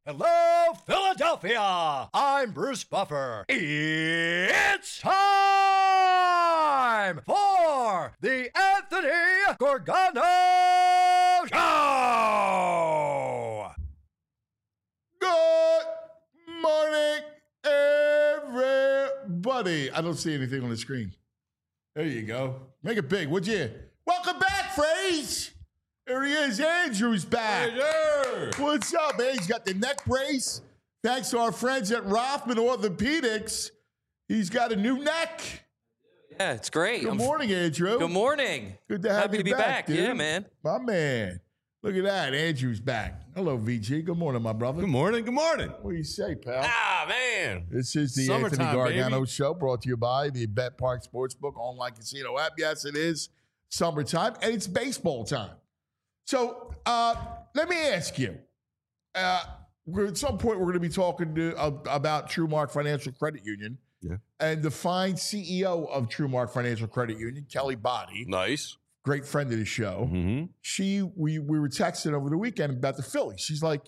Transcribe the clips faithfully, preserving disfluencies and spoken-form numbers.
Hello, Philadelphia! I'm Bruce Buffer. It's time for the Anthony Gorgano Show! Good morning, everybody. I don't see anything on the screen. There you go. Make it big, would you? Welcome back, Phrase. There he is. Andrew's back. Hey, yeah. What's up, man? He's got the neck brace. Thanks to our friends at Rothman Orthopedics. He's got a new neck. Yeah, it's great. Good I'm, morning, Andrew. Good morning. Good to have Happy you to be back, back. dude. Yeah, man. My man. Look at that. Andrew's back. Hello, V G. Good morning, my brother. Good morning. Good morning. What do you say, pal? Ah, man. This is the Summertime, Anthony Gargano baby. Show, brought to you by the Bet Park Sportsbook online casino app. Yes, it is summertime, and it's baseball time. So uh, let me ask you. Uh, we're, at some point, we're going to be talking to, uh, about TrueMark Financial Credit Union. Yeah. And the fine C E O of TrueMark Financial Credit Union, Kelly Body, Nice. great friend of the show. Mm-hmm. She we we were texting over the weekend about the Phillies. She's like,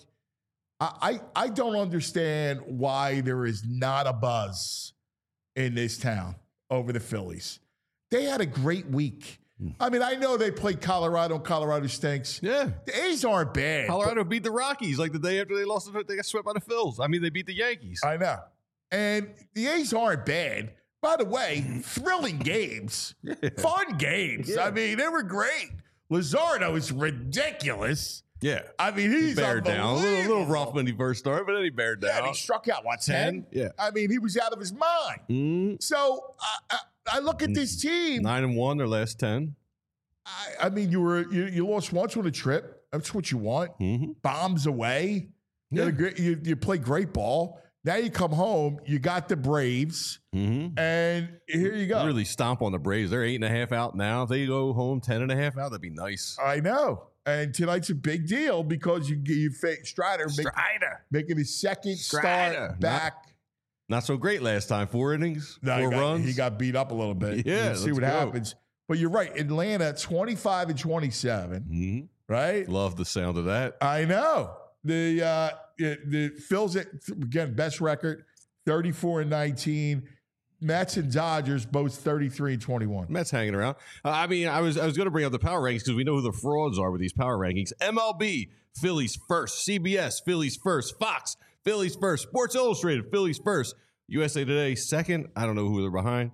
I, I I don't understand why there is not a buzz in this town over the Phillies. They had a great week. I mean, I know they played Colorado and Colorado stinks. Yeah. The A's aren't bad. Colorado beat the Rockies like the day after they lost. They got swept by the Phils. I mean, they beat the Yankees. I know. And the A's aren't bad. By the way, thrilling games, fun games. Yeah. I mean, they were great. Luzardo is ridiculous. Yeah. I mean, he's Bared down. A little, little unbelievable. rough when he first started, but then he bared Yeah, down. and he struck out, what, ten? ten? Yeah. I mean, he was out of his mind. Mm, So I, I, I look at this team. nine and one, their last ten. I, I mean, you were you, you lost once on a trip. That's what you want. Mm-hmm. Bombs away. You, had a Yeah. great, you, you play great ball. Now you come home. You got the Braves, Mm-hmm. and here you go. Really stomp on the Braves. They're eight and a half out now. If they go home ten and a half out, that'd be nice. I know. And tonight's a big deal because you you face Strider, make, Strider. making his second Strider. start back. Not so great last time. Four innings, No, four he got, runs. He got beat up a little bit. Yeah, We'll see let's what go. happens. But you're right. Atlanta, twenty-five and twenty-seven, Mhm. right? Love the sound of that. I know. The uh, the, the Phil's at, again, best record, thirty-four and nineteen. Mets and Dodgers both thirty-three and twenty-one. Mets hanging around. Uh, I mean, I was I was going to bring up the power rankings because we know who the frauds are with these power rankings. M L B, Phillies first. C B S, Phillies first. Fox, Phillies first. Sports Illustrated, Phillies first. U S A Today, second. I don't know who they're behind.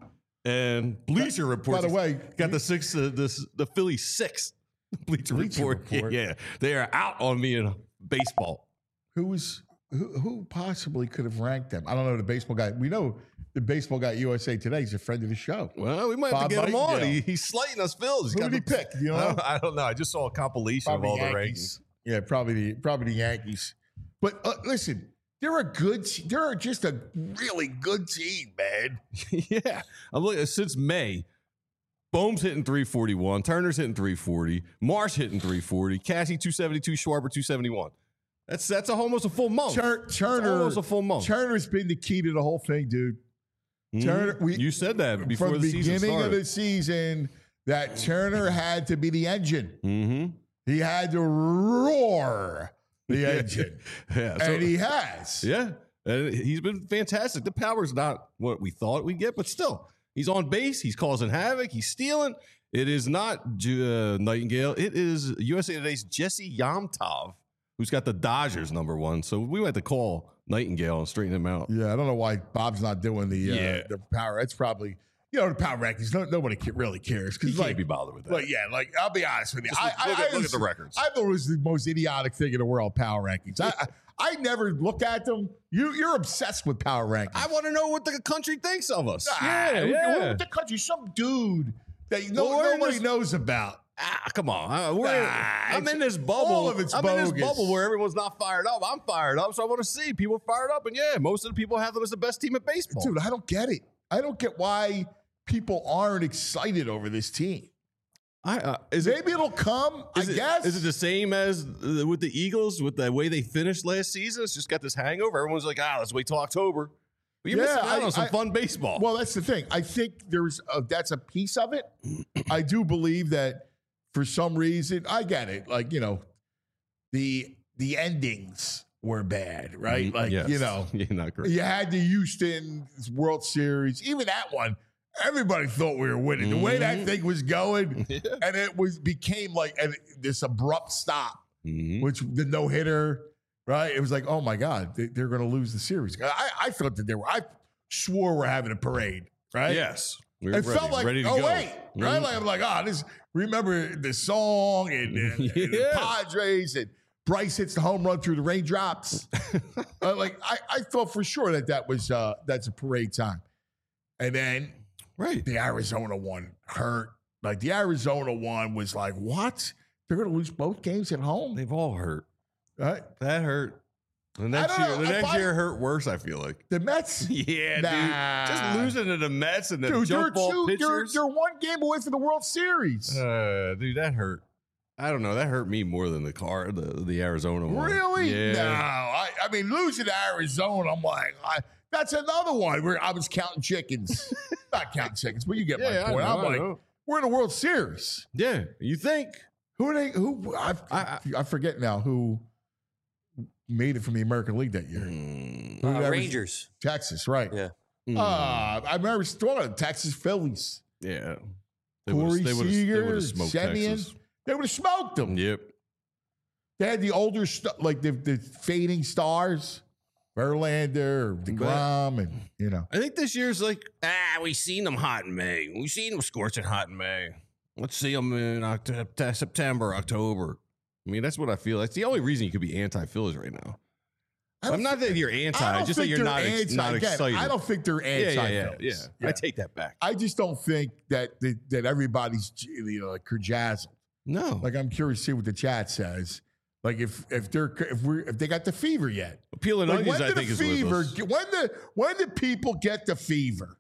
And Bleacher Report. By the way, got the six. Uh, the the Phillies sixth. Bleacher, Bleacher Report. Report. Yeah, they are out on me in baseball. Who was who, who possibly could have ranked them? I don't know. The baseball guy. We know the baseball guy at U S A Today. He's a friend of the show. Well, we might Bob have to get him on. Nightingale. He, he's slighting us, Phils. He's Who got did he the- pick? Do you know? I don't, I don't know. I just saw a compilation of all the Yankees. rankings. Yeah, probably the probably the Yankees. But uh, listen, they're a good. te- They're just a really good team, man. Yeah, I'm looking since May. Bohm's hitting three forty-one. Turner's hitting three forty. Marsh hitting three forty. Cassie two seventy-two. Schwarber two seventy-one. That's that's a, almost a full month. Tur- Turner, almost a full month. Turner's been the key to the whole thing, dude. Mhm. Turner, we, you said that before from the the season beginning started. of the season that Turner had to be the engine. Mm-hmm. He had to roar the engine, Yeah, so- and he has. Yeah, and he's been fantastic. The power's not what we thought we'd get, but still, he's on base. He's causing havoc. He's stealing. It is not Ju- uh, Nightingale. It is U S A Today's Jesse Yamtov, who's got the Dodgers number one. So we went to call Nightingale and straighten him out. Yeah, I don't know why Bob's not doing the uh, Yeah. the power. It's probably you know the power rankings. No, nobody ca- really cares He because can't like, be bothered with that. But yeah, like I'll be honest with you, Just I, look- I, look I at- look was- at the records. I thought it was the most idiotic thing in the world. Power rankings. I, I I never look at them. You you're obsessed with power rankings. I want to know what the country thinks of us. Ah, yeah, what- yeah. what the country, some dude that no, Well, we're in nobody this- knows about. Ah, come on. Uh, we're, Ah, I'm it's- in this bubble. all of it's I'm in this bogus. bubble where everyone's not fired up. I'm fired up, so I want to see people fired up. And yeah, most of the people have them as the best team at baseball. Dude, I don't get it. I don't get why people aren't excited over this team. I, uh, is it, Maybe it'll come. is I it- guess. Is it the same as uh, with the Eagles, with the way they finished last season? It's just got this hangover. Everyone's like, ah, let's wait till October. But you're Yeah, missing out I- on some I- fun baseball. Well, that's the thing. I think there's a, that's a piece of it. I do believe that for some reason, I get it. Like you know, the the endings were bad, right? Like, Yes. you know, yeah, not great. you had the Houston World Series, even that one. Everybody thought we were winning. The way that Mhm. thing was going, Yeah. and it was became like an, this abrupt stop, Mhm. which the no hitter, right? It was like, oh my god, they, they're going to lose the series. I, I thought that they were. I swore we're having a parade, right? Yes. We were It ready, felt like, ready to oh go. wait, right? Mhm. Like I'm like, ah, this. Remember the song and, and, and the Yeah. Padres and Bryce hits the home run through the raindrops. uh, like I, I thought for sure that that was uh, that's a parade time, and then Right. the Arizona one hurt. Like the Arizona one was like, what? They're going to lose both games at home, They've all hurt. right? That hurt. The next don't year, know. the If next I- year hurt worse. I feel like. The Mets, Yeah, Nah. dude. Just losing to the Mets and the dude, they're jump ball two. They're, pitchers. they're one game away from the World Series. Uh, dude, that hurt. I don't know. That hurt me more than the car, the the Arizona one. Really? Yeah. No. I, I mean, losing to Arizona, I'm like, I, that's another one where I was counting chickens. Not counting chickens, but you get Yeah, my I point. know, I'm I like, know. we're in the World Series. Yeah. You think? Who are they? Who? I, I- I, I forget now who made it from the American League that year. Mm, Who Uh, that was- Rangers. Texas, right? Yeah. mm, Uh, I remember throwing Texas Phillies. yeah. They Corey would've- they would've- they Seager, would've smoked Semien. Texas. They would have smoked them. Yep. They had the older, st- like the, the fading stars, Verlander, DeGrom, and you know. I think this year's like, ah, we seen them hot in May. We seen them scorching hot in May. Let's see them in October, September, October. I mean, that's what I feel. That's the only reason you could be anti-Phillies right now. I don't I'm not that you're anti, I don't just that think you're they're not, ex- anti- not again, excited. I don't think they're yeah, anti. yeah, yeah, yeah, yeah. I take that back. I just don't think that that, that everybody's you know like kerjazzled. No. Like I'm curious to see what the chat says. Like if if they're if we are if they got the fever yet. Peeling Like onions, when I did think, the is with fever? us. When the when did people get the fever?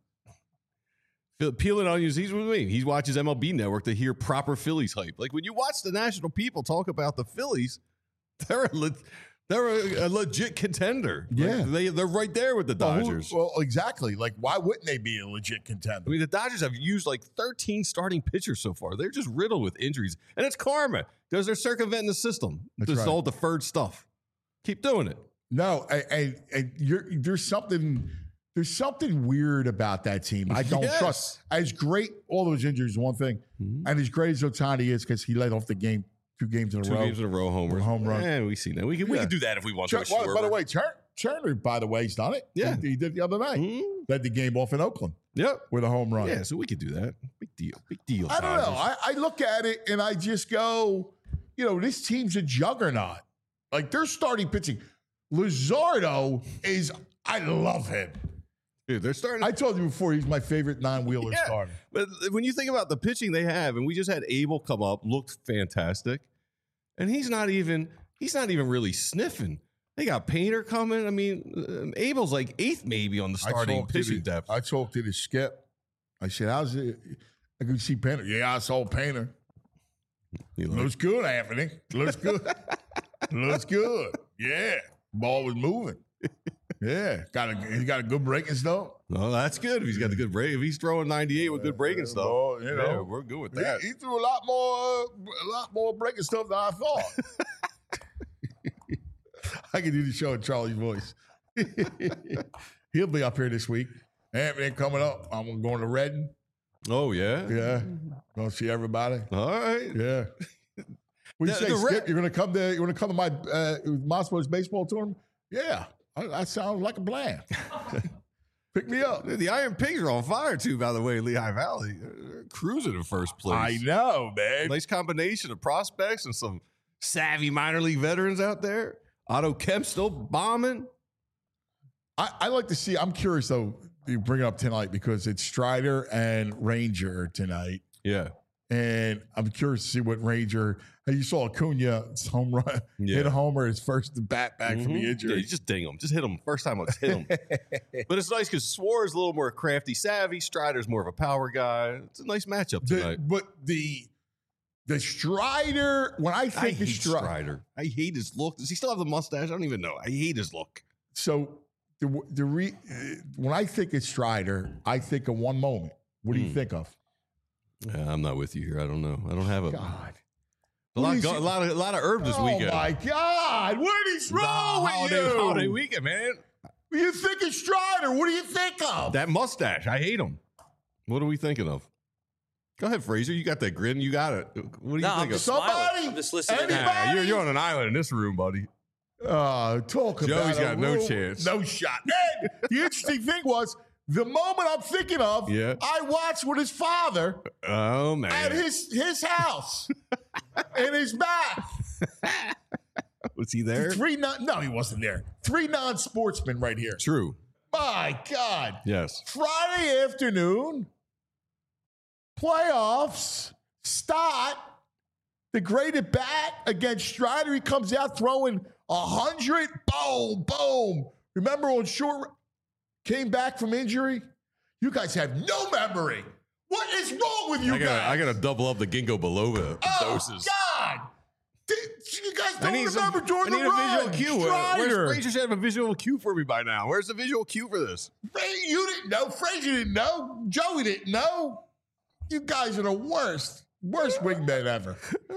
Phil- Peeling onions, he's with me. He watches M L B Network to hear proper Phillies hype. Like when you watch the national people talk about the Phillies, they're a, le- they're a, a legit contender. Like, Yeah. they they're right there with the Well, who- Dodgers. Well, exactly. Like why wouldn't they be a legit contender? I mean, the Dodgers have used like thirteen starting pitchers so far. They're just riddled with injuries, and it's karma because they're circumventing the system. That's This right. all deferred stuff. Keep doing it. No, and, and, and you're, there's something there's something weird about that team. I don't Yes. trust. As great, all those injuries is one thing, Mhm. and as great as Ohtani is because he led off the game two games in a Two row. games in a row, homers, Home run. Yeah, we see that. We can we Yeah. can do that if we want Tur- to. well, by the way, Tur- Turner, by the way, he's done it. Yeah. he, he did the other night. Mhm. Led the game off in Oakland Yep. with a home run. Yeah, so we could do that. Big deal. Big deal. I don't know. Dodgers. I, I look at it and I just go, you know, this team's a juggernaut. Like they're starting pitching. Luzardo is, I love him. Dude, they're starting. I told you before, he's my favorite non-wheeler Yeah. starter. But when you think about the pitching they have, and we just had Abel come up, looked fantastic, and he's not even he's not even really sniffing. They got Painter coming. I mean, uh, Abel's like eighth maybe on the starting talked to pitching the- depth. I talked to the skip. I said, how's it? I could see Painter. Yeah, I saw Painter. He like, Looks good, Anthony. Looks good. Looks good. Yeah. Ball was moving. Yeah. Got a he got a good breaking stuff. no, that's good. If he's got the good break, if he's throwing ninety-eight with good breaking stuff, Well, you know. yeah, we're good with that. He, he threw a lot more uh, a lot more breaking stuff than I thought. I can do the show in Charlie's voice. He'll be up here this week. Anthony coming up. I'm going to Redden. Oh yeah, Yeah. Gonna see everybody. All right. Yeah. What do you The- say, the Skip? Red- You're gonna come to you're gonna come to my uh Moscow's baseball tournament? Yeah. I- That sounds like a plan. Pick me up. The Iron Pigs are on fire too. By the way, Lehigh Valley, they're cruising in first place. I know, man. Nice combination of prospects and some savvy minor league veterans out there. Otto Kemp still bombing. I, I like to see. I'm curious though. You bring it up tonight because it's Strider and Ranger tonight, Yeah. and I'm curious to see what Ranger. And you saw Acuna home run, Yeah. hit a homer his first bat back from Mhm. the Yeah, injury. you just ding them. Just hit them. First time, let's hit them. But it's nice because Swar's a little more crafty, savvy. Strider's more of a power guy. It's a nice matchup The- tonight. but the the Strider, when I I think hate of Strider, Strider. I hate his look. Does he still have the mustache? I don't even know. I hate his look. so the the re, uh, when I think of Strider, I think of one moment. What do you Hmm. think of? Yeah, I'm not with you here. I don't know. I don't have a. God, A lot, go, a lot of a lot of herbs this oh weekend. my God! What is The wrong with holiday, you? holiday weekend, man. What do you think of Strider? What do you think of? That mustache, I hate him. What are we thinking of? Go ahead, Fraser. You got that grin. You got it. What do you No, think I'm of? just Somebody? smiling. I'm just listening. Anybody? Nah, you're, you're on an island in this room, buddy. Uh, talk Joey's about got a no rule- chance. No shot. And the interesting thing was, the moment I'm thinking of, Yeah. I watched with his father Oh man, at his his house in his back. was he there? Three non no, he wasn't there. Three non-sportsmen right here. True. My God. Yes. Friday afternoon, playoffs, Stott, the great at bat against Strider. He comes out throwing a hundred. Boom, boom. Remember on short, came back from injury? You guys have no memory. What is wrong with you I gotta, guys? I gotta double up the ginkgo biloba oh, doses. God. Did, you guys I don't need remember some, during I need the a run. visual cue. Where- Strider. Where's Fraser should have a visual cue for me by now? Where's the visual cue for this? Fra- You didn't know. Frazier didn't know. Joey didn't know. You guys are the worst, worst wingmen ever.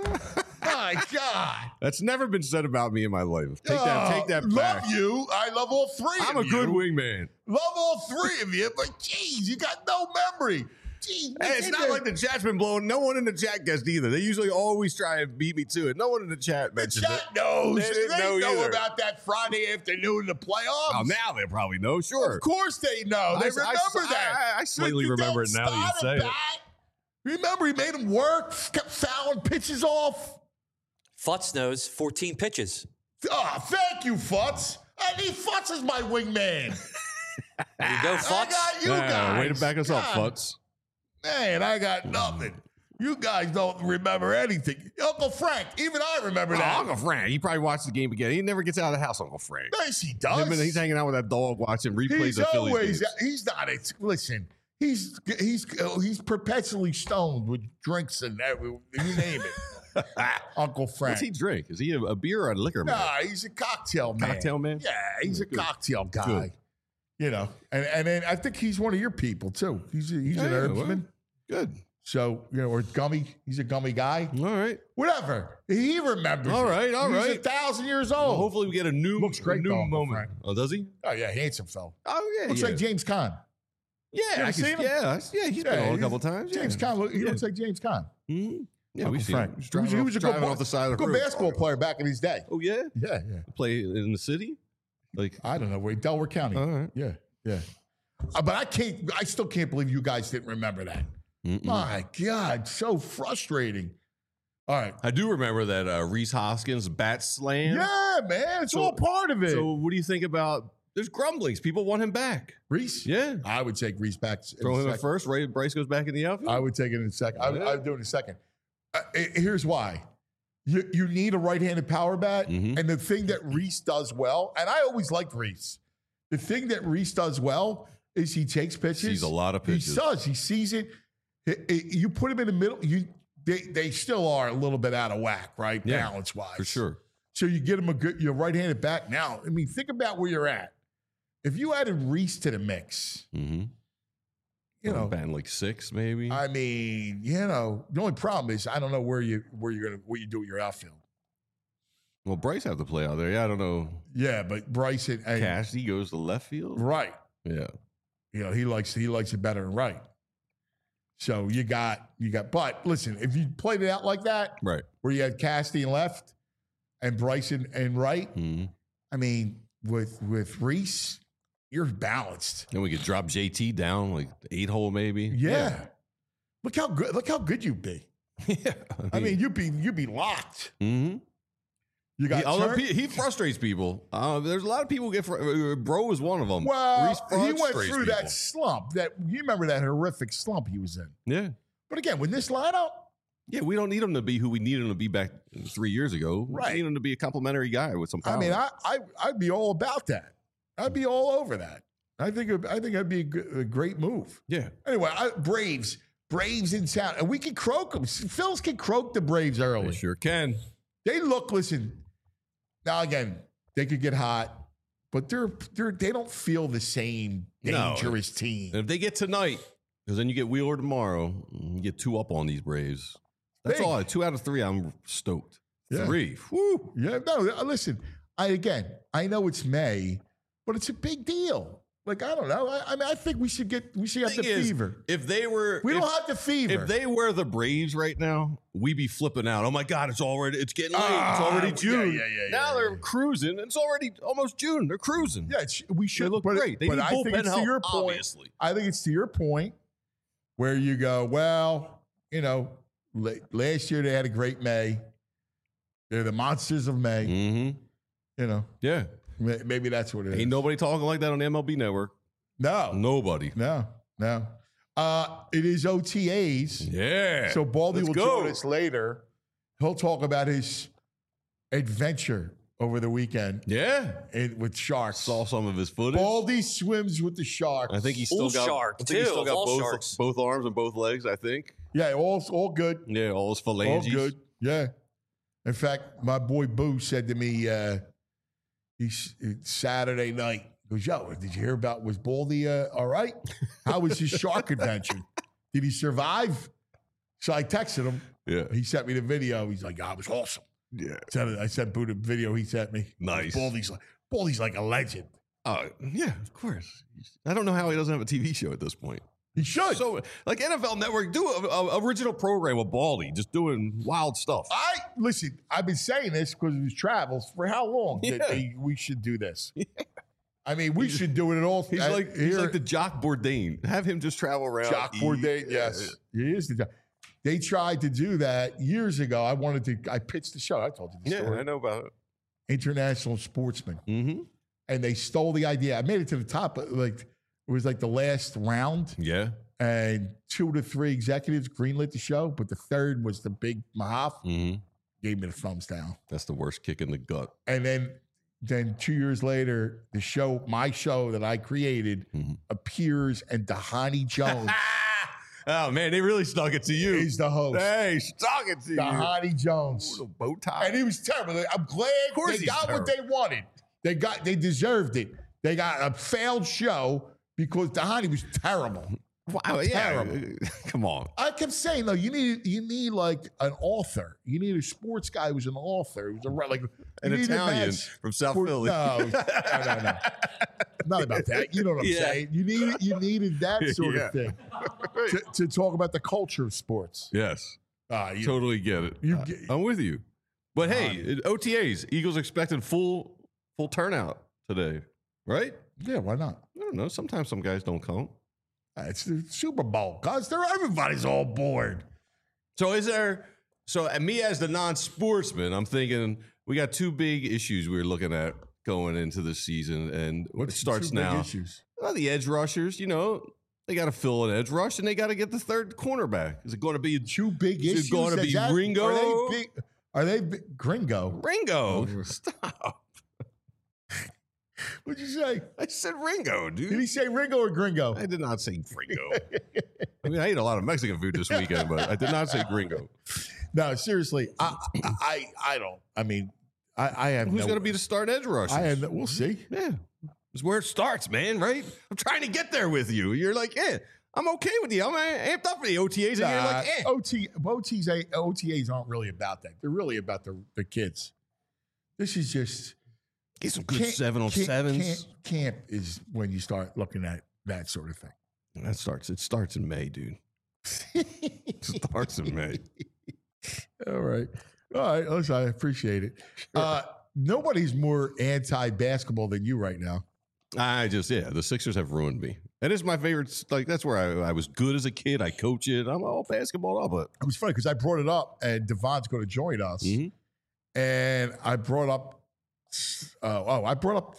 My God. That's never been said about me in my life. Take that, take that back. Love you. I love all three I'm of a you. good wingman. Love all three of you, but geez, you got no memory. Geez, Hey, it's not like the chat's been blowing. No one in the chat guessed either. They usually always try and beat me to it. No one in the chat the mentioned chat it. knows. They They, didn't know know, either. about that Friday afternoon in the playoffs. Oh, now they probably know. Sure. Of course they know. They I- remember I- that. I- I slightly You remember don't it now that you start say at it. bat. Remember, he made him work, kept fouling pitches off. Futz knows fourteen pitches. Oh, thank you, Futz. I need Futz as my wingman. There you go, I Futz. got you Yeah, guys. way to back us up, God, Futz. Man, I got nothing. You guys don't remember anything. Uncle Frank, even I remember Oh, that. Uncle Frank. He probably watched the game again. He never gets out of the house, Uncle Frank. Yes, he does. Him and he's hanging out with that dog watching replays He's of Phillies always. games. He's not. It's, listen, he's he's he's perpetually stoned with drinks and every, you name it. Uncle Frank. What's he drink? Is he a, a beer or a liquor man? Nah, he's a cocktail man. Cocktail man? Yeah, he's a Good. cocktail guy. Good. You know, and and then I think he's one of your people too. He's a, he's an Yeah, herbsman. well, good. So you know, or gummy. He's a gummy guy. All right. Whatever. He remembers. All it. right, all he's right. a thousand years Well, old. hopefully we get a new, Looks great, a new though, Uncle moment. Frank. Oh, does he? Oh yeah, handsome fella. Oh yeah. Looks yeah. like James Caan. Yeah, You I ever can, seen him? yeah, yeah. He's been Yeah, on a he's- couple times. James yeah. Caan. look- He Yeah. looks like James Caan. Mm-hmm. Yeah, Uncle we've seen Frank. him. Just He was- driving he off- was a good driving ball- off the side of the Good road. basketball player back in his day. Oh yeah, Yeah, yeah. play in the city. Like, I don't know where Delaware County. all right. Yeah, yeah. Uh, but I can't. I still can't believe you guys didn't remember that. Mm-mm. My God, so frustrating. All right. I do remember that uh, Reese Hoskins bat slam. Yeah, man, it's So- all part of it. So what do you think about? There's grumblings. People want him back. Reese, Yeah. I would take Reese back. in Throw a him at second. first. Ray Bryce goes back in the outfield. I would take it in a second. I, Yeah. I'd do it in a second. Uh, eh, here's why. You, you need a right-handed power bat, Mhm. and the thing that Reese does well, and I always liked Reese. The thing that Reese does well is he takes pitches. Sees a lot of pitches. He does. He sees it. It- it- You put him in the middle. You they they still are a little bit out of whack, right? Yeah, Balance wise, for sure. So you get him a good your right-handed bat now. I mean, think about where you're at. If you added Reese to the mix, Mm-hmm. you know, batting like six, maybe. I mean, you know, the only problem is I don't know where you where you're gonna what you do with your outfield. well, Bryce have to play out there. Yeah, I don't know. Yeah, but Bryson, and, Cassidy goes to left field. right? Yeah. You know, he likes he likes it better than right. So you got you got. But listen, if you played it out like that, Right. where you had Cassidy in left and Bryson and right, Mm-hmm. I mean, with with Reese, you're balanced. Then we could drop J T down like eight hole, maybe. Yeah. Look how good look how good you'd be. Yeah. I mean, you'd be you'd be locked. mm-hmm. You got he, although Turk- he, he frustrates people. Uh, there's a lot of people get. Fr- uh, Bro is one of them. Well, Reese he went frustrates through people. that slump. That you remember that horrific slump he was in. Yeah. But again, with this lineup, Yeah, we don't need him to be who we needed him to be back three years ago. Right. We need him to be a complimentary guy with some power. I mean, I, I I'd be all about that. I'd be all over that. I think it- I think that'd be a, g- a great move. yeah. Anyway, I, Braves, Braves in town, and we can croak them. Phils can croak the Braves They early. sure can. They look. Listen, now again, they could get hot, but they're they're they don't feel the same No. dangerous team. And if they get tonight, because then you get Wheeler tomorrow, you get two up on these Braves. That's big. all. Two out of three, I'm stoked. Yeah. Three. Woo. Yeah, no, listen, I again, I know it's May, but it's a big deal. Like, I don't know. I, I mean, I think we should get, we should have the Thing is, fever. If they were, We if, don't have the fever. if they were the Braves right now, we'd be flipping out. Oh my God, it's already, it's getting late. Ah, it's already yeah, June. yeah, yeah, now yeah, they're yeah. cruising. It's already almost June. They're cruising. yeah, it's, we should They look but, great. They but need I think bullpen it's help, to your point. obviously. I think it's to your point where you go, well, you know, la- last year they had a great May. They're the monsters of May. Mm-hmm. You know, Yeah. ma- maybe that's what it is. Ain't nobody talking like that on the M L B Network. No, Nobody. no, no. Uh, it is O T As. Yeah. So Baldy Let's will go. join us later. He'll talk about his adventure over the weekend Yeah. in, with sharks. Saw some of his footage. Baldy swims with the sharks. I think he's still Bull got, shark, I think he's too, still of got all both, sharks. both arms and both legs, I think. Yeah, all all good. Yeah, all his All phalanges. good. Yeah. In fact, my boy Boo said to me, uh, he's Saturday night. He goes, yo, did you hear about was Baldy uh, all right? How was his shark adventure? Did he survive? So I texted him. Yeah. He sent me the video. He's like, oh, it was awesome. Yeah. Sent- I sent Boo the video he sent me. Nice. Baldy's like, Baldy's like a legend. Uh, yeah, of course. I don't know how he doesn't have a T V show at this point. He should. So, like N F L Network, do a, original program with Baldy, just doing wild stuff. I listen. I've been saying this because of his travels for how long? That Yeah. they- we should do this. I mean, we should do it at all. He's uh, like he's like the Jock Bourdain. Have him just travel around. Jock eat. Bourdain. Yes, he is the Jock. They tried to do that years ago. I wanted to. I pitched the show. I told you the Yeah, story. I know about it. International Sportsman, Mm-hmm. and they stole the idea. I made it to the top. But like it was like the last round, Yeah. and two to three executives greenlit the show, but the third was the big Mahaf. Mm-hmm. Gave me the thumbs down. That's the worst kick in the gut. And then, then two years later, the show, my show that I created, Mhm. appears, and Dahani Jones Oh man, they really stuck it to you. is the host. Hey, stuck it to you. Dahani Jones, Little bow tie. and he was terrible. I'm glad course they he's got what they wanted. They got, they deserved it. They got a failed show because Dahani was terrible. Wow, yeah. Terrible. Come on. I kept saying though, you need you need like an author. You need a sports guy who's an author. Who's a re- like An you need a Italian match from South for- Philly. No, no, no, no. Not about that. You know what I'm Yeah. saying. You need you needed that sort Yeah. of thing to, to talk about the culture of sports. Yes. Uh, you, Totally get it. you Uh, get- I'm with you. But hey, O T As, Eagles expecting full full turnout today, right? yeah, why not? I don't know. Sometimes some guys don't come. Uh, It's the Super Bowl, guys. They're everybody's all bored. So is there? So and me as the non-sportsman, I'm thinking we got two big issues we're looking at going into the season, and it What's the starts two big now. Issues? Well, the edge rushers, you know, they got to fill an edge rush, and they got to get the third cornerback. Is it going to be Two big Is it issues. gonna Is be that- Ringo? Are they big? Are they big, Gringo? Ringo? Oh. Stop! What'd you say? I said Ringo, Did dude. he say Ringo or Gringo? I did not say Gringo. I mean, I ate a lot of Mexican food this weekend, but I did not say Gringo. No, seriously. I I I don't. I mean, I, I have. Who's no, going to be the start edge rusher? I have. No, we'll see. Yeah, it's where it starts, man. Right? I'm trying to get there with you. You're like, yeah, I'm okay with you. I'm amped up for the O T As, and you're like, eh. O T O T As O T As aren't really about that. They're really about the the kids. This is just Get some good camp- seven on camp- sevens. Camp, camp is when you start looking at that sort of thing. That starts. It starts in May, dude. It starts in May. All right. All right. Listen, I appreciate it. Uh, nobody's more anti-basketball than you right now. I just, yeah, the Sixers have ruined me. And it's my favorite. Like, that's where I, I was good as a kid. I coach it. I'm all basketball up, but It was funny because I brought it up, and Devon's going to join us, Mhm. and I brought up. Uh, oh, I brought up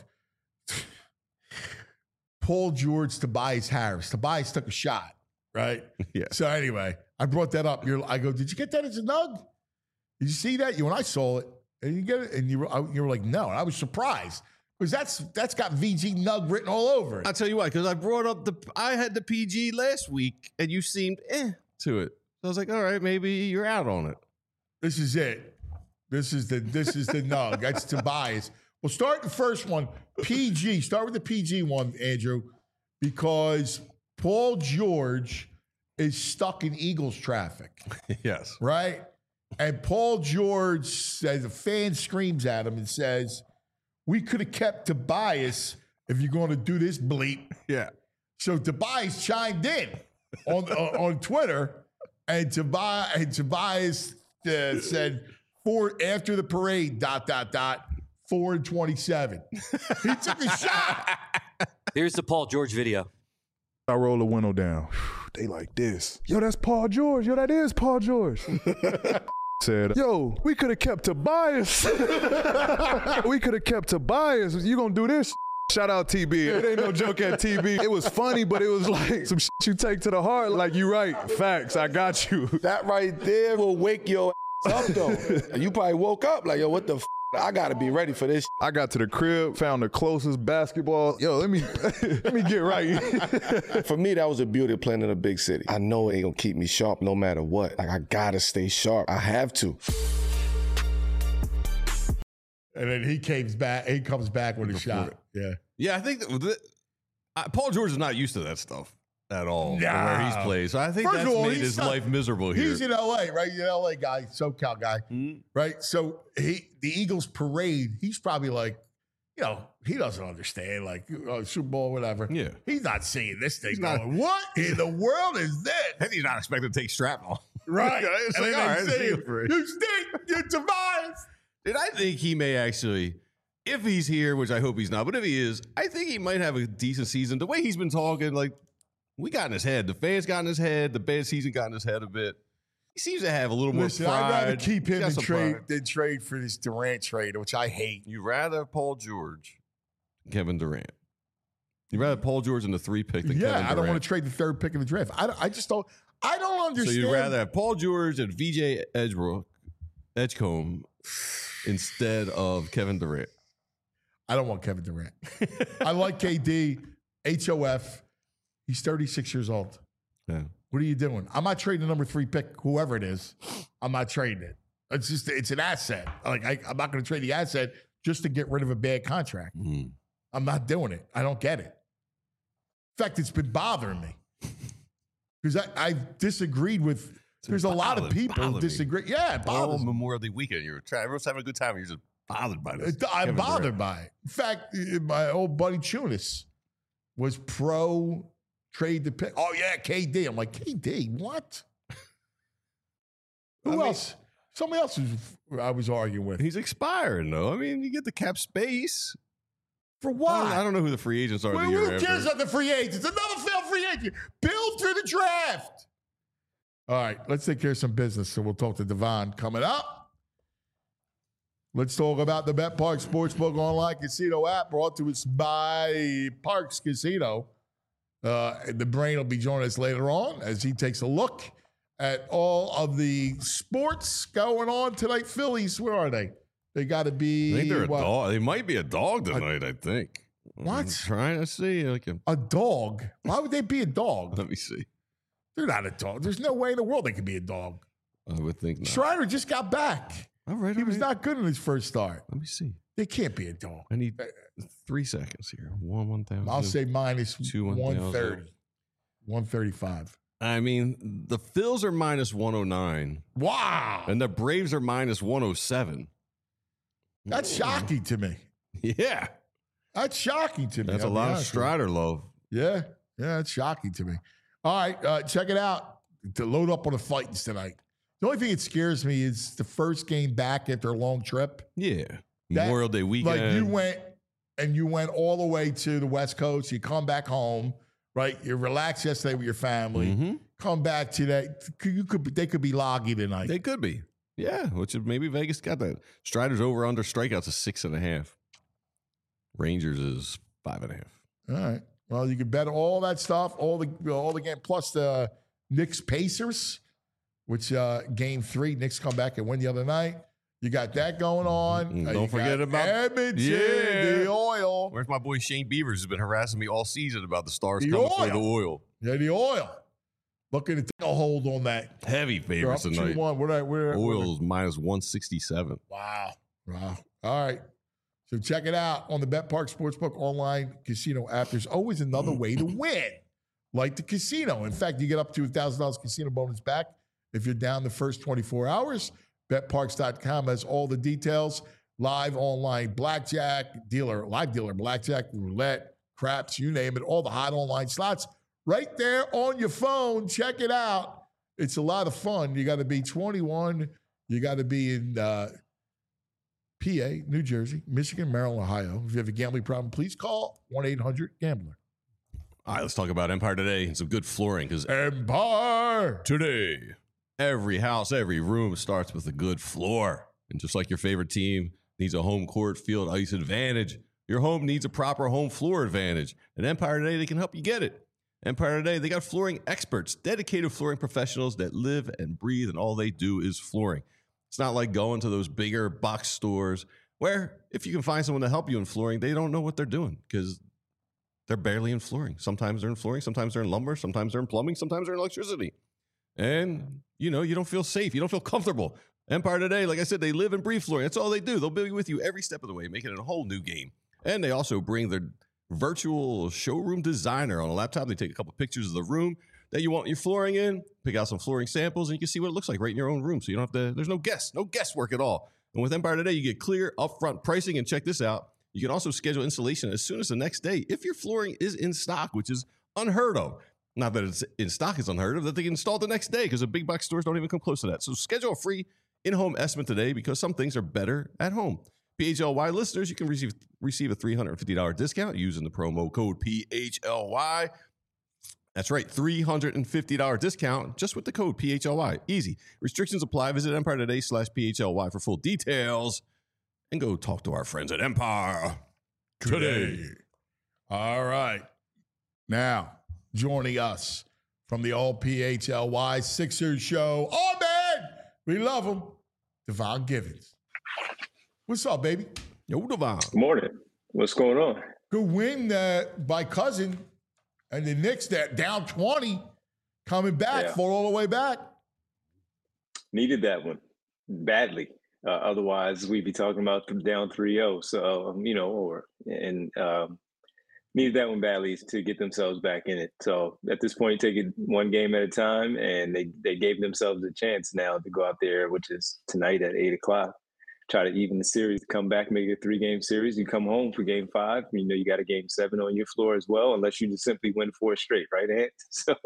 Paul George, Tobias Harris. Tobias took a shot, right? yeah. So anyway, I brought that up. You're, I go, did you get that as a nug? Did you see that? You and I saw it, and you get it, and you were, I- you were like, no. And I was surprised because that's that's got V G nug written all over it. I'll tell you why, because I brought up the, I had the P G last week, and you seemed eh to it. So I was like, all right, maybe you're out on it. This is it. This is the this is the nug. That's Tobias. We'll start the first one. P G. Start with the P G one, Andrew, because Paul George is stuck in Eagles traffic, Yes. right? And Paul George says, a fan screams at him and says, we could have kept Tobias if you're going to do this bleep. Yeah. So Tobias chimed in on uh, on Twitter, and Tobias, and Tobias uh, said, four after the parade, dot, dot, dot, four and twenty-seven. He took a shot. Here's the Paul George video. I roll the window down. They like this. Yo, that's Paul George. Yo, that is Paul George. Said, yo, we could have kept Tobias. We could have kept Tobias. You gonna do this? Shout out T B. It ain't no joke at T B. It was funny, but it was like some shit you take to the heart. Like, you right. Facts. I got you. That right there will wake your ass up, though. You probably woke up like, yo, what the f? I got to be ready for this. I got to the crib, found the closest basketball. Yo, let me let me get right. For me, that was the beauty of playing in a big city. I know it ain't going to keep me sharp no matter what. Like, I got to stay sharp. I have to. And then he comes back. He comes back with a shot. Yeah. Yeah, I think that, that uh, Paul George is not used to that stuff at all. No. Where he's played, so I think First that's of all, made he's his not- life miserable here. He's in L A, right? He's an L A guy, SoCal guy, Mhm. right? So he, the Eagles parade, he's probably like, you know, he doesn't understand, like, uh, Super Bowl, whatever. Yeah. He's not seeing this thing He's not- going, what in the world is this? And he's not expected to take shrapnel. Right. It's and like, then all they right, say, see you for it. you stink, you're Tobias. And I think he may actually, if he's here, which I hope he's not, but if he is, I think he might have a decent season. The way he's been talking, like, we got in his head. The fans got in his head. The bad season got in his head a bit. He seems to have a little Listen, more pride. I'd rather keep He's him got than some trade, pride. than trade for this Durant trade, which I hate. You rather Paul George, Kevin Durant. You rather Paul George in the three pick than Yeah, Kevin Durant. I don't want to trade the third pick in the draft. I, don't- I just don't, I don't So understand. you'd rather have Paul George and V J Edgebrook, Edgecombe instead of Kevin Durant. I don't want Kevin Durant. I like K D, H O F. He's thirty-six years old. Yeah. What are you doing? I'm not trading the number three pick, whoever it is. I'm not trading it. It's just, it's an asset. Like, I, I'm not going to trade the asset just to get rid of a bad contract. Mm. I'm not doing it. I don't get it. In fact, it's been bothering me because I, I've disagreed with, there's a lot of bothered- people who bothered me. disagree. Yeah, it All bothers me. Memorial Day weekend, you're trying, everyone's having a good time. And you're just bothered by this. It- I'm Kevin bothered Durant. by it. In fact, uh, my old buddy Chunis was pro trade the pick. Oh, yeah, K D. I'm like, K D, what? Who I mean- else? Somebody else was, I was arguing with. He's expiring, though. I mean, you get the cap space. For I don't, what? I don't know who the free agents are. Well, the year who cares after. about the free agents? Another failed free agent. Build through the draft. All right, let's take care of some business. So we'll talk to Devon coming up. Let's talk about the Bet Park Sportsbook online casino app brought to us by Parks Casino. Uh, the Brain will be joining us later on as he takes a look at all of the sports going on tonight. Phillies, where are they? They got to be. I think they're a what, dog. They might be a dog tonight, I think. What? I'm trying to see. Like a, a dog. Why would they be a dog? let me see. They're not a dog. There's no way in the world they could be a dog. I would think not. Schreiber just got back. All right. He all was right. not good in his first start. Let me see. They can't be a dog. I need three seconds here. One, one thousand. I'll say minus Two, one one thousand. thirty. one thirty-five. I mean, the Phils are minus one oh nine, Wow. and the Braves are minus one oh seven. That's shocking to me. Yeah. That's shocking to me. That's a I'll be lot of honest with you. Strider love. Yeah. Yeah, it's shocking to me. All right, uh, check it out. To load up on the fightings tonight. The only thing that scares me is the first game back after a long trip. Yeah. That- Memorial Day weekend. Like you went and you went all the way to the West Coast. You come back home, right? You relaxed yesterday with your family. Mhm. Come back today. You could be, they could be loggy tonight. They could be. Yeah, which is maybe Vegas got that. Strider's over under strikeouts is six and a half. Rangers is five and a half. All right. Well, you can bet all that stuff, all the all the game, plus the Knicks Pacers, which uh, game three, Knicks come back and win the other night. You got that going on. Mm, Uh, don't you forget got about- Edmonton, Yeah. the oil. Where's my boy Shane Beavers who's been harassing me all season about the Stars The coming for oil. the oil. Yeah, the oil. Looking to take a hold on that. Heavy They're up favorites two tonight. one. Where, where, Oil's minus one sixty-seven. Wow. Wow. All right. So check it out on the Bet Park Sportsbook online casino app. There's always another way to win, like the casino. In fact, you get up to one thousand dollars casino bonus back if you're down the first twenty-four hours. bet parks dot com has all the details. Live online blackjack, dealer, live dealer blackjack, roulette, craps, you name it, all the hot online slots right there on your phone. Check it out. It's a lot of fun. You got to be twenty-one. You got to be in uh, P A, New Jersey, Michigan, Maryland, Ohio. If you have a gambling problem, please call one eight hundred gambler. All right, let's talk about Empire today and some good flooring because Empire today, every house, every room starts with a good floor. And just like your favorite team needs a home court, field, ice advantage, your home needs a proper home floor advantage. At Empire Today, they can help you get it. Empire Today, they got flooring experts, dedicated flooring professionals that live and breathe, and all they do is flooring. It's not like going to those bigger box stores where if you can find someone to help you in flooring, they don't know what they're doing because they're barely in flooring. Sometimes they're in flooring, sometimes they're in lumber, sometimes they're in plumbing, sometimes they're in electricity. And, you know, you don't feel safe. You don't feel comfortable. Empire Today, like I said, they live and breathe flooring. That's all they do. They'll be with you every step of the way, making it a whole new game. And they also bring their virtual showroom designer on a laptop. They take a couple pictures of the room that you want your flooring in, pick out some flooring samples, and you can see what it looks like right in your own room. So you don't have to, there's no guess, no guesswork at all. And with Empire Today, you get clear upfront pricing. And check this out. You can also schedule installation as soon as the next day if your flooring is in stock, which is unheard of. Not that it's in stock is unheard of, that they can install the next day because the big box stores don't even come close to that. So schedule a free in-home estimate today because some things are better at home. P H L Y listeners, you can receive receive a three hundred fifty dollars discount using the promo code P H L Y. That's right, three hundred fifty dollars discount just with the code P H L Y. Easy. Restrictions apply. Visit Empire Today slash P H L Y for full details. And go talk to our friends at Empire Today. All right. Now, joining us from the all P H L Y Sixers show. Oh, man, we love him. Devon Givens. What's up, baby? Yo, Devon. Good morning. What's going on? Good win uh, by Cousin. And the Knicks, that down twenty, coming back, Yeah. fall all the way back. Needed that one badly. Uh, otherwise, we'd be talking about them down three oh. So, um, you know, or and um, needed that one badly to get themselves back in it. So at this point, take it one game at a time, and they they gave themselves a chance now to go out there, which is tonight at eight o'clock. Try to even the series, come back, make it a three-game series. You come home for game five. You know you got a game seven on your floor as well, unless you just simply win four straight, right, Ant? So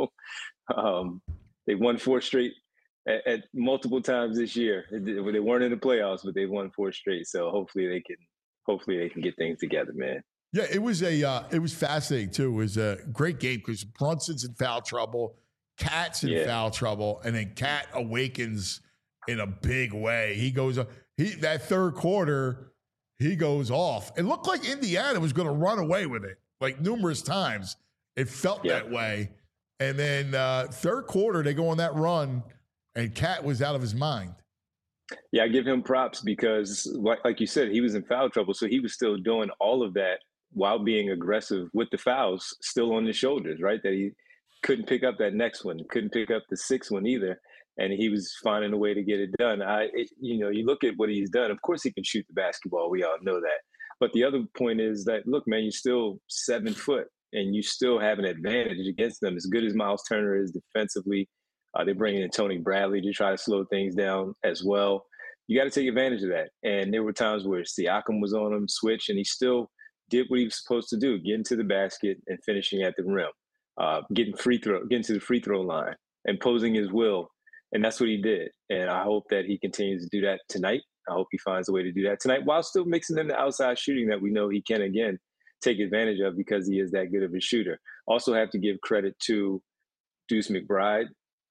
um, they won four straight at, at multiple times this year. They weren't in the playoffs, but they won four straight. So hopefully they can, hopefully they can get things together, man. Yeah, it was a uh, it was fascinating too. It was a great game because Brunson's in foul trouble, Cat's in Yeah. foul trouble, and then Cat awakens in a big way. He goes he that third quarter, he goes off. It looked like Indiana was going to run away with it, like numerous times. It felt Yeah. that way. And then uh, third quarter, they go on that run, and Cat was out of his mind. Yeah, I give him props because, like, like you said, he was in foul trouble, so he was still doing all of that while being aggressive with the fouls still on his shoulders, right? That he couldn't pick up that next one, couldn't pick up the sixth one either, and he was finding a way to get it done. I, it, you know, you look at what he's done. Of course, he can shoot the basketball. We all know that. But the other point is that, look, man, you're still seven foot, and you still have an advantage against them. As good as Miles Turner is defensively, uh, they're bringing in Tony Bradley to try to slow things down as well. You got to take advantage of that. And there were times where Siakam was on him, switch, and he still did what he was supposed to do, getting to the basket and finishing at the rim, uh, getting free throw, getting to the free throw line, imposing his will. And that's what he did. And I hope that he continues to do that tonight. I hope he finds a way to do that tonight while still mixing in the outside shooting that we know he can, again, take advantage of because he is that good of a shooter. Also have to give credit to Deuce McBride,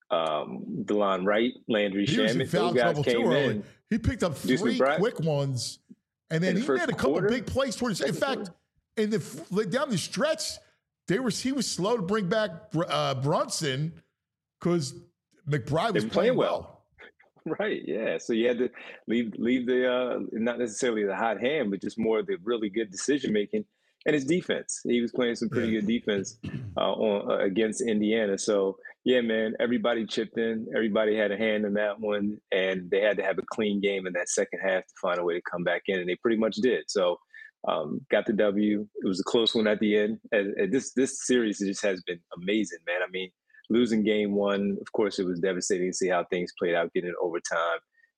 um, DeLon Wright, Landry He was in Shamet. foul Those guys trouble came too early. in. He picked up Deuce three McBride? quick ones, and then In the he first made a couple quarter? big plays towards. In Second fact, quarter? in the like, down the stretch, they were he was slow to bring back uh, Brunson because McBride was They were playing playing well. well. Right, yeah. So you had to leave leave the uh, not necessarily the hot hand, but just more of the really good decision making and his defense. He was playing some pretty Yeah. good defense uh, on uh, against Indiana. So yeah, man, everybody chipped in. Everybody had a hand in that one, and they had to have a clean game in that second half to find a way to come back in, and they pretty much did. So um, got the W. It was a close one at the end. And, and this this series just has been amazing, man. I mean. Losing game one, of course, it was devastating to see how things played out, getting it overtime.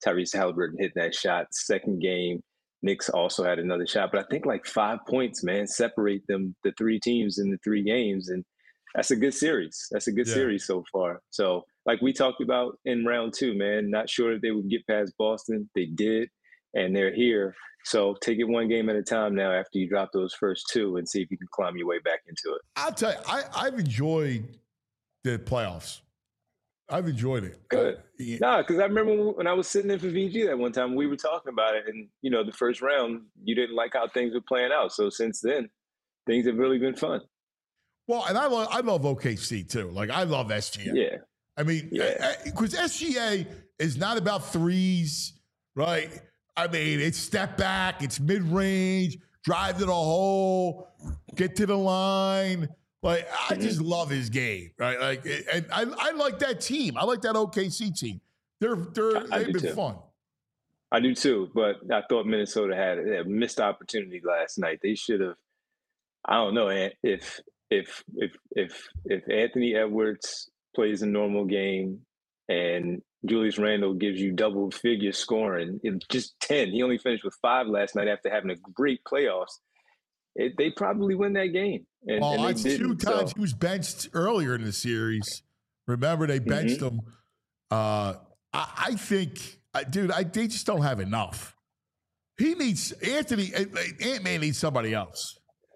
Tyrese Halliburton hitting that shot. Second game, Knicks also had another shot. But I think like five points, man, separate them, the three teams in the three games. And that's a good series. That's a good yeah. series so far. So like we talked about in round two, man, not sure if they would get past Boston. They did, and they're here. So take it one game at a time now after you drop those first two and see if you can climb your way back into it. I'll tell you, I, I've enjoyed the playoffs. I've enjoyed it. Good. Uh, yeah. Nah, because I remember when I was sitting in for V G that one time, we were talking about it. And, you know, the first round, you didn't like how things were playing out. So since then, things have really been fun. Well, and I love, I love O K C too. Like, I love S G A. Yeah. I mean, because yeah. S G A is not about threes, right? I mean, it's step back, it's mid-range, drive to the hole, get to the line. Like, I just love his game, right? Like, and I, I like that team. I like that O K C team. They're they're I, I they've been too. fun. I do too, but I thought Minnesota had a missed opportunity last night. They should have. I don't know if if if if if Anthony Edwards plays a normal game and Julius Randle gives you double figure scoring, just ten. He only finished with five last night after having a great playoffs. It, they probably win that game. And, well, and that's two times so. He was benched earlier in the series. Remember, they benched mm-hmm. him. Uh, I, I think, uh, dude, I, they just don't have enough. He needs Anthony. Ant-Man needs somebody else.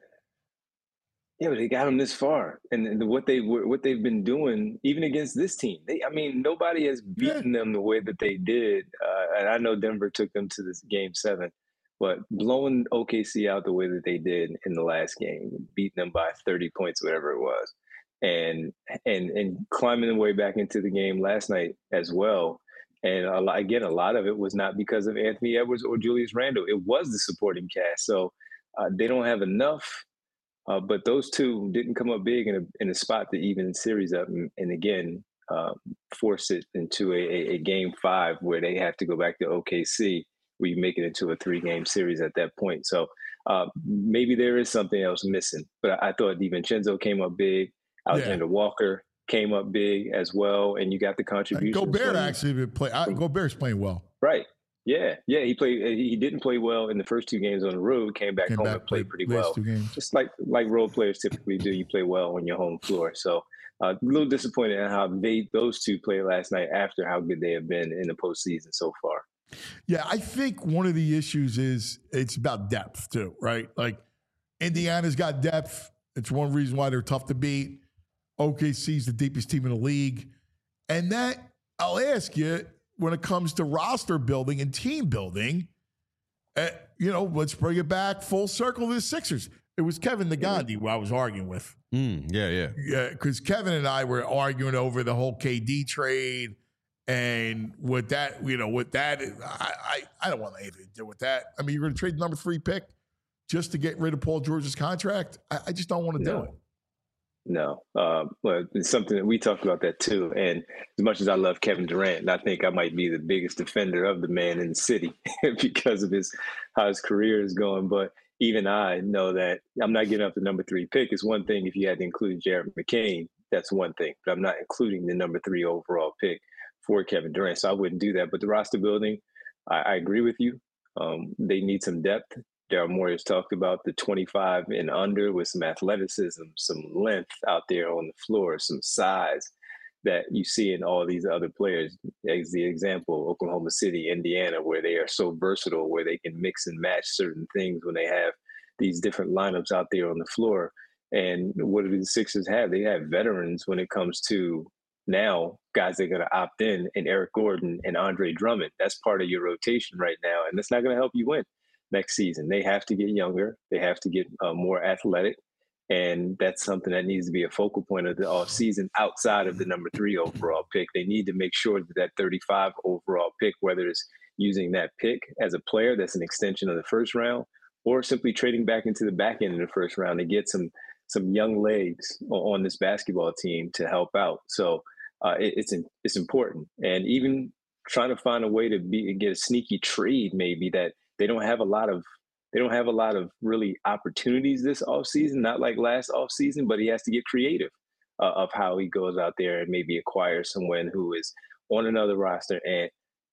Yeah, but they got him this far, and, and what they what they've been doing, even against this team. They, I mean, nobody has beaten yeah. them the way that they did. Uh, and I know Denver took them to this game seven. But blowing O K C out the way that they did in the last game, beating them by thirty points, whatever it was, and and and climbing the way back into the game last night as well. And a lot, again, a lot of it was not because of Anthony Edwards or Julius Randle. It was the supporting cast. So uh, they don't have enough. Uh, but those two didn't come up big in a in a spot to even series up, and, and again uh, force it into a, a, a game five where they have to go back to O K C. Where you make it into a three-game series at that point. So uh, maybe there is something else missing. But I, I thought DiVincenzo came up big. Alexander yeah. Walker came up big as well, and you got the contribution. Gobert actually been play. I, Gobert's playing well. Right. Yeah. Yeah. He played. He didn't play well in the first two games on the road. Came back came home back, and played pretty well. Just like like role players typically do. You play well on your home floor. So uh, a little disappointed in how they those two played last night after how good they have been in the postseason so far. Yeah, I think one of the issues is it's about depth too, right? Like Indiana's got depth. It's one reason why they're tough to beat. O K C's the deepest team in the league. And that, I'll ask you, when it comes to roster building and team building, uh, you know, let's bring it back full circle to the Sixers. It was Kevin Nagandi who I was arguing with. Mm, yeah, yeah. Yeah, because Kevin and I were arguing over the whole K D trade. And with that, you know, with that, I, I, I don't want anything to do with that. I mean, you're going to trade the number three pick just to get rid of Paul George's contract? I, I just don't want to no. do it. No. Um, well, it's something that we talked about that too. And as much as I love Kevin Durant, I think I might be the biggest defender of the man in the city because of his how his career is going. But even I know that I'm not giving up the number three pick. It's one thing if you had to include Jared McCain, that's one thing. But I'm not including the number three overall pick for Kevin Durant. So I wouldn't do that. But the roster building, I, I agree with you. Um, they need some depth. Daryl Morey has talked about the twenty-five and under with some athleticism, some length out there on the floor, some size that you see in all these other players. As the example, Oklahoma City, Indiana, where they are so versatile, where they can mix and match certain things when they have these different lineups out there on the floor. And what do the Sixers have? They have veterans when it comes to now guys that are going to opt in, and Eric Gordon and Andre Drummond. That's part of your rotation right now, and that's not going to help you win next season. They have to get younger. They have to get uh, more athletic, and that's something that needs to be a focal point of the offseason outside of the number three overall pick. They need to make sure that that thirty-five overall pick, whether it's using that pick as a player that's an extension of the first round, or simply trading back into the back end of the first round to get some some young legs on this basketball team to help out. So uh, it, it's it's important. And even trying to find a way to be get a sneaky trade maybe that they don't have a lot of they don't have a lot of really opportunities this offseason, not like last offseason, but he has to get creative uh, of how he goes out there and maybe acquire someone who is on another roster and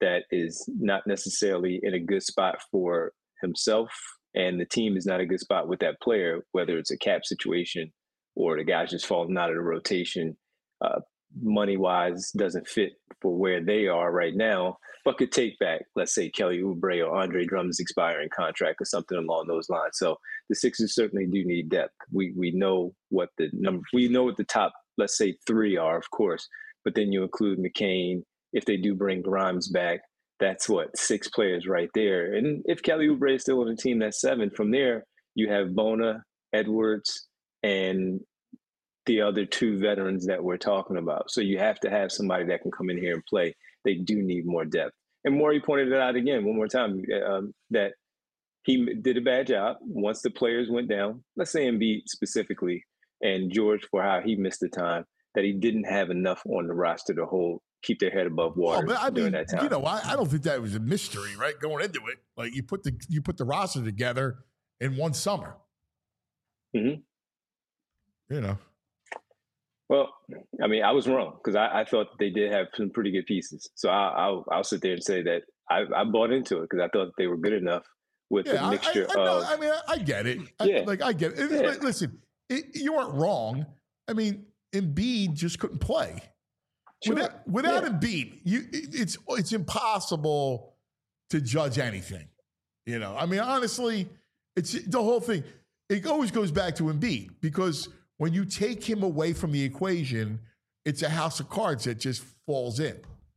that is not necessarily in a good spot for himself, and the team is not a good spot with that player, whether it's a cap situation or the guy's just falling out of the rotation, uh, money-wise doesn't fit for where they are right now, but could take back, let's say, Kelly Oubre or Andre Drummond's expiring contract or something along those lines. So the Sixers certainly do need depth. We we know what the number, we know what the top, let's say, three are, of course, but then you include McCain. If they do bring Grimes back, that's what, six players right there. And if Kelly Oubre is still on the team, that's seven. From there, you have Bona, Edwards, and the other two veterans that we're talking about. So you have to have somebody that can come in here and play. They do need more depth. And Morey pointed it out again one more time, um, that he did a bad job once the players went down, let's say Embiid specifically, and George for how he missed the time, that he didn't have enough on the roster to hold, keep their head above water oh, but I during mean, that time. You know, I, I don't think that was a mystery, right? Going into it, like you put the you put the roster together in one summer. Mm-hmm. You know. Well, I mean, I was wrong because I, I thought they did have some pretty good pieces. So I, I'll I'll sit there and say that I, I bought into it because I thought they were good enough with Yeah, the mixture I, I, I, of. know, I mean, I, I get it. I, Yeah. Like I get it. Yeah. Listen, it, you weren't wrong. I mean, Embiid just couldn't play. Sure. Without, without Yeah. Embiid, you it, it's it's impossible to judge anything. You know, I mean, honestly, it's the whole thing. It always goes back to Embiid because when you take him away from the equation, it's a house of cards that just falls in.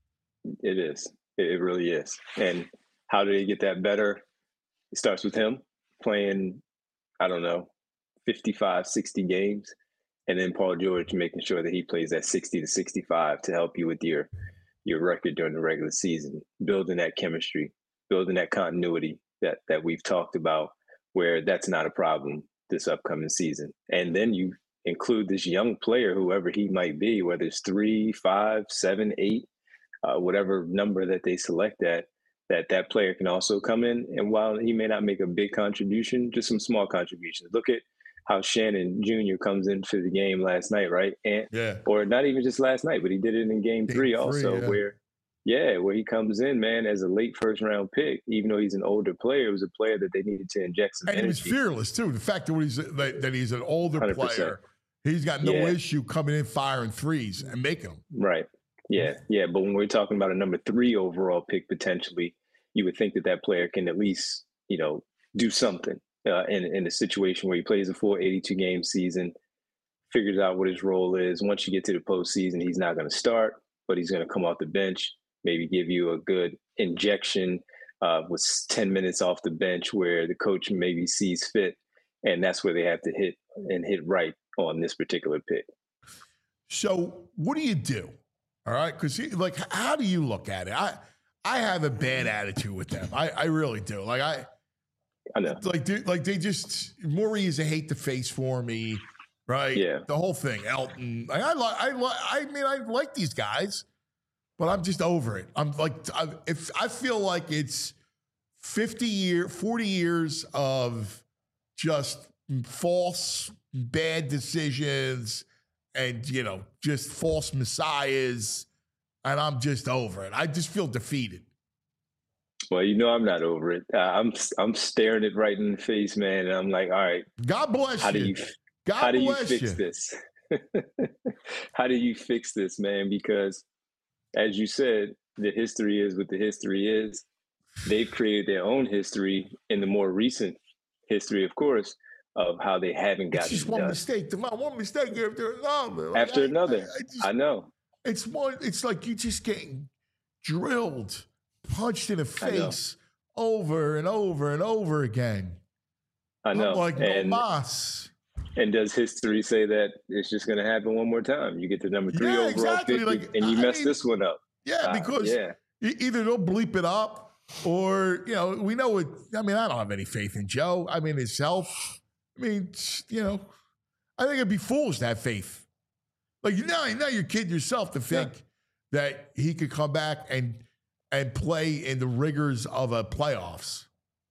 It is. It, it really is. And how do they get that better? It starts with him playing, I don't know, fifty-five, sixty games. And then Paul George making sure that he plays that sixty to sixty-five to help you with your your record during the regular season, building that chemistry, building that continuity that that we've talked about, where that's not a problem this upcoming season. And then you include this young player, whoever he might be, whether it's three, five, seven, eight, uh, whatever number that they select at, that that player can also come in. And while he may not make a big contribution, just some small contributions. Look at how Shannon Junior comes in for the game last night, right? And Yeah. or not even just last night, but he did it in game, Game three three, also, yeah. where yeah, where he comes in, man, as a late first round pick, even though he's an older player, it was a player that they needed to inject some And he was energy. fearless too. The fact that he's that, that he's an older one hundred percent. player, he's got no Yeah. issue coming in, firing threes, and making them. Right. Yeah. Yeah. But when we're talking about a number three overall pick potentially, you would think that that player can at least, you know, do something uh, in in a situation where he plays a full eighty-two game season, figures out what his role is. Once you get to the postseason, he's not going to start, but he's going to come off the bench, maybe give you a good injection uh, with ten minutes off the bench where the coach maybe sees fit. And that's where they have to hit and hit right on this particular pick. So what do you do? All right, because like, how do you look at it? I I have a bad attitude with them. I, I really do. Like I, I know. like they, like they just Morey is a hate the face for me, right? Yeah. The whole thing, Elton. Like I like I like I mean I like these guys, but I'm just over it. I'm like I, if I feel like it's fifty year, forty years of just false bad decisions and, you know, just false messiahs, and I'm just over it. I just feel defeated. Well, you know, I'm not over it. Uh, I'm I'm staring it right in the face, man. And I'm like, all right, God bless how do you. you God how do you bless fix you. this? How do you fix this, man? Because as you said, the history is what the history is. They've created their own history in the more recent history, of course, of how they haven't It's gotten just it one done. mistake. to my- One mistake after another. Like, After I- another. I, I just, I know. It's one. It's like you just getting drilled, punched in the I know. face over and over and over again. I know. I'm like, and, no mas. and does history say that it's just going to happen one more time? You get the number three Yeah, overall exactly. pick, Like, and you I mess mean, this one up. Yeah, Uh, because yeah. e- either they'll bleep it up or, you know, we know it. I mean, I don't have any faith in Joe. I mean, his health. I mean, you know, I think it'd be foolish to have faith. Like, you know, now you're kidding yourself to think that he could come back and and play in the rigors of a playoffs.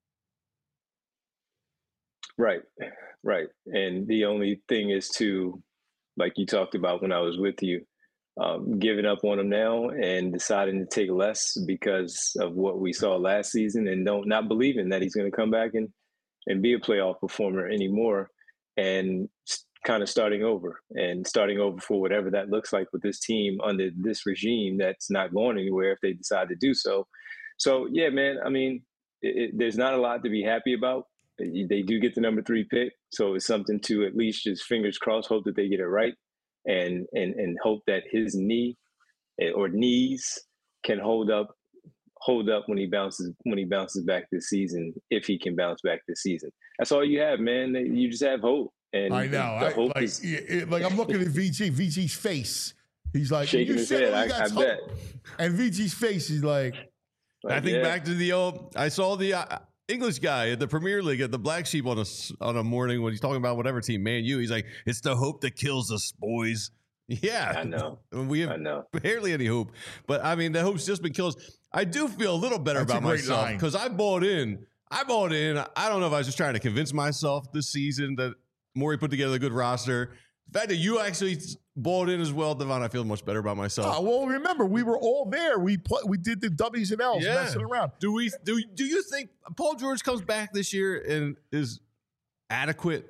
Right, right. And the only thing is to, like you talked about when I was with you, um, giving up on him now and deciding to take less because of what we saw last season, and don't not believing that he's going to come back and and be a playoff performer anymore, and kind of starting over and starting over for whatever that looks like with this team under this regime that's not going anywhere if they decide to do so. So yeah, man, I mean, it, it, there's not a lot to be happy about. They do get the number three pick, so it's something to at least just fingers crossed, hope that they get it right, and and and hope that his knee or knees can hold up hold up when he bounces when he bounces back this season, if he can bounce back this season. That's all you have, man. You just have hope. And I know. the I, hope like, is it, like I'm looking at V G, V G's face. He's like shaking his head. I, I bet. And V G's face is like, like I think yeah. back to the old. I saw the uh, English guy at the Premier League at the Black Sheep on a on a morning when he's talking about whatever team, Man U. He's like, "It's the hope that kills us, boys." Yeah, I know. We have I know. barely any hope, but I mean, the hope's just been killed. I do feel a litul better That's about a great myself line. because I bought in. I bought in. I don't know if I was just trying to convince myself this season that Morey put together a good roster. The fact that you actually bought in as well, Devon, I feel much better about myself. oh, well, remember, we were all there. We play, we did the W's and L's Yeah. messing around. Do we? Do Do you think Paul George comes back this year and is adequate?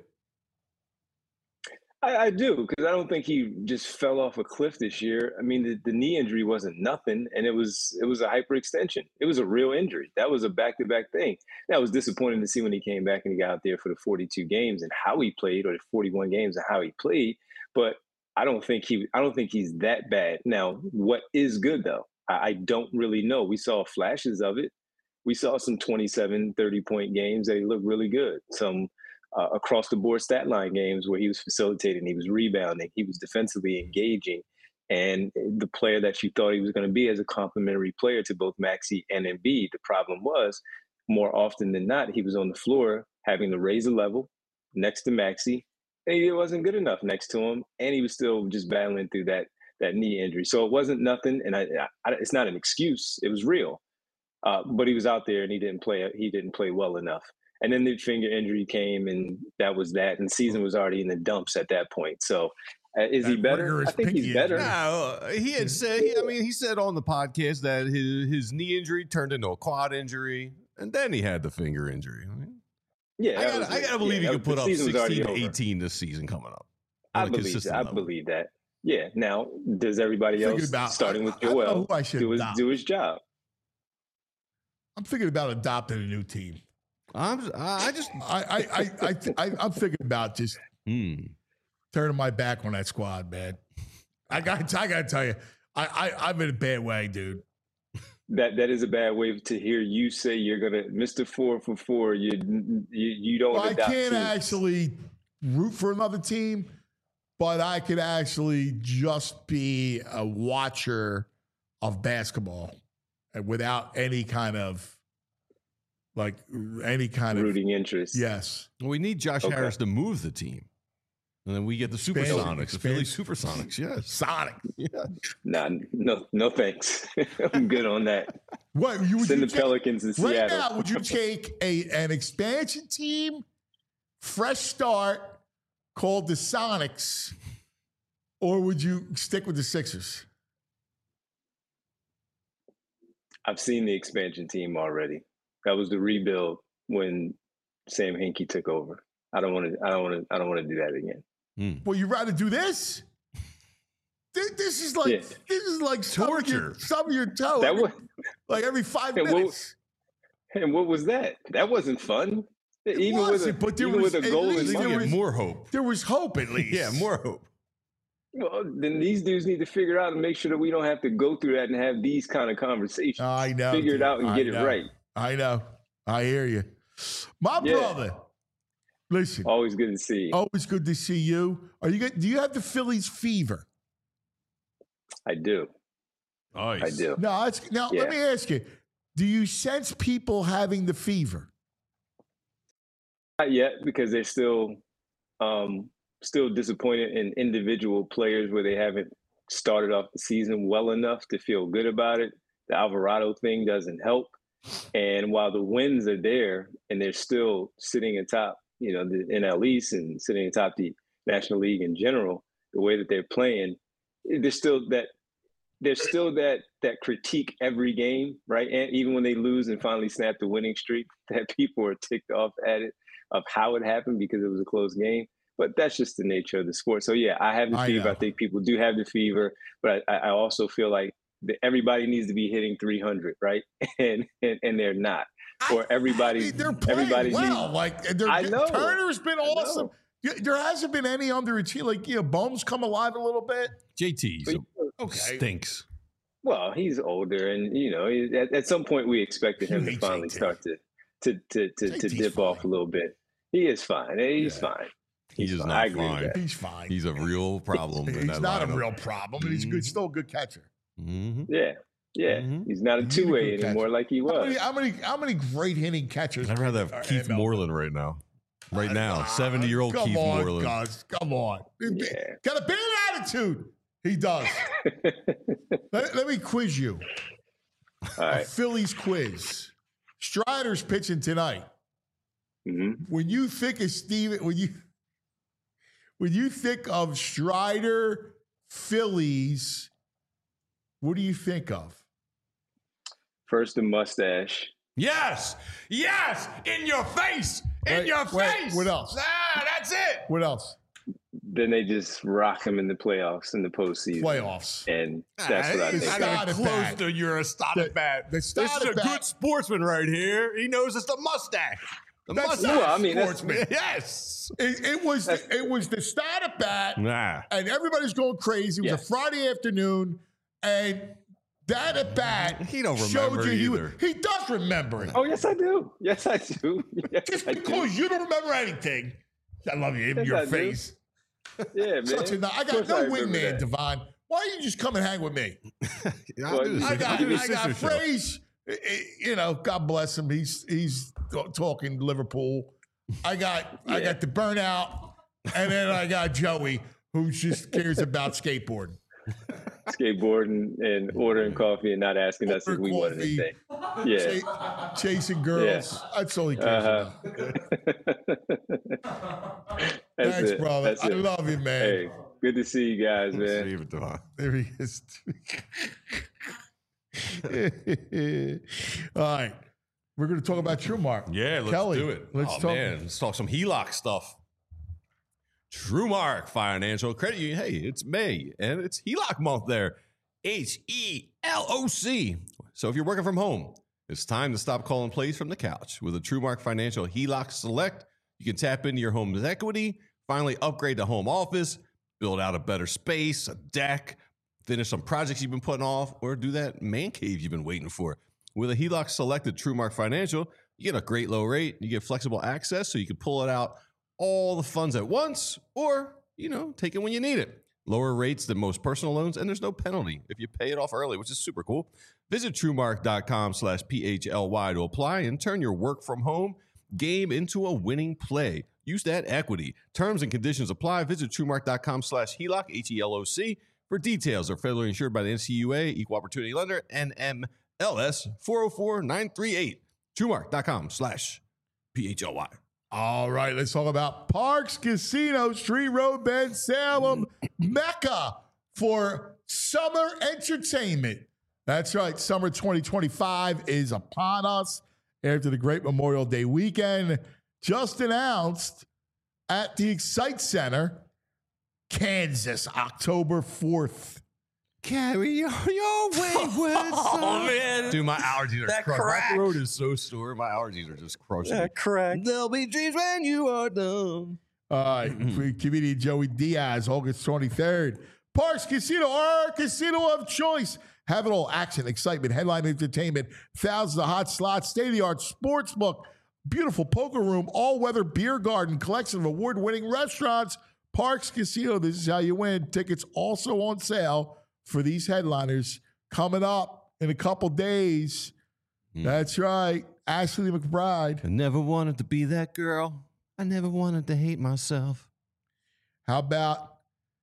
I, I do, because I don't think he just fell off a cliff this year. I mean, the, the knee injury wasn't nothing, and it was it was a hyperextension. It was a real injury. That was a back-to-back thing. That was disappointing to see when he came back and he got out there for the forty-two games and how he played, or the forty-one games and how he played. But I don't think he I don't think he's that bad. Now, what is good though? I, I don't really know. We saw flashes of it. We saw some twenty-seven, thirty-point games that he looked really good. Some Uh, across the board stat line games where he was facilitating, he was rebounding, he was defensively engaging, and the player that you thought he was going to be as a complementary player to both Maxey and Embiid. The problem was, more often than not, he was on the floor having to raise the level next to Maxey, and he wasn't good enough next to him, and he was still just battling through that that knee injury. So it wasn't nothing, and I, I, it's not an excuse. It was real, uh, but he was out there and he didn't play. He didn't play well enough. And then the finger injury came, and that was that. And the season was already in the dumps at that point. So, uh, is That he better? rigorous I think pinky he's better. injury. No, he had said. He, I mean, he said on the podcast that his his knee injury turned into a quad injury, and then he had the finger injury. I, mean, Yeah, I that gotta, was I it. gotta believe Yeah, he that could was- put the up season was already sixteen to over. eighteen this season coming up. I on a believe consistent that. I level. believe that. Yeah. Now, does everybody Thinking else, about- starting I- with I don't know Joel, who I should do his adopt. do his job? I'm thinking about adopting a new team. I'm, I just. I, I, I, I, I I'm thinking about just Hmm. turning my back on that squad, man. I got, I got to tell you, I, I, I'm in a bad way, dude. That that is a bad way to hear you say you're gonna Mister Four for Four. You you you don't. Well, I adopt can't teams. actually root for another team, but I could actually just be a watcher of basketball and without any kind of like any kind rooting interest. of yes. Well, we need Josh Okay. Harris to move the team, and then we get the Expansion, Supersonics, the Philly Supersonics. Yes. Sonic. Yeah. Nah, no, no thanks. I'm good on that. What you would Send you the take- Pelicans to right Seattle. now? Would you take a an expansion team, fresh start called the Sonics, or would you stick with the Sixers? I've seen the expansion team already. That was the rebuild when Sam Hinkie took over. I don't want to. I don't want to. I don't want to do that again. Well, you'd rather do this? This, this is like Yeah. this is like stubbing your, Torture. stubbing your toe. That every- was, like every five And what- minutes. and what was that? That wasn't fun. Even with a, wasn't, but there even was- with a at goal least in there mind. Get was- more hope. There was hope at least. Yeah, more hope. Well, then these dudes need to figure out and make sure that we don't have to go through that and have these kind of conversations. I know. Figure it dude. out and I get it know. right. I know. I hear you. My Yeah. brother. Listen. Always good to see. Always good to see you. Are you good? Do you have the Phillies fever? I do. Nice. I do. No, it's, now Yeah. let me ask you. Do you sense people having the fever? Not yet, because they're still um, still disappointed in individual players where they haven't started off the season well enough to feel good about it. The Alvarado thing doesn't help. And while the wins are there and they're still sitting atop, you know, the N L East and sitting atop the National League in general, the way that they're playing, there's still that there's still that that critique every game, right? And even when they lose and finally snap the winning streak, that people are ticked off at it of how it happened because it was a close game. But that's just the nature of the sport. So yeah, I have the I fever. know. I think people do have the fever, but I, I also feel like that everybody needs to be hitting three hundred, right? And and, and they're not. Or everybody, I mean, they're playing everybody well. needs, Like they're, I know. Turner's been I awesome. know. Yeah, there hasn't been any underachieving. Like, you know, Bohm's come alive a little bit. J T But, Okay. stinks. well, he's older, and you know, he- at, at some point we expected him You to hate finally J T. start to to to to, to J T's dip off fine. a little bit. He is fine. He's Yeah. fine. He He's is fine. not I agree with fine. that. He's fine. He's a real problem. in He's that not a lineup. real problem, and he's a good, still a good catcher. Mm-hmm. Yeah, yeah. Mhm. He's not a He's a two way good anymore catcher. like he How was. many, how many, how many great hitting catchers? I'd rather are have in Keith M L B? Moreland right now. Right now, Ah, seventy-year-old come Keith on, Moreland. Gus, come on. Yeah. Got a big attitude. He does. let, let me quiz you. All A right. Phillies quiz. Strider's pitching tonight. hmm When you think of Steven, when you when you think of Strider Phillies, what do you think of? First, the mustache. Yes, yes, in your face, in Wait, your wait, face. what else? Ah, that's it. What else? Then they just rock him in the playoffs in the postseason. Playoffs. And that's what I Ah, think. he's I of. got got it close bad. to you're a starter The- bat. the This is starter a bat- good sportsman right here. He knows it's the mustache. The That's mustache. not Well, I mean, that's- sportsman. yes. It, it was it was the start at bat, Nah. and everybody's going crazy. It was Yeah. a Friday afternoon, and that at bat He don't showed remember you he, was- either. he does remember it. Oh, yes, I do. Yes, I do. Yes, Just I do. because you don't remember anything, I love you in Yes, your I do. face. Yeah, man. Such a, I Of got course no I remember wingman, that. Devon. Why don't you just come and hang with me? Yeah, I'll Well, do this. I I'll got, do the I got sister show. Fraze. eh, eh, You know, God bless him. He's he's talking Liverpool. I got I Yeah. got the burnout, and then I got Joey, who just cares about skateboarding. Skateboarding and ordering coffee and not asking us if Order we want coffee. anything. Yeah. Ch- chasing girls. That's all he cares Uh-huh. about. That's Thanks, it. brother. That's I it. love you, man. Hey, good to see you guys, man. Save it, Devon. There he is. All right. We're going to talk about TrueMark. Yeah, let's Kelly, do it. let's oh, talk- man, let's talk some H E L O C stuff. TrueMark Financial Credit Union. Hey, it's May, and it's H E L O C month there. H E L O C. So if you're working from home, it's time to stop calling plays from the couch. With a TrueMark Financial H E L O C Select, you can tap into your home's equity, finally upgrade the home office, build out a better space, a deck, finish some projects you've been putting off, or do that man cave you've been waiting for. With a H E L O C Selected TrueMark Financial, you get a great low rate, you get flexible access so you can pull it out all the funds at once, or, you know, take it when you need it. Lower rates than most personal loans, and there's no penalty if you pay it off early, which is super cool. Visit TrueMark.com slash PHLY to apply and turn your work from home game into a winning play. Use that equity. Terms and conditions apply. Visit TrueMark.com slash HELOC, H E L O C, for details. Are federally insured by the N C U A, Equal Opportunity Lender, N M L S four oh four nine three eight. TrueMark.com slash PHLY. All right, let's talk about Parks Casino, Street Road, Bend, Salem, Mecca for summer entertainment. That's right, summer twenty twenty-five is upon us after the great Memorial Day weekend. Just announced at the Excite Center, Kansas, October fourth. Carry on your wayward Oh, man. Dude, my allergies are That crushing. crack. My throat is so sore. My allergies are just crushing. Yeah, correct. There'll be dreams when you are done. All right, for comedian Joey Diaz, August twenty-third. Parks Casino, our casino of choice. Have it all: action, excitement, headline entertainment, thousands of hot slots, state-of-the-art sports book, beautiful poker room, all-weather beer garden, collection of award-winning restaurants. Parks Casino, this is how you win. Tickets also on sale for these headliners coming up in a couple days. Mm. That's right, Ashley McBride. I never wanted to be that girl. I never wanted to hate myself. How about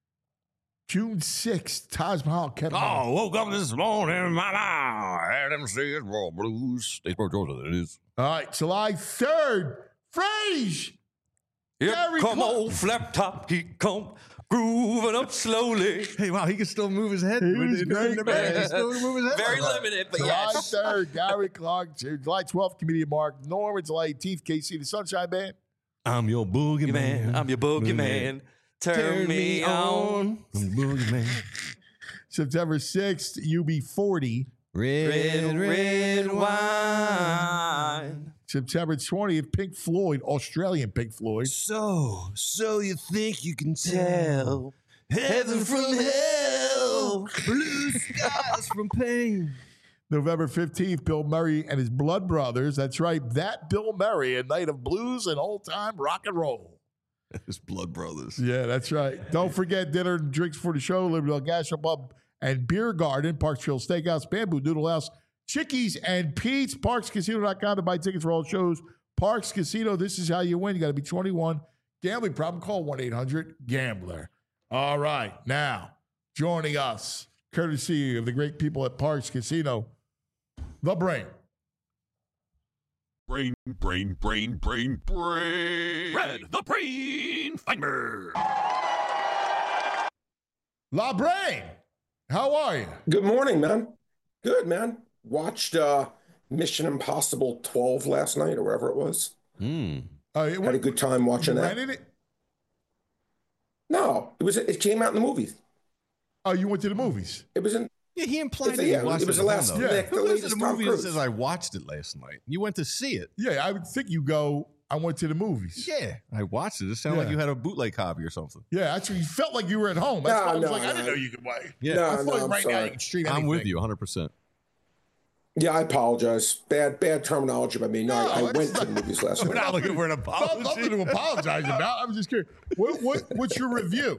June sixth, Taj Mahal kept on. Oh, woke up this morning, mama. I had them Statesboro Blues. Statesboro, Georgia, that is. All right, July third, Frage. Here Gary come Clark. old flap top, he come grooving up slowly. Hey, wow, he can still move his head. He was great, He man. can still move his head. Very like that. limited, but July yes. third, Gary Clark. July twelfth, Comedian Mark Norman. July eighteenth, K C the Sunshine Band. I'm your boogeyman. Man, I'm your boogeyman. Turn, Turn me on. I'm your boogeyman. September sixth, U B forty. Red, red wine. September twentieth, Pink Floyd, Australian Pink Floyd. So, so you think you can Tell heaven from hell. blue skies from pain? November fifteenth, Bill Murray and his Blood Brothers. That's right, that Bill Murray, a night of blues and old-time rock and roll. His blood brothers. Yeah, that's right. Don't forget dinner and drinks for the show, Liberty Gastro Pub and Beer Garden, Parksville Steakhouse, Bamboo Noodle House, Chickies and Pete's, parks casino dot com to buy tickets for all shows. Parks Casino, this is how you win. You got to be twenty-one. Gambling problem, call one eight hundred gambler. All right, now joining us, courtesy of the great people at Parks Casino, the Brain. Brain, brain, brain, brain, brain. Red, the Brain Finder. La Brain, how are you? Good morning, man. Good, man. Watched uh, Mission Impossible twelve last night or whatever it was. Mm. Uh, Had a good time watching that. rented it? No, it was. It came out in the movies. Oh, you went to the movies? It was in. Yeah, he implied It's- that he yeah, watched it was at the home, last though. Yeah. Nick, the Who goes to latest the Tom movie and Cruise. says, I watched it last night? You went to see it. Yeah, I would think you go, I went to the movies. Yeah, I watched it. It sounded like Yeah. you had a bootleg copy or something. Yeah, that's what you felt like you were at home. That's No, why I was no, like, I didn't no. know you could wait. Yeah, No, I feel no, like I'm right now sorry. you can stream I'm anything. with you one hundred percent. Yeah, I apologize. Bad, bad terminology by me. No, I, I No, went it's to the movies last We're night. not looking for an Not, apology. nothing to apologize about. I'm just curious. What, what, what's your review?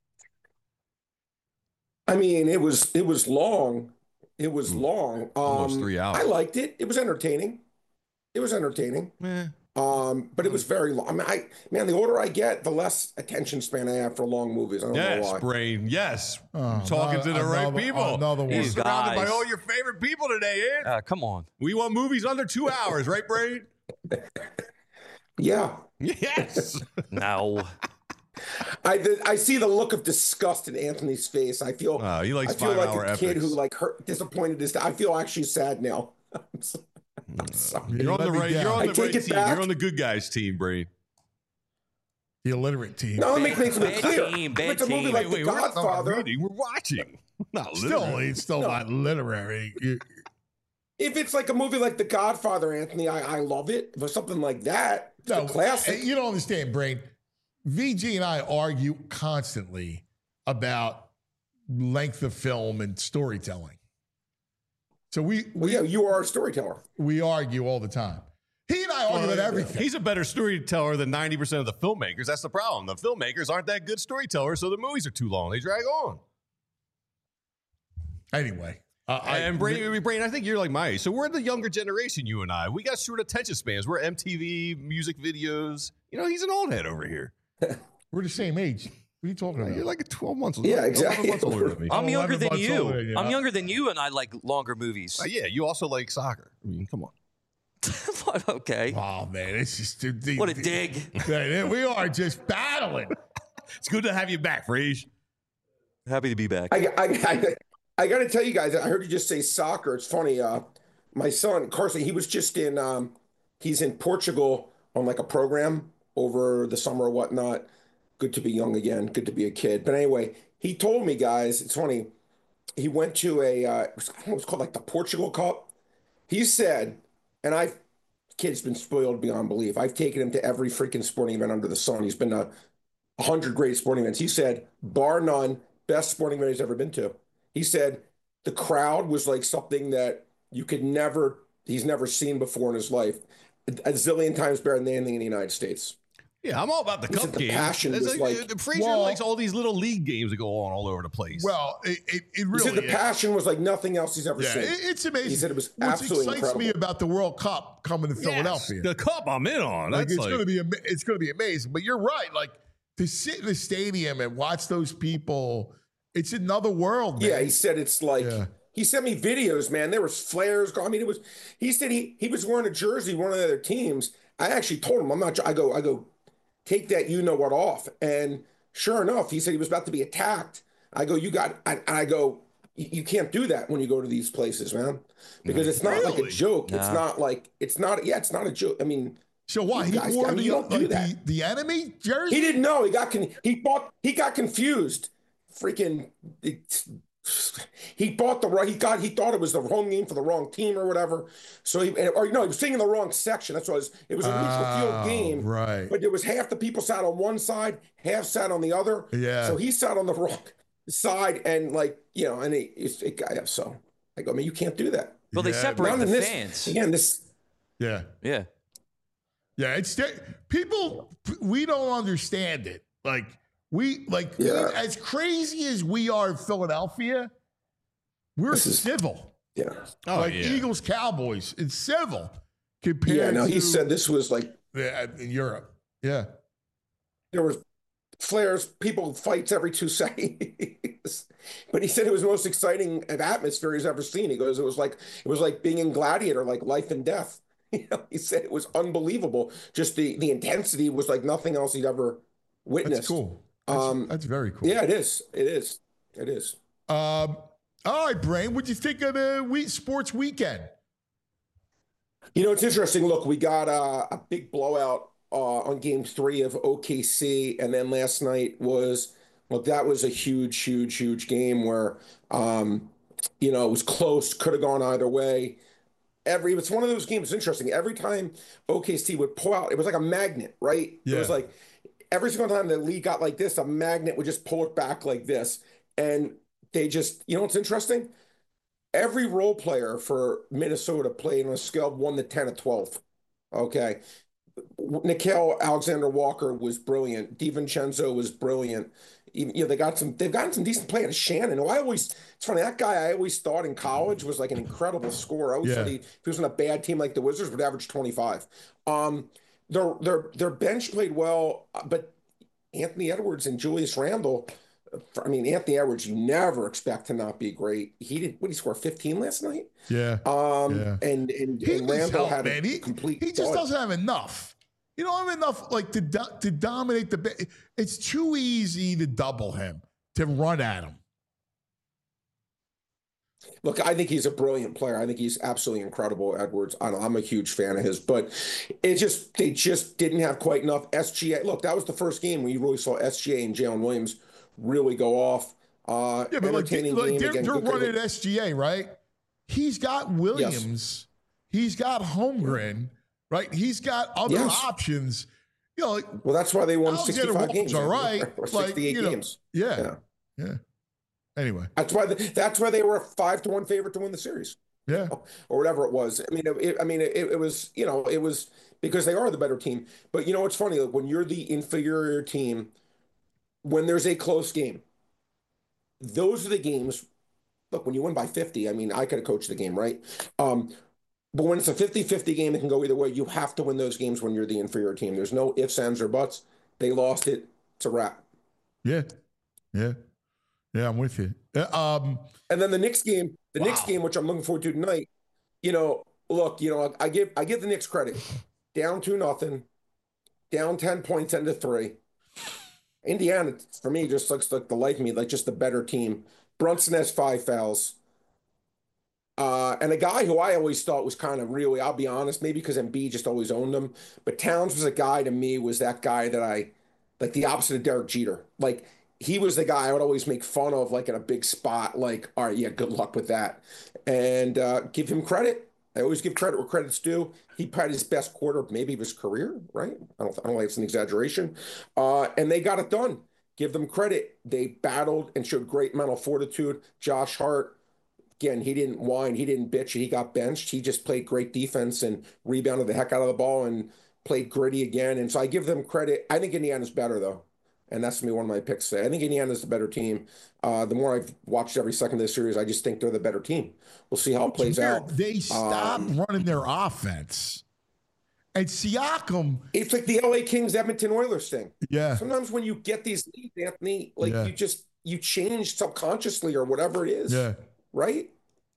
I mean, it was it was long. It was long. Um, Almost three hours. I liked it. It was entertaining. It was entertaining. Eh. Um, but it was very long. I mean, I man, the older I get, the less attention span I have for long movies. I don't know Yes, why. Brain. Yes. Oh, Talking to the another- right people. Another one. You're These surrounded by guys. all your favorite people today, Ed. Uh, come on. We want movies under two hours, right, Brain? Yeah, Yes. No. I the, I see the look of disgust in Anthony's face. I feel Oh, he likes I feel like five-hour a kid epics. who like hurt, disappointed his. I feel actually sad now. I'm so- I'm sorry. You're on Let the me right. down. You're on I the take right it team. back. You're on the good guys team, Brain. The illiterate team. No, let me make something Bad clear. team, If bad it's a movie team. like Wait, The wait, we're not Godfather, reading. We're watching. Not Still, literally. it's still not literary. You- if it's like a movie like The Godfather, Anthony, I, I love it. If it's something like that, it's No, a classic. you don't understand, Brain. V G and I argue constantly about length of film and storytelling. So we Well, yeah, you are a storyteller. we argue all the time. He and I argue about everything. He's a better storyteller than ninety percent of the filmmakers. That's the problem. The filmmakers aren't that good storytellers, so the movies are too long. They drag on. Anyway, uh, I- and Brain, Brain, I think you're like my age. So we're the younger generation, you and I. We got short attention spans. We're M T V, music videos. You know, he's an old head over here. we're the same age. What are you talking about? You're like twelve months Yeah, eleven exactly. months older than me. I'm Oh, younger eleven than months older you. than you. I'm younger than you, and I like longer movies. Uh, yeah, you also like soccer. I mean, come on. What? Okay. Oh man, it's just the, the, What a the- dig. Yeah, we are just battling. It's good to have you back, Frage. Happy to be back. I, I, I, I got to tell you guys, I heard you just say soccer. It's funny. Uh, my son, Carson, he was just in, um, he's in Portugal on like a program over the summer or whatnot. Good to be young again. Good to be a kid. But anyway, he told me, guys, it's funny. He went to a, uh, it was, I don't know, it was called like the Portugal Cup. He said, and I've, kid's been spoiled beyond belief. I've taken him to every freaking sporting event under the sun. He's been to a hundred great sporting events. He said, bar none, best sporting event he's ever been to. He said the crowd was like something that you could never, he's never seen before in his life. A zillion times better than anything in the United States. Yeah, I'm all about the He said cup the games. passion It's was like, like- uh, Frazier Well- likes all these little league games that go on all over the place. Well, it, it, it He really said the is. passion was like nothing else he's ever Yeah, seen. it- it's amazing. He said it was What absolutely excites me incredible. about the World Cup coming to Yes, Philadelphia. the cup I'm in on. Like, That's it's like, gonna be ama- it's gonna be amazing. But you're right. Like to sit in the stadium and watch those people, it's another world. Man. Yeah, he said it's like Yeah. he sent me videos, man. There was flares going. I mean, it was. He said he he was wearing a jersey, one of the other teams. I actually told him, I'm not. I go, I go, take that you know what off. And Sure enough, he said he was about to be attacked. I go, you got, and I go, you can't do that when you go to these places, man, because it's not like a Really? joke. It's Nah. not like, it's not, yeah, it's not a joke. I mean, So why? you He guys- wore I mean, the, you don't do like, that. the, the enemy jersey? He didn't know. He got con- he bought he got confused. Freaking it, he bought the right. He got he thought it was the home game for the wrong team or whatever. So he or no, he was sitting in the wrong section. That's what it was. It was a neutral Oh, field game, right. but there was half the people sat on one side, half sat on the other. Yeah. So he sat on the wrong side, and like you know, and he it, it got so. I go, I mean, you can't do that. Well, they Yeah, separate Not the in this fans. again. This Yeah. Yeah. Yeah, it's people. We don't understand it. Like we, like Yeah. we, as crazy as we are in Philadelphia, we're This is- civil. yeah. Oh, like yeah. Eagles, Cowboys, it's civil compared Yeah. No, to he said this was like yeah, in Europe. Yeah, there was flares, people fights every two seconds. But he said it was the most exciting atmosphere he's ever seen. He goes, it was like it was like being in Gladiator, like life and death. You know, he said it was unbelievable. Just the the intensity was like nothing else he'd ever witnessed. that's cool. That's, Um, that's very cool. Yeah, it is. It is. It is. Um. All right, Brain. What'd you think of the week, sports weekend? You know, it's interesting. Look, we got uh, a big blowout uh, on game three of O K C. And then last night was, well, that was a huge, huge, huge game where, um, you know, it was close, could have gone either way. Every, it's one of those games, it's interesting. Every time O K C would pull out, it was like a magnet, right? Yeah. It was like every single time the league got like this, a magnet would just pull it back like this. And they just, you know what's interesting? Every role player for Minnesota played on a scale of one to ten at twelve. Okay. Nickeil Alexander-Walker was brilliant. DiVincenzo was brilliant. Even, you know, they got some, they've gotten some decent play out of Shannon, who I always, it's funny, that guy I always thought in college was like an incredible scorer. I always Yeah. thought he, if he was on a bad team like the Wizards, would average twenty-five. Um, their, their, their bench played well, but Anthony Edwards and Julius Randle, I mean, Anthony Edwards, you never expect to not be great. He did, what did he score, fifteen last night? Yeah. Um, Yeah. and, and, He and needs Randle help, had man. a He, complete he just dud. doesn't have enough. You don't have enough, like to do, to dominate the. ba- It's too easy to double him, to run at him. Look, I think he's a brilliant player. I think he's absolutely incredible, Edwards. I don't, I'm a huge fan of his, but it just they just didn't have quite enough S G A. Look, that was the first game where you really saw S G A and Jalen Williams really go off. Uh, Yeah, but like, entertaining like game they're, again. they're Good- running S G A, right? He's got Williams. He's got Holmgren, right? He's got other Yes. options. You know, like, Well, that's why they won Alexander sixty-five Walker's games, all right. or Like, sixty-eight you know, games. yeah, Yeah. yeah. Anyway, That's why the, that's why they were a five to one favorite to win the series, yeah. or whatever it was. I mean, it, I mean, it, it was you know it was because they are the better team. But you know what's funny? Like, when you're the inferior team, when there's a close game, those are the games. Look, when you win by fifty, I mean, I could have coached the game, right? Um, but when it's a fifty-fifty game, it can go either way. You have to win those games when you're the inferior team. There's no ifs, ands, or buts. They lost it. It's a wrap. Yeah, yeah, yeah. I'm with you. Uh, Um, And then the Knicks game, the Wow. Knicks game, which I'm looking forward to tonight. You know, look, you know, I give I give the Knicks credit. Down two nothing, down ten points into three. Indiana, for me, just looks like the life of me, like just the better team. Brunson has five fouls. Uh, and a guy who I always thought was kind of really, I'll be honest, maybe because Embiid just always owned him, but Towns was a guy to me, was that guy that I, like the opposite of Derek Jeter. Like, he was the guy I would always make fun of, like in a big spot, like, all right, yeah, good luck with that. And uh, give him credit. I always give credit where credit's due. He had his best quarter, maybe of his career, right? I don't, I don't think it's an exaggeration. Uh, and they got it done. Give them credit. They battled and showed great mental fortitude. Josh Hart, again, he didn't whine, he didn't bitch, he got benched. He just played great defense and rebounded the heck out of the ball and played gritty again. And so I give them credit. I think Indiana's better, though. And that's going to be one of my picks today. I think Indiana's the better team. Uh, the more I've watched every second of this series, I just think they're the better team. We'll see how it plays weird. out. They stopped Um, running their offense, and Siakam. It's like the L A Kings Edmonton Oilers thing. Yeah, Sometimes when you get these leads, Anthony, like Yeah. you just you change subconsciously or whatever it is. yeah. Right?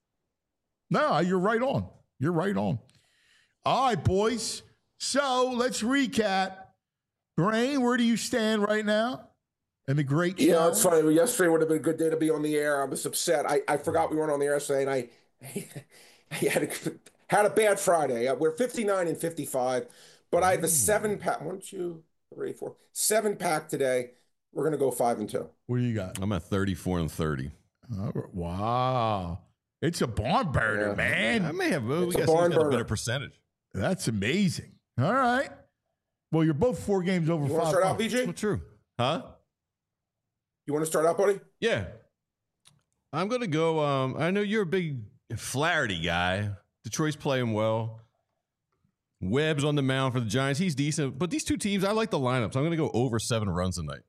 No, you're right on. You're right on. All right, boys. So let's recap. Brain, where do you stand right now? and the great Yeah, show. it's funny. Yesterday would have been a good day to be on the air. I was upset. I, I forgot we weren't on the air yesterday, and I, I had a, had a bad Friday. We're fifty-nine and fifty-five, but I have a seven pack. One, two, three, four, seven pack today. We're gonna go five and two. What do you got? I'm at thirty-four and thirty. Oh, wow, it's a barn burner, Yeah. man. I may have. Well, we It's a got, barn got a burner. better percentage. That's amazing. All right. Well, you're both four games over You want to five. start out, points. B J? Well, true. Huh? You want to start out, buddy? Yeah. I'm gonna go. Um, I know you're a big Flaherty guy. Detroit's playing well. Webb's on the mound for the Giants. He's decent, but these two teams, I like the lineups. I'm gonna go over seven runs tonight.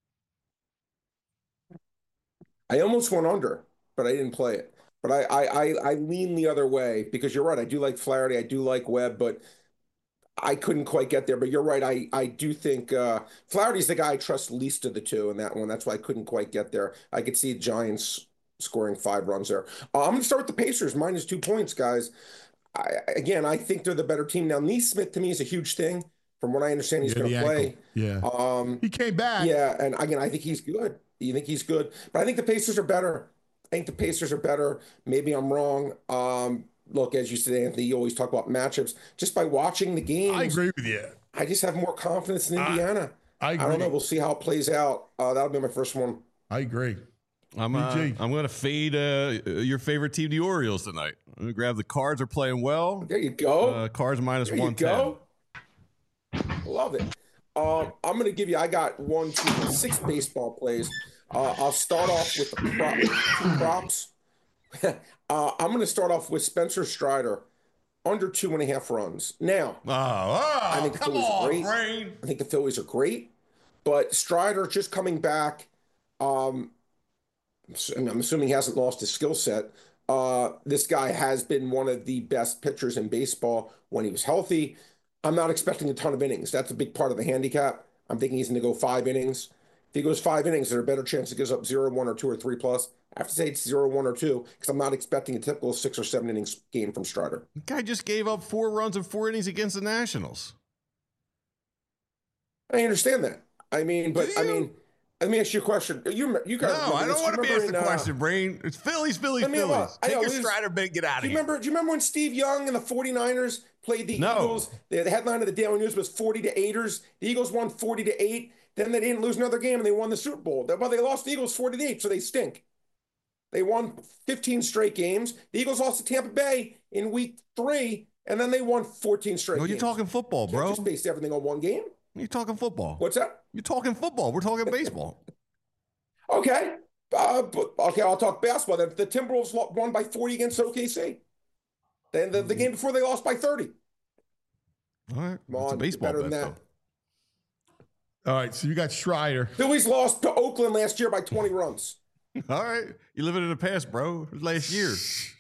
I almost went under, but I didn't play it. But I, I, I, I lean the other way because you're right. I do like Flaherty. I do like Webb, but I couldn't quite get there. But you're right. I, I do think uh, Flaherty's the guy I trust least of the two in that one. That's why I couldn't quite get there. I could see Giants scoring five runs there. Uh, I'm going to start with the Pacers, minus two points, guys. I, again, I think they're the better team. Now, Neesmith to me is a huge thing. From what I understand, he's Yeah, going the to play. ankle. Yeah. Um, He came back. yeah, and again, I think he's good. You think he's good, but I think the Pacers are better. I think the Pacers are better. Maybe I'm wrong. Um, look, as you said, Anthony, you always talk about matchups. Just by watching the games, I agree with you. I just have more confidence in I- Indiana. I I, agree. don't know. We'll see how it plays out. Uh, that'll be my first one. I agree. I'm uh, B G. I'm gonna fade uh, your favorite team, the Orioles, tonight. I'm gonna grab the Cards. Are playing well. There you go. Uh, Cards minus there you one ten. go. Love it. Um, I'm going to give you, I got one, two, six baseball plays. Uh, I'll start off with the prop, two props. uh, I'm going to start off with Spencer Strider, under two and a half runs. Now, Oh, oh I think the come Phillies are on, great. Brain. I think the Phillies are great, but Strider just coming back. Um, and I'm assuming he hasn't lost his skill set. Uh, this guy has been one of the best pitchers in baseball when he was healthy. I'm not expecting a ton of innings. That's a big part of the handicap. I'm thinking he's going to go five innings. If he goes five innings, there's a better chance he goes up zero, one, or two, or three plus. I have to say it's zero, one, or two because I'm not expecting a typical six or seven innings game from Strider. The guy just gave up four runs in four innings against the Nationals. I understand that. I mean, but Do I you? mean, let me ask you a question. You you guys No, I remember don't this? want to be Remember asked the in, uh, question, Brain. It's Phillies, Phillies, Let me- Phillies. I Take know, your this is- Strider bid, get out Do of you here. remember? Do you remember when Steve Young and the 49ers played the No. Eagles? The, the headline of the Daily News was forty to eighters. The Eagles won forty to eight. Then they didn't lose another game and they won the Super Bowl. Well, they lost the Eagles forty to eight, so they stink. They won fifteen straight games. The Eagles lost to Tampa Bay in week three, and then they won fourteen straight No, you're games. talking football, Can't bro. just based everything on one game. You're talking football. What's that? You're talking football. We're talking baseball. Okay. Uh, but, okay, I'll talk basketball. The, the Timberwolves lo- won by forty against O K C. Then the, the game before they lost by thirty. All right. Come It's a on, baseball better bet, than that. All right, so you got Strider. Phillies lost to Oakland last year by twenty runs. though. All right. You're living in the past, bro. It was last year.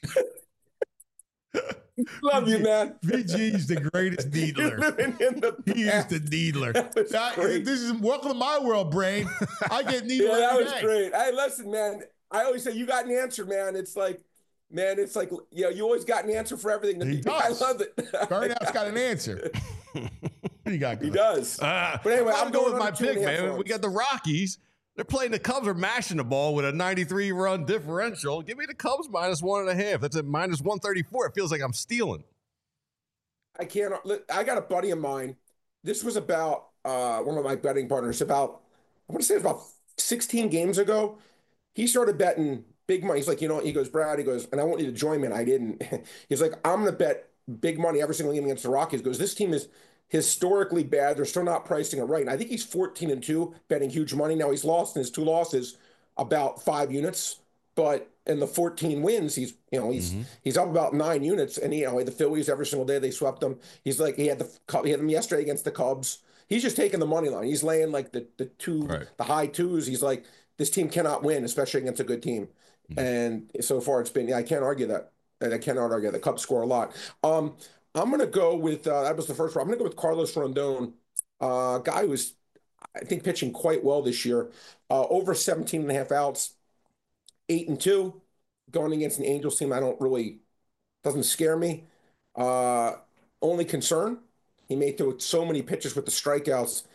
Love you, man. V G's the greatest You're needler. living in the He is past. the needler. That was That- great. this is welcome to my world, Brain. I get needler Yeah, that every was day. great. Hey, listen, man. I always say you got an answer, man. It's like, man, it's like, yeah, you always got an answer for everything. He does. I love it. Burnout's got an answer. What do you got? He Gus? does. Uh, But anyway, I'm I'm going going with my under two and pick, a half man. runs. We got the Rockies. They're playing the Cubs are mashing the ball with a ninety-three run differential. Give me the Cubs minus one and a half. That's at minus one thirty-four. It feels like I'm stealing. I can't. I got a buddy of mine. This was about uh, one of my betting partners. About I want to say it was about sixteen games ago. He started betting big money. He's like, you know, he goes, Brad. He goes, and I want you to join me. And I didn't. He's like, I'm going to bet big money every single game against the Rockies. He goes, this team is historically bad. They're still not pricing it right. And I think he's fourteen and two, betting huge money. Now he's lost in his two losses about five units, but in the fourteen wins, he's you know he's Mm-hmm. he's up about nine units. And he, you know the Phillies every single day they swept them. He's like he had the he had them yesterday against the Cubs. He's just taking the money line. He's laying like the the two Right. the high twos. He's like this team cannot win, especially against a good team. Mm-hmm. And so far it's been yeah I can't argue that. And I cannot argue that. The Cubs score a lot. Um, I'm gonna go with uh, that was the first one. I'm gonna go with Carlos Rondon, uh, guy who's I think pitching quite well this year. Uh, over seventeen and a half outs, eight and two, going against an Angels team I don't really doesn't scare me. Uh, only concern, he may throw so many pitches with the strikeouts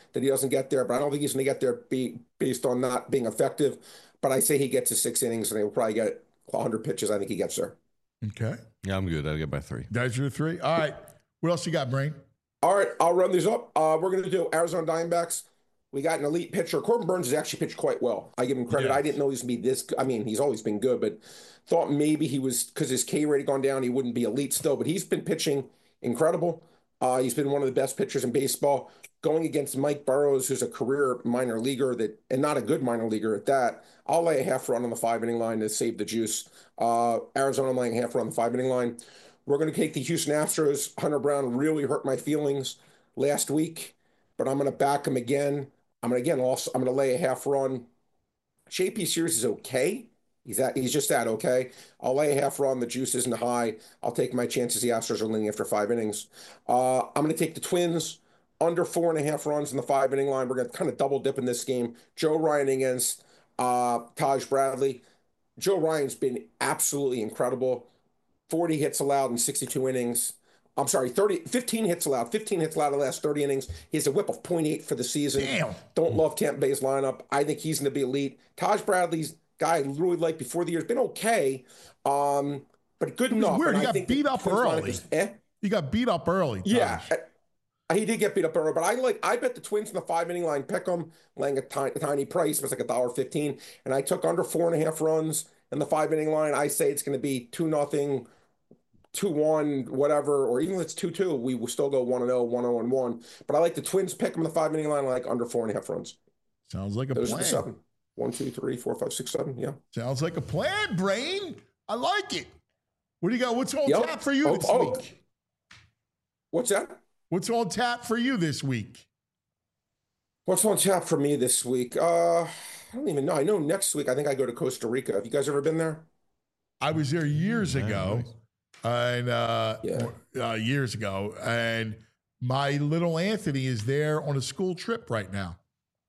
that he doesn't get there, but I don't think he's going to get there be, based on not being effective. But I say he gets to six innings, and he'll probably get one hundred pitches. I think he gets there. Okay. Yeah, I'm good. I'll get by three. That's your three. All right. What else you got, Brain? All right, I'll run these up. Uh, we're going to do Arizona Diamondbacks. We got an elite pitcher. Corbin Burns has actually pitched quite well. I give him credit. Yes. I didn't know he was going to be this good. I mean, he's always been good, but thought maybe he was, because his K rate had gone down, he wouldn't be elite still. But he's been pitching incredible. Uh, he's been one of the best pitchers in baseball. Going against Mike Burrows, who's a career minor leaguer that, and not a good minor leaguer at that. I'll lay a half run on the five inning line to save the juice. Uh, Arizona, I'm laying a half run on the five inning line. We're going to take the Houston Astros. Hunter Brown really hurt my feelings last week, but I'm going to back him again. I'm going to again also I'm going to lay a half run. J P Sears is okay. He's that he's just that okay. I'll lay a half run. The juice isn't high. I'll take my chances. The Astros are winning after five innings. Uh, I'm going to take the Twins under four and a half runs in the five inning line. We're going to kind of double dip in this game. Joe Ryan against uh, Taj Bradley. Joe Ryan's been absolutely incredible. forty hits allowed in sixty-two innings. I'm sorry, thirty, fifteen hits allowed. fifteen hits allowed in the last thirty innings. He has a whip of point eight for the season. Damn. Don't love Tampa Bay's lineup. I think he's going to be elite. Taj Bradley's guy I really liked before the year. Has been okay, um, but good It was enough. weird. And He I got think beat the up Twins lineup early. is, eh? He got beat up early. Yeah. Taj. uh, He did get beat up early, but I like I bet the Twins in the five inning line pick them, laying a tiny, a tiny price. It was like a dollar fifteen, and I took under four and a half runs in the five inning line. I say it's going to be two nothing. two one, whatever, or even if it's two two, we will still go one and oh, one oh and one. But I like the Twins pick them in the five inning line, I like under four and a half runs. Sounds like a Those plan. are the seven. One, two, three, four, five, six, seven. Yeah. Sounds like a plan, Brain. I like it. What do you got? What's on Yep. tap for you Oh, this oh. week? What's that? What's on tap for you this week? What's on tap for me this week? Uh, I don't even know. I know next week I think I go to Costa Rica. Have you guys ever been there? I was there years Yeah, ago, nice. and uh, Yeah. uh, years ago, and my little Anthony is there on a school trip right now.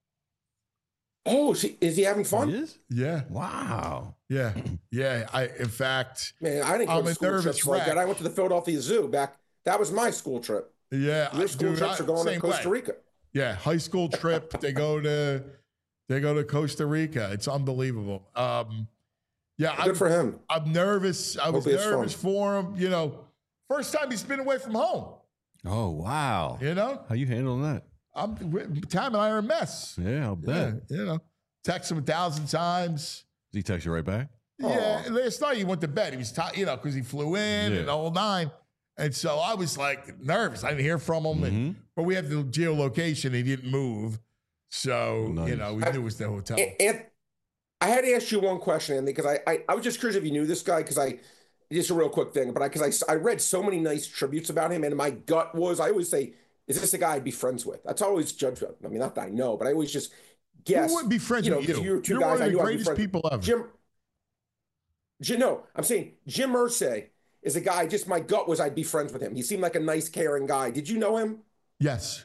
Oh, is he, is he having fun? He is? Yeah, Wow. yeah, yeah. I, in fact, Man, I didn't go I'm to a school nervous trips like wreck. that. I went to the Philadelphia Zoo back. That was my school trip. yeah, Your I- school dude, trips I- are going to same Costa way. Rica. Yeah, high school trip. they go to they go to Costa Rica. It's unbelievable. Um, yeah, Good I'm, for him. I'm nervous. I was Hope it's nervous fun. for him. You know, first time he's been away from home. Oh, wow. You know, How you handling that? I'm Tam and I are a mess. Yeah, I'll bet. Yeah, you know, text him a thousand times. Does he text you right back? Yeah, last night he went to bed. He was tired, you know, because he flew in Yeah. and the whole nine. And so I was like nervous. I didn't hear from him, and, Mhm. but we had the geolocation. He didn't move, so you Nice. know we knew it was the hotel. And, and I had to ask you one question, Andy, because I, I I was just curious if you knew this guy, because I just a real quick thing, but I because I, I read so many nice tributes about him, and my gut was I always say, is this a guy I'd be friends with? That's how I always judge him. I mean, not that I know, but I always just guess. Who wouldn't be friends you know, with because you? you're two You're guys one I of the knew I'd be greatest friends. people ever. Jim, Jim, no, I'm saying Jim Irsay is a guy. Just my gut was I'd be friends with him. He seemed like a nice, caring guy. Did you know him? Yes.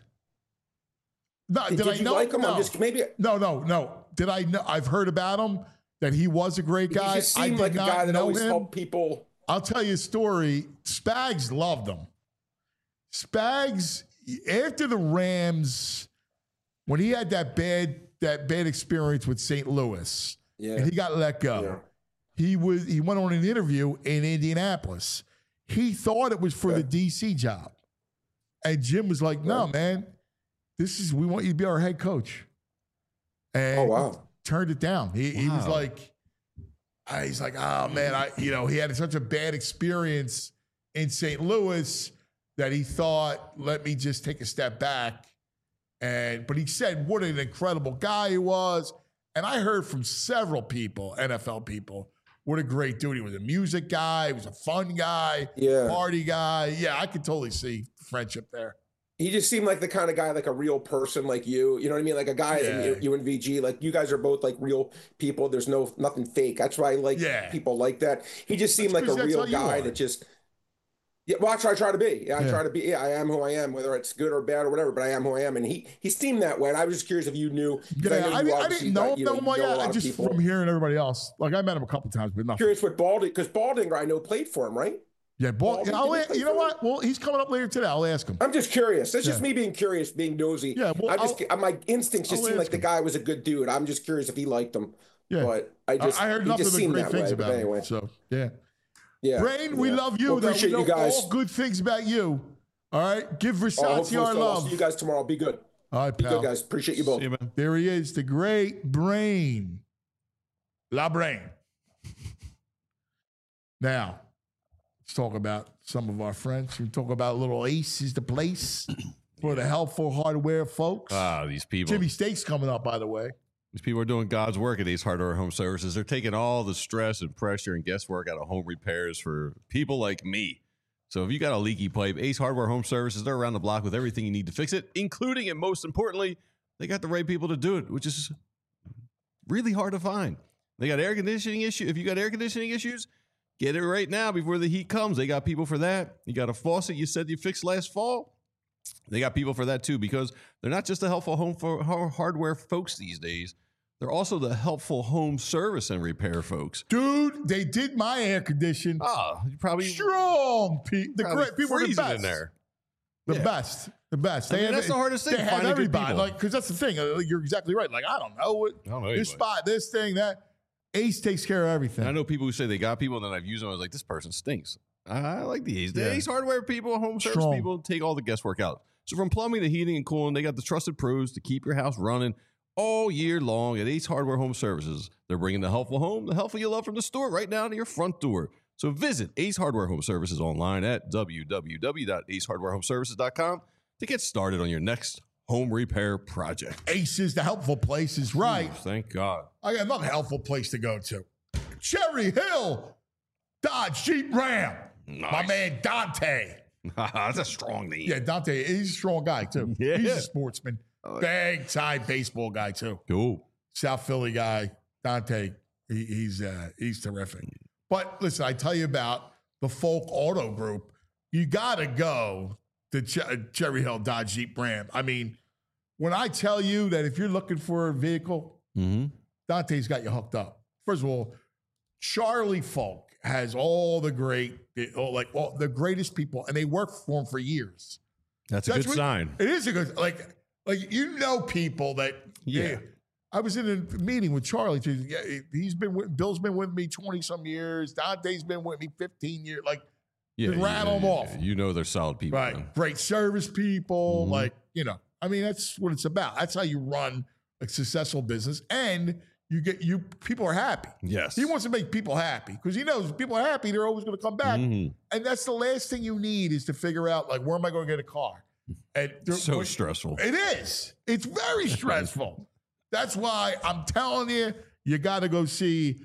No, Did, did, did I you know like him? No. I'm just maybe. no, no, no. Did I know? I've heard about him. That he was a great guy. He just I seemed did like a not guy that know always him. helped people. I'll tell you a story. Spags loved him. Spags, after the Rams, when he had that bad that bad experience with Saint Louis, Yeah. and he got let go, Yeah. he was he went on an interview in Indianapolis. He thought it was for Okay. the D C job, and Jim was like, "No, Right. man, this is we want you to be our head coach." And Oh he wow. turned it down. He, he was Wow. like, uh, he's like, oh man, I, you know, he had such a bad experience in Saint Louis that he thought, let me just take a step back. And, but he said, what an incredible guy he was. And I heard from several people, N F L people, what a great dude. He was a music guy. He was a fun guy, Yeah. party guy. Yeah, I could totally see friendship there. He just seemed like the kind of guy, like a real person, like you. You know what I mean? Like a guy, Yeah. you, you and V G, like you guys are both like real people. There's no nothing fake. That's why I like Yeah. people like that. He just seemed That's like a 'cause that's real how you guy are. that just. Yeah, well, I try, I try to be. Yeah, I Yeah. try to be. Yeah, I am who I am, whether it's good or bad or whatever. But I am who I am, and he he seemed that way. And I was just curious if you knew. 'cause Yeah, know I, you didn't- I obviously didn't know got- him you know, that you well. know a Yeah, lot I of just people. from hearing everybody else. Like I met him a couple times, but nothing. Curious what Balding, because Baldinger I know played for him, right? Yeah, boy, Well, I'll, we- a- you know what? Well, he's coming up later today. I'll ask him. I'm just curious. That's just Yeah. me being curious, being nosy. Yeah, well, I'm just I'll- my instincts just I'll seem like ask the him. guy was a good dude. I'm just curious if he liked him. Yeah. But I just I heard he nothing just but seemed great that things way. But about anyway, him. So, yeah. yeah. Brain, we yeah. love you. Well, though. appreciate We know you guys. all good things about you. All right? Give Oh, Versace hopefully our so. I'll love. see you guys tomorrow. Be good. All right, Be pal. good, guys. Appreciate you both. See you, man. There he is, the great Brain. La Brain. Now, let's talk about some of our friends. We talk about little Ace is the place for the helpful hardware folks. Ah, these people. Jimmy Steak's coming up, by the way. These people are doing God's work at Ace Hardware Home Services. They're taking all the stress and pressure and guesswork out of home repairs for people like me. So if you got a leaky pipe, Ace Hardware Home Services, they're around the block with everything you need to fix it, including and most importantly, they got the right people to do it, which is really hard to find. They got air conditioning issue. If you got air conditioning issues, get it right now before the heat comes. They got people for that. You got a faucet you said you fixed last fall. They got people for that too, because they're not just the helpful home for hardware folks these days. They're also the helpful home service and repair folks. Dude, they did my air condition. Oh, you probably Strong. Pe- the probably great people are the freezing best. in there. The Yeah. best. The best. I mean, that's the hardest thing, They have finding good everybody. people. Like, because that's the thing. Uh, You're exactly right. Like, I don't know what I don't know this anybody. spot, this thing, that. Ace takes care of everything. And I know people who say they got people, and then I've used them. I was like, this person stinks. I like the Ace. The Yeah. Ace Hardware people, home service Strong. people, take all the guesswork out. So from plumbing to heating and cooling, they got the trusted pros to keep your house running all year long at Ace Hardware Home Services. They're bringing the helpful home, the helpful you love from the store right down to your front door. So visit Ace Hardware Home Services online at w w w dot ace hardware home services dot com to get started on your next home repair project. Ace is the helpful place, is right. Ooh, thank God. I got another helpful place to go to. Cherry Hill Dodge Jeep Ram. My Nice. man Dante. That's a strong name. Yeah, Dante, he's a strong guy, too. Yeah. He's a sportsman. Big time baseball guy, too. Cool. South Philly guy, Dante. He, he's uh, he's terrific. But listen, I tell you about the Folk Auto Group. You got to go to Ch- Cherry Hill Dodge Jeep Ram. I mean, when I tell you that if you're looking for a vehicle, Mm-hmm. Dante's got you hooked up. First of all, Charlie Folk has all the great, all, like all the greatest people, and they work for him for years. That's a That's good what- sign. It is a good, like, like you know, people that Yeah. I was in a meeting with Charlie. Too. Yeah, he's been with, Bill's been with me twenty some years. Dante's been with me fifteen years. Like, Yeah, Just rattle them you, off. You know they're solid people. right, man. great service people. Mhm. Like, you know, I mean, that's what it's about. That's how you run a successful business, and you get you people are happy. Yes. He wants to make people happy because he knows if people are happy, they're always going to come back. Mhm. And that's the last thing you need is to figure out, like, where am I going to get a car? And there- So when- stressful. It is. It's very stressful. That's why I'm telling you, you got to go see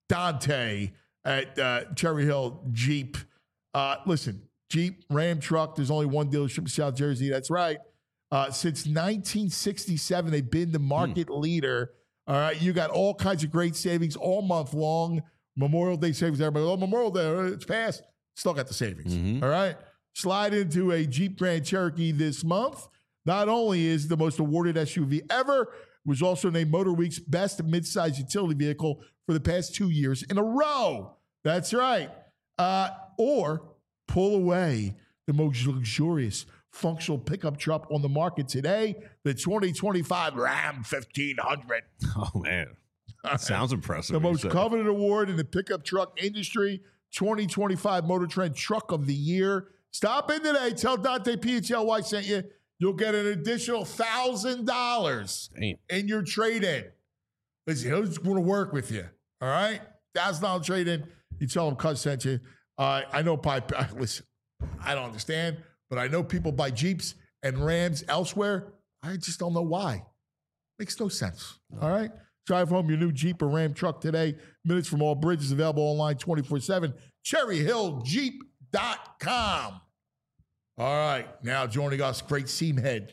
Dante at uh, Cherry Hill Jeep. Uh, listen, Jeep, Ram truck. There's only one dealership in South Jersey. That's right. Uh, since nineteen sixty-seven, they've been the market leader. All right. You got all kinds of great savings all month long. Memorial Day savings. Everybody, oh, Memorial Day, it's past. Still got the savings. Mhm. All right. Slide into a Jeep Grand Cherokee this month. Not only is the most awarded S U V ever, it was also named MotorWeek's best midsize utility vehicle for the past two years in a row. That's right. Uh, or pull away the most luxurious functional pickup truck on the market today, the twenty twenty-five Ram fifteen hundred. Oh man, sounds impressive. The when you most say it. coveted award in the pickup truck industry, twenty twenty-five Motor Trend Truck of the Year. Stop in today. Tell Dante P H L Y sent you. You'll get an additional one thousand dollars Damn. in your trade-in. Listen, he's going to work with you, all right? one thousand dollars trade-in. You tell him Cuz sent you. Uh, I know, by, listen, I don't understand, but I know people buy Jeeps and Rams elsewhere. I just don't know why. Makes no sense, all right? Drive home your new Jeep or Ram truck today. Minutes from all bridges available online twenty-four seven. cherry hill jeep dot com. All right, now joining us, great seam head.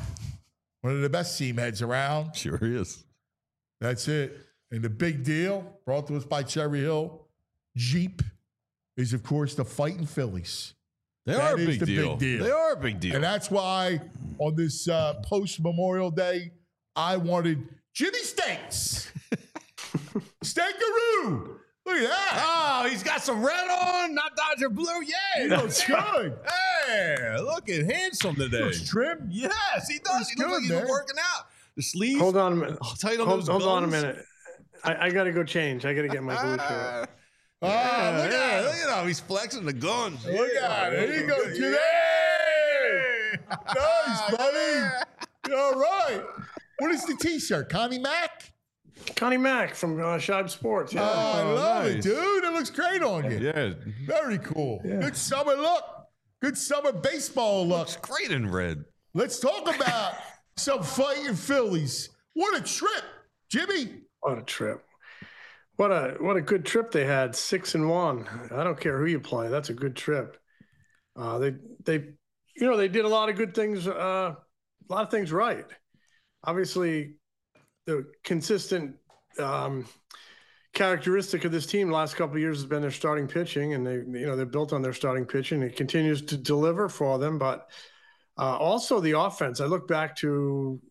One of the best seam heads around. Sure is. That's it. And the big deal, brought to us by Cherry Hill Jeep, is, of course, the Fighting Phillies. They That are a is big the deal. big deal. They are a big deal. And that's why on this uh, post-Memorial Day, I wanted Jimmy Steaks. Steakaroo! Look at that. Oh, he's got some red on, not Dodger blue. Yeah, He looks good. Hey, looking handsome today. Looks trim. Yes, he does. Looks He looks good, like he's man. been working out. The sleeves. Hold on a minute. Oh, tight on Hold, those hold on a guns. minute. I, I got to go change. I got to get my blue shirt. Ah, Yeah, look yeah, at him. look at how he's flexing the guns. Look Yeah. at it. There you go, Yeah. Jimmy. Nice, buddy. All right. What is the T-shirt? Connie Mack? Connie Mack from uh, Shibe Sports. Yeah. Oh, I Oh, love nice. it, dude. It looks great on you. Yeah, Very cool. Yeah. Good summer look. Good summer baseball look. looks great in red. Let's talk about some fighting Phillies. What a trip, Jimmy. What a trip. What a what a good trip they had. Six and one. I don't care who you play. That's a good trip. Uh, they they you know they did a lot of good things. Uh, a lot of things right. Obviously, the consistent um, characteristic of this team the last couple of years has been their starting pitching, and they you know they're built on their starting pitching. It continues to deliver for them, but uh, also the offense. I look back to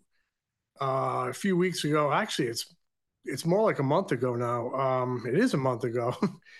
uh, a few weeks ago. Actually, it's it's more like a month ago now. Um, it is a month ago.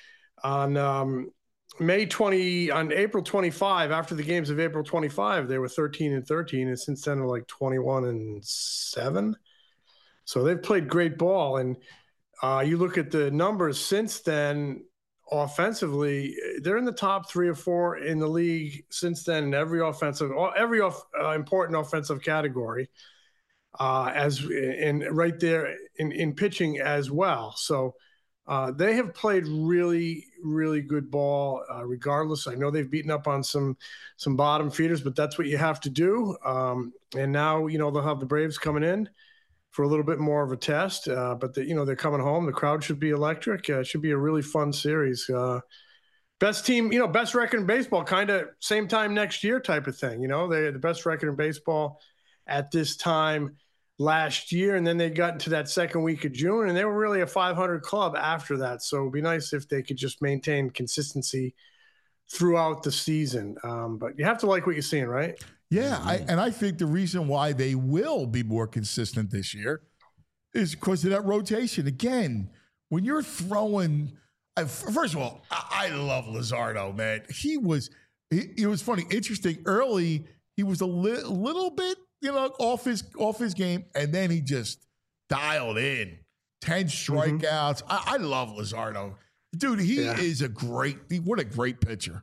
on um, May twentieth, on April twenty-fifth, after the games of April twenty-fifth, they were thirteen and thirteen, and since then they're like twenty-one and seven. So they've played great ball, and uh, you look at the numbers since then. Offensively, they're in the top three or four in the league since then in every offensive, every off, uh, important offensive category. Uh, as in right there in, in pitching as well. So uh, they have played really, really good ball. Uh, regardless, I know they've beaten up on some some bottom feeders, but that's what you have to do. Um, and now you know they'll have the Braves coming in for a little bit more of a test. Uh, but the, you know they're coming home. The crowd should be electric. Uh, it should be a really fun series. Uh, best team, you know, best record in baseball. Kind of same time next year type of thing. You know, they're the best record in baseball at this time last year, and then they got into that second week of June, and they were really a five hundred club after that. So it'd be nice if they could just maintain consistency throughout the season. Um, but you have to like what you're seeing, right? Yeah, I, and I think the reason why they will be more consistent this year is because of that rotation. Again, when you're throwing, I, first of all, I, I love Luzardo, man. He was, he, it was funny, interesting. Early, he was a li- little bit, you know, off his off his game, and then he just dialed in. Ten strikeouts. Mm-hmm. I, I love Luzardo, dude. He Yeah. is a great. What a great pitcher,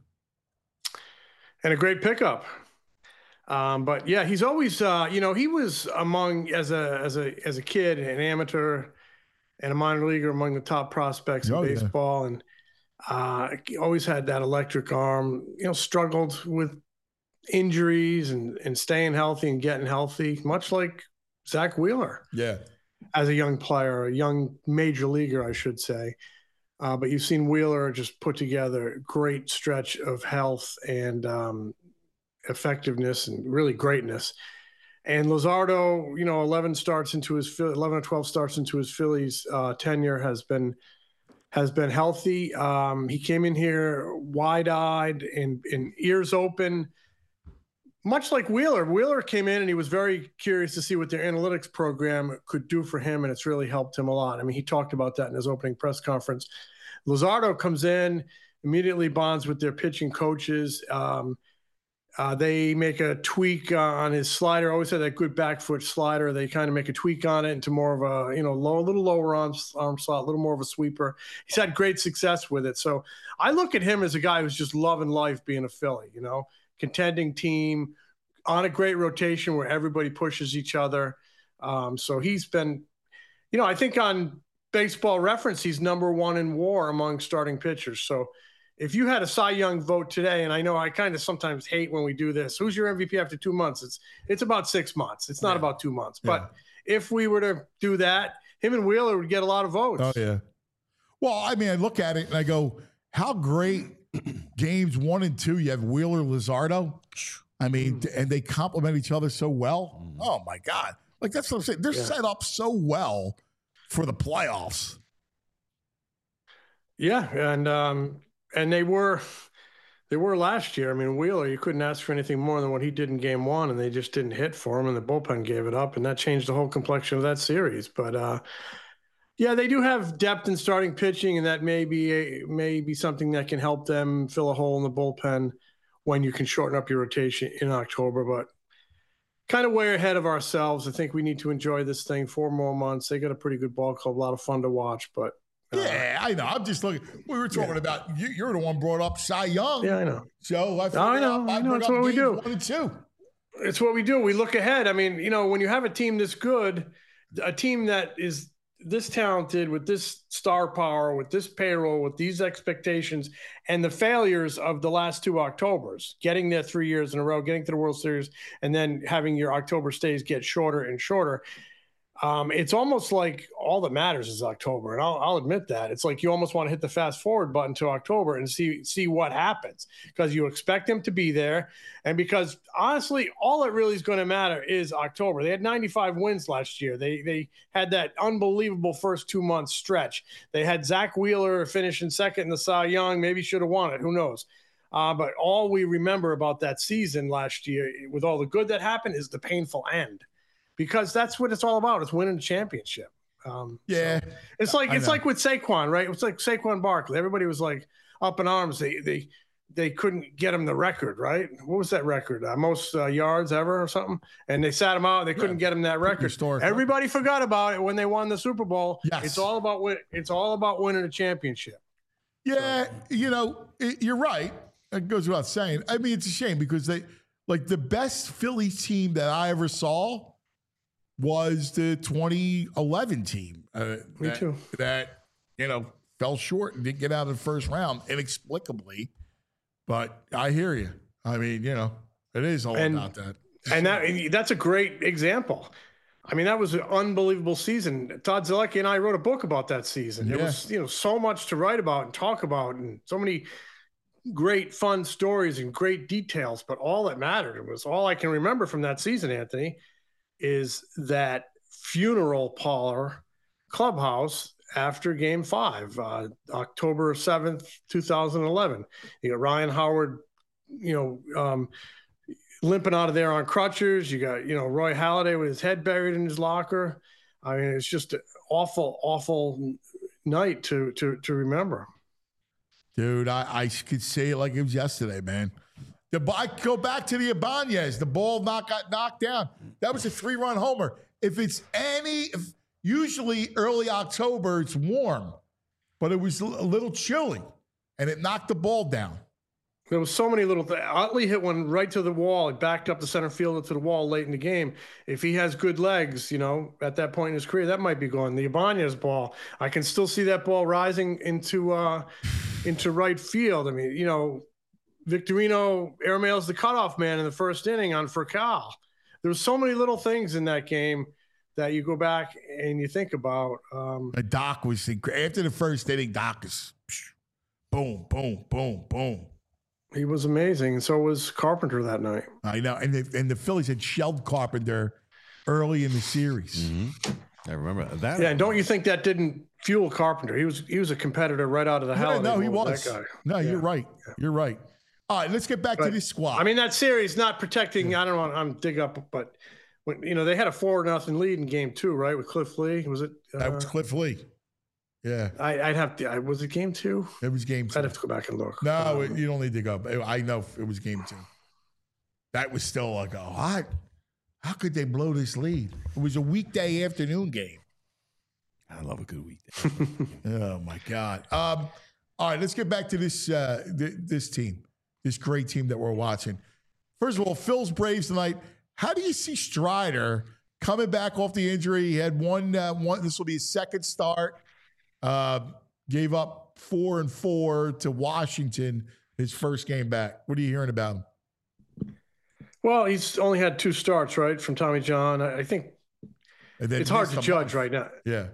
and a great pickup. Um, but yeah, he's always, uh, you know, he was among as a as a as a kid, an amateur, and a minor leaguer among the top prospects Oh, in yeah. baseball, and uh, he always had that electric arm. You know, struggled with injuries and and staying healthy and getting healthy, much like Zach Wheeler yeah. as a young player, a young major leaguer, I should say. Uh, but you've seen Wheeler just put together a great stretch of health and um, effectiveness and really greatness. And Luzardo, you know, eleven starts into his eleven or twelve starts into his Phillies uh, tenure has been has been healthy. Um, he came in here wide-eyed and, and ears open, much like Wheeler. Wheeler came in and he was very curious to see what their analytics program could do for him, and it's really helped him a lot. I mean, he talked about that in his opening press conference. Luzardo comes in, immediately bonds with their pitching coaches. Um, uh, they make a tweak uh, on his slider. Always had that good back foot slider. They kind of make a tweak on it into more of a, you know, low, a little lower arm, arm slot, a little more of a sweeper. He's had great success with it. So I look at him as a guy who's just loving life being a Philly, you know, contending team on a great rotation where everybody pushes each other. Um, so he's been, you know, I think on Baseball Reference, he's number one in WAR among starting pitchers. So if you had a Cy Young vote today, and I know I kind of sometimes hate when we do this, who's your M V P after two months? It's it's about six months. It's not Yeah. about two months. Yeah. But if we were to do that, him and Wheeler would get a lot of votes. Oh, yeah. Well, I mean, I look at it and I go, how great games one and two, you have Wheeler, Luzardo. I mean, Mm. and they complement each other so well. Oh, my God. Like, that's what I'm saying. They're Yeah. set up so well for the playoffs. Yeah, and um, and they were they were last year. I mean, Wheeler, you couldn't ask for anything more than what he did in game one, and they just didn't hit for him, and the bullpen gave it up, and that changed the whole complexion of that series. But uh, Yeah, they do have depth in starting pitching, and that may be a, may be something that can help them fill a hole in the bullpen when you can shorten up your rotation in October. But kind of way ahead of ourselves. I think we need to enjoy this thing four more months. They got a pretty good ball club, a lot of fun to watch. But uh, yeah, I know. I'm just looking. We were talking yeah. about you. You're the one brought up Cy Young. Yeah, I know. So I, I know. I, I know. That's what we do. One and two. It's what we do. We look ahead. I mean, you know, when you have a team this good, a team that is this talented with this star power, with this payroll, with these expectations, and the failures of the last two Octobers, getting there three years in a row, getting to the World Series, and then having your October stays get shorter and shorter. Um, it's almost like all that matters is October. And I'll, I'll admit that. It's like you almost want to hit the fast forward button to October and see see what happens, because you expect them to be there. And because honestly, all that really is going to matter is October. They had ninety-five wins last year. They they had that unbelievable first two months stretch. They had Zach Wheeler finishing second in the Cy Young, maybe should have won it. Who knows? Uh, but all we remember about that season last year, with all the good that happened, is the painful end. Because that's what it's all about. It's winning the championship. Um, yeah, so it's like it's like with Saquon, right? It's like Saquon Barkley. Everybody was like up in arms. They they they couldn't get him the record, right? What was that record? Uh, most uh, yards ever or something? And they sat him out. They couldn't yeah. get him that record. Everybody forgot about it when they won the Super Bowl. Yes. It's all about win- It's all about winning a championship. Yeah, so. you know, it, you're right. It goes without saying. I mean, it's a shame because they like the best Philly team that I ever saw was the twenty eleven team. Uh, Me that, too. That, you know, fell short and didn't get out of the first round inexplicably. But I hear you. I mean, you know, it is all and, about that. And that that's a great example. I mean, that was an unbelievable season. Todd Zelecki and I wrote a book about that season. There yeah. was, you know, so much to write about and talk about, and so many great fun stories and great details. But all that mattered was all I can remember from that season, Anthony, is that funeral parlor clubhouse after game five, uh, October seventh, twenty eleven. You got Ryan Howard, you know, um, limping out of there on crutches. You got, you know, Roy Halladay with his head buried in his locker. I mean, it's just an awful, awful night to, to, to remember. Dude, I, I could say it like it was yesterday, man. The, I go back to the Ibanez. The ball not got knocked down. That was a three-run homer. If it's any, if usually early October, it's warm, but it was a little chilly, and it knocked the ball down. There was so many little things. Utley hit one right to the wall. It backed up the center fielder to the wall late in the game. If he has good legs, you know, at that point in his career, that might be gone. The Ibanez ball, I can still see that ball rising into uh, into right field. I mean, you know, Victorino airmails the cutoff man in the first inning on Furcal. There was so many little things in that game that you go back and you think about. Um, the Doc was after the first inning. Doc is boom, boom, boom, boom. He was amazing, and so was Carpenter that night. I know, and the, and the Phillies had shelled Carpenter early in the series. Mm-hmm. I remember that. Yeah, and don't you think that didn't fuel Carpenter? He was he was a competitor right out of the hell. Yeah, no, he was. That guy. No, yeah. you're right. Yeah. You're right. All right, let's get back but, to this squad. I mean, that series not protecting. Yeah. I don't want I'm dig up, but when you know they had a four nothing lead in game two, right, with Cliff Lee. Was it? Uh, that was Cliff Lee. Yeah, I, I'd have to. I, was it game two? It was game two. I'd have to go back and look. No, um, it, you don't need to go. I know it was game two. That was still like, oh, how, how could they blow this lead? It was a weekday afternoon game. I love a good weekday. Oh my God. Um, all right, let's get back to this uh, th- this team, this great team that we're watching. First of all, Phil's Braves tonight. How do you see Strider coming back off the injury? He had one. Uh, one. This will be his second start. Uh, gave up four and four to Washington his first game back. What are you hearing about him? Well, he's only had two starts, right, from Tommy John. I think it's hard to judge right now. Yeah.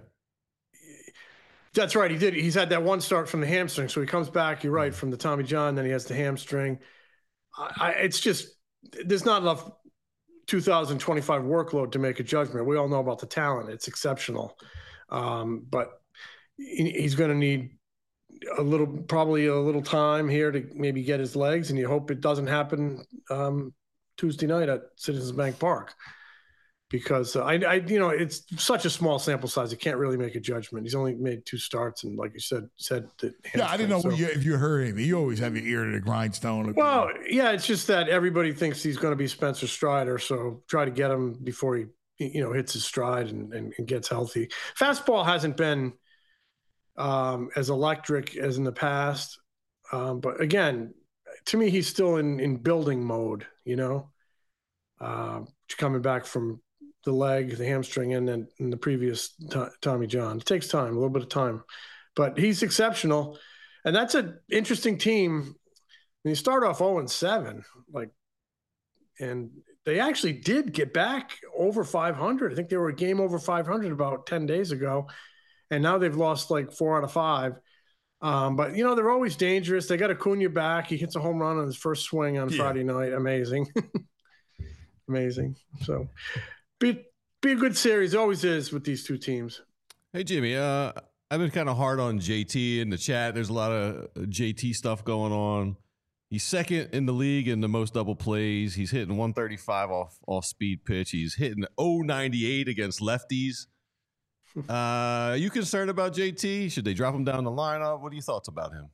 That's right. He did. He's had that one start from the hamstring. So he comes back, you're right, from the Tommy John, then he has the hamstring. I, I, it's just, there's not enough two thousand twenty-five workload to make a judgment. We all know about the talent. It's exceptional. Um, but he's going to need a little, probably a little time here to maybe get his legs, and you hope it doesn't happen um, Tuesday night at Citizens Bank Park. because uh, I, I, you know, it's such a small sample size. You can't really make a judgment. He's only made two starts, and like you said, said that. Yeah, I didn't know so. you, if you heard anything. You always have your ear to the grindstone. Well, yeah, it's just that everybody thinks he's going to be Spencer Strider, so try to get him before he, you know, hits his stride and, and, and gets healthy. Fastball hasn't been um, as electric as in the past, um, but again, to me, he's still in in building mode. You know, uh, coming back from the leg, the hamstring, and then in the previous t- Tommy John. It takes time, a little bit of time, but he's exceptional, and that's an interesting team. When you start off oh and seven, like, and they actually did get back over five hundred. I think they were a game over five hundred about ten days ago, and now they've lost like four out of five. Um, but, you know, they're always dangerous. They got Acuna back. He hits a home run on his first swing on yeah. Friday night. Amazing. Amazing. So be, be a good series. It always is with these two teams. Hey, Jimmy, uh, I've been kind of hard on J T in the chat. There's a lot of J T stuff going on. He's second in the league in the most double plays. He's hitting one thirty-five off off speed pitch. He's hitting oh ninety-eight against lefties. Uh, are you concerned about J T? Should they drop him down the lineup? What are your thoughts about him?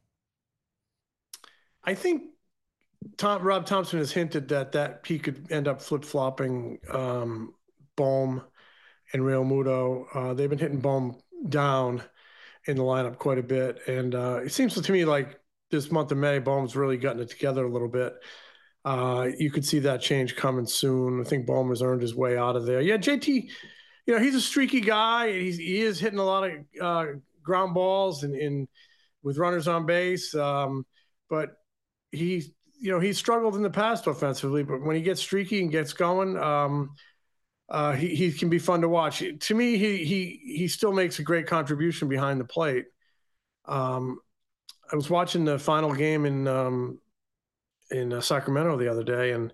I think Tom, Rob Thompson has hinted that that he could end up flip-flopping um, Bohm and Real Muto. Uh, they've been hitting Bohm down in the lineup quite a bit. And uh, it seems to me like this month of May, Bohm's really gotten it together a little bit. Uh, you could see that change coming soon. I think Bohm has earned his way out of there. Yeah, J T, you know, he's a streaky guy. He's, he is hitting a lot of uh, ground balls and, and with runners on base. Um, but he, you know, he's struggled in the past offensively, but when he gets streaky and gets going, um, uh, he, he can be fun to watch. To me, he, he, he still makes a great contribution behind the plate. Um, I was watching the final game in, um, in uh, Sacramento the other day, and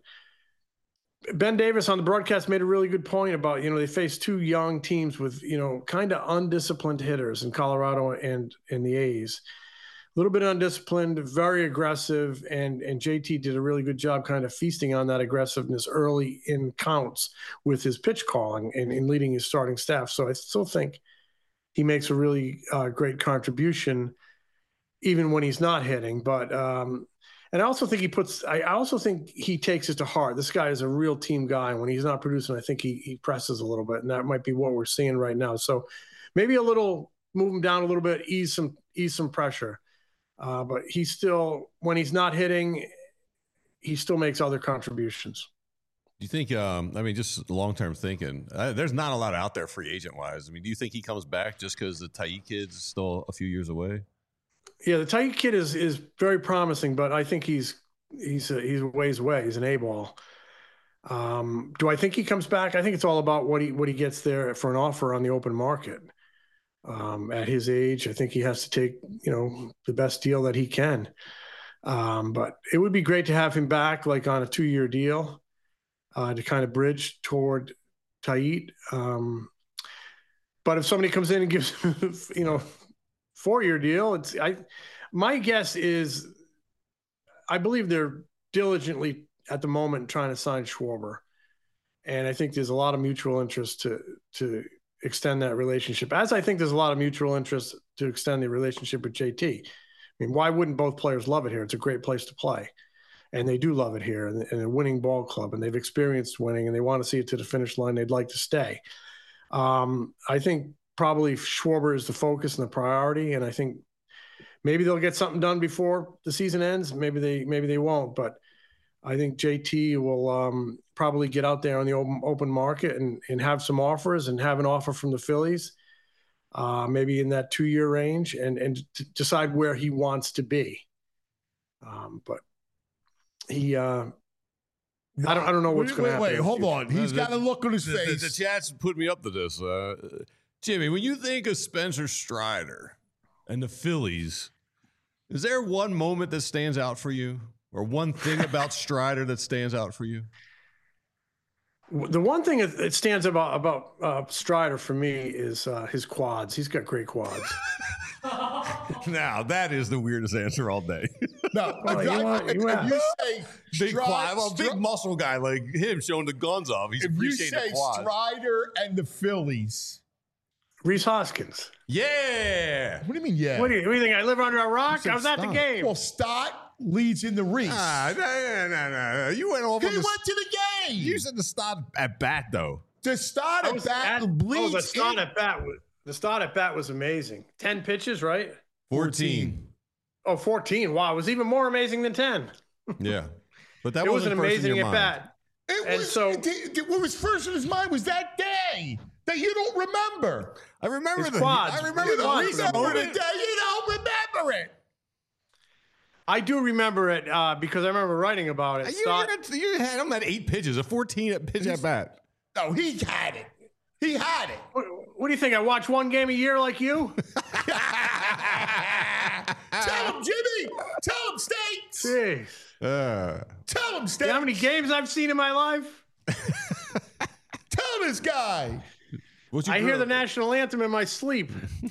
Ben Davis on the broadcast made a really good point about, you know, they faced two young teams with, you know, kind of undisciplined hitters in Colorado and in the A's. A little bit undisciplined, very aggressive, and and J T did a really good job kind of feasting on that aggressiveness early in counts with his pitch calling and, and leading his starting staff. So I still think he makes a really uh, great contribution even when he's not hitting. But um, and I also think he puts – I also think he takes it to heart. This guy is a real team guy. When he's not producing, I think he he presses a little bit, and that might be what we're seeing right now. So maybe a little – move him down a little bit, ease some ease some pressure. Uh, but he still, when he's not hitting, he still makes other contributions. Do you think, um, I mean, just long-term thinking, uh, there's not a lot out there free agent-wise. I mean, do you think he comes back just because the Taillon kid's still a few years away? Yeah, the Taillon kid is is very promising, but I think he's he's a, he's a ways away. He's an A-ball. Um, do I think he comes back? I think it's all about what he what he gets there for an offer on the open market. Um, at his age, I think he has to take, you know, the best deal that he can. Um, but it would be great to have him back, like on a two-year deal, uh, to kind of bridge toward Taillon. Um, but if somebody comes in and gives him, you know, four-year deal, it's I. My guess is, I believe they're diligently at the moment trying to sign Schwarber, and I think there's a lot of mutual interest to to. extend that relationship, as I think there's a lot of mutual interest to extend the relationship with J T. I mean, why wouldn't both players love it here? It's a great place to play, and they do love it here, and, and a winning ball club, and they've experienced winning, and they want to see it to the finish line. They'd like to stay. Um, I think probably Schwarber is the focus and the priority, and I think maybe they'll get something done before the season ends. Maybe they maybe they won't, but I think J T will um, probably get out there on the open, open market and, and have some offers and have an offer from the Phillies, uh, maybe in that two-year range, and, and to decide where he wants to be. Um, but he, uh, I don't, I don't know what's going to happen. Wait, wait, hold on. He's The- got a look on his the, face. The, the chat's put me up to this. Uh, Jimmy, when you think of Spencer Strider and the Phillies, is there one moment that stands out for you? Or one thing about Strider that stands out for you? The one thing that stands about about uh, Strider for me is uh, his quads. He's got great quads. Now, that is the weirdest answer all day. No, Well, if, you I- want- if you want- you say Big Stri- quad, well, big Stri- muscle guy like him showing the guns off. He's if you appreciating say the quad. Strider and the Phillies, Reese Hoskins. Yeah. what do you mean? Yeah. What do you, what do you think? I live under a rock? said I was at the stop. game. Well, Stott leads in the Reese. Ah, no, no, no, no. You went off he on went the. to the game. You said the start at bat though. to start I at was bat at- oh, bleeds the start in. at bat was the start at bat was amazing. Ten pitches, right? fourteen. Oh, fourteen. Wow, it was even more amazing than ten. Yeah. But that it was an wasn't first in amazing your at mind. bat. It And was, so- it- it- what was first in his mind was that day that you don't remember. I remember His the. quads. I remember You the don't recent remember the moment. day. You don't remember it. I do remember it uh, because I remember writing about it. You, Stott- you, you had him at eight pitches, a fourteen at pitch at bat. No, he had it. He had it. what, what do you think? I watch one game a year like you? Tell him, Jimmy. Tell him, States. Jeez. Uh, Tell him, You States. know how many games I've seen in my life? Tell this guy. what's your I hear girl- the national anthem in my sleep.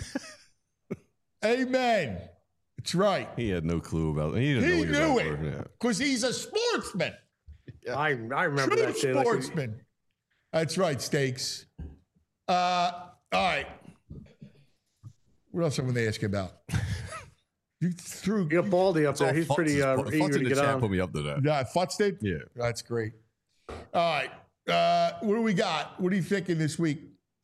Amen. That's right. He had no clue about it. He didn't know He what knew you it guys were. Yeah. because he's a sportsman. I, I remember True that day. Like, sportsman. That's right, Stakes. Uh, all right. What else am I going to ask you about? You threw. you got Baldy up It's all there. He's Futz pretty is- uh, Futz eager in to the get chat on. put me up to that. Yeah, Futz did? Yeah. That's great. All right. Uh, what do we got? What are you thinking this week?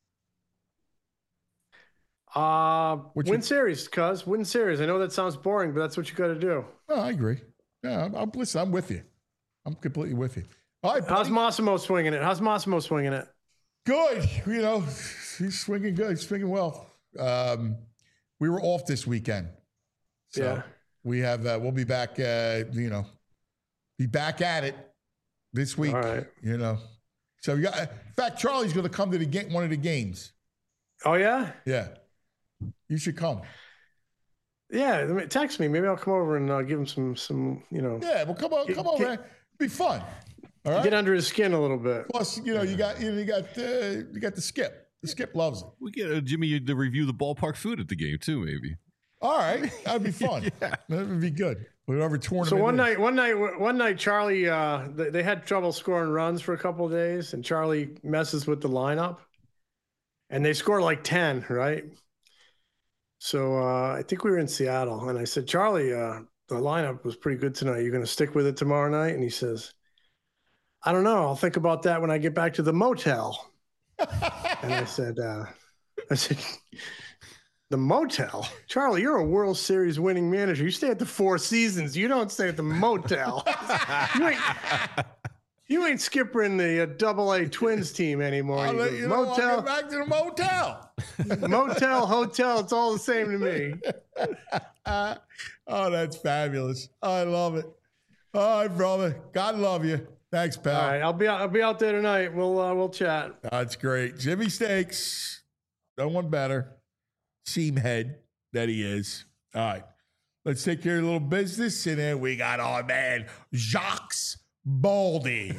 Uh, What win you- series, cuz. Win series. I know that sounds boring, but that's what you got to do. Oh, I agree. Yeah, I'm, I'm, listen, I'm with you. I'm completely with you. All right, How's buddy. Massimo swinging it? How's Massimo swinging it? Good. You know, he's swinging good. He's swinging well. Um, we were off this weekend. So Yeah. we have, uh, we'll be back, uh, you know, be back at it this week, All right. you know. So, you got, in fact, Charlie's going to come to the game, one of the games. Oh, yeah? Yeah. You should come. Yeah. I mean, text me. Maybe I'll come over and uh, give him some, some, you know, Yeah. Well, come on, Get- come on, get- man. Be fun. All right. get under his skin a little bit. Plus, you know, you got, you, know, you got, uh, you got the Skip. The Skip loves it. We get uh, Jimmy to review the ballpark food at the game too, maybe. All right. That'd be fun. That would be good. Whatever tournament. So one is. night, one night, one night, Charlie, uh, they, they had trouble scoring runs for a couple of days, and Charlie messes with the lineup, and they score like ten, right? So uh, I think we were in Seattle, and I said, Charlie, uh, the lineup was pretty good tonight. You're going to stick with it tomorrow night? And he says, I don't know. I'll think about that when I get back to the motel. And I said, uh, I said, the motel? Charlie, you're a World Series winning manager. You stay at the Four Seasons. You don't stay at the motel. you, ain't, you ain't skippering the uh, Double A Twins team anymore. I'll You let go, you know. I'll motel, get back to the motel. motel, hotel. It's all the same to me. Uh, oh, that's fabulous. I love it. All right, brother. God love you. Thanks, pal. All right, I'll be out. I'll be out there tonight. We'll uh, we'll chat. That's great. Jimmy Stakes. No one better. Seam head that he is. All right. Let's take care of a little business. And then we got our man, Jacques Baldy.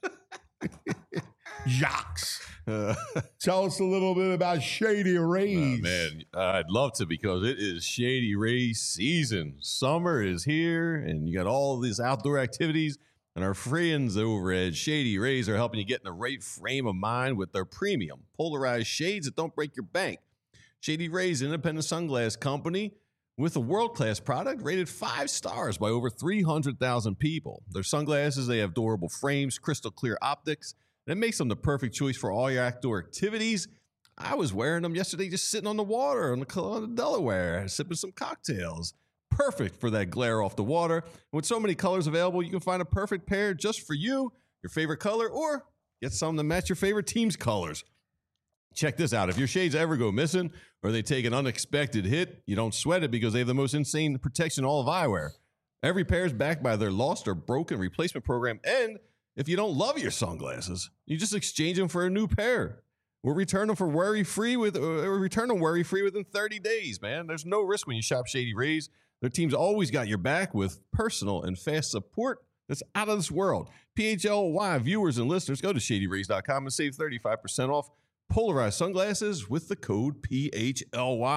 Jacques. Uh, Tell us a little bit about Shady Rays. Oh, man, I'd love to because it is Shady Rays season. Summer is here, and you got all these outdoor activities. And our friends over at Shady Rays are helping you get in the right frame of mind with their premium polarized shades that don't break your bank. Shady Rays, independent sunglass company with a world-class product rated five stars by over three hundred thousand people. Their sunglasses, they have durable frames, crystal clear optics, and it makes them the perfect choice for all your outdoor activities. I was wearing them yesterday just sitting on the water on the, on the Delaware, sipping some cocktails. Perfect for that glare off the water. And with so many colors available, you can find a perfect pair just for you, your favorite color, or get some to match your favorite team's colors. Check this out. If your shades ever go missing or they take an unexpected hit, you don't sweat it because they have the most insane protection in all of eyewear. Every pair is backed by their lost or broken replacement program. And if you don't love your sunglasses, you just exchange them for a new pair. We'll return them for worry-free with uh, return them worry-free within thirty days, man. There's no risk when you shop Shady Rays. Their team's always got your back with personal and fast support that's out of this world. P H L Y viewers and listeners, go to shady rays dot com and save thirty-five percent off polarized sunglasses with the code P H L Y.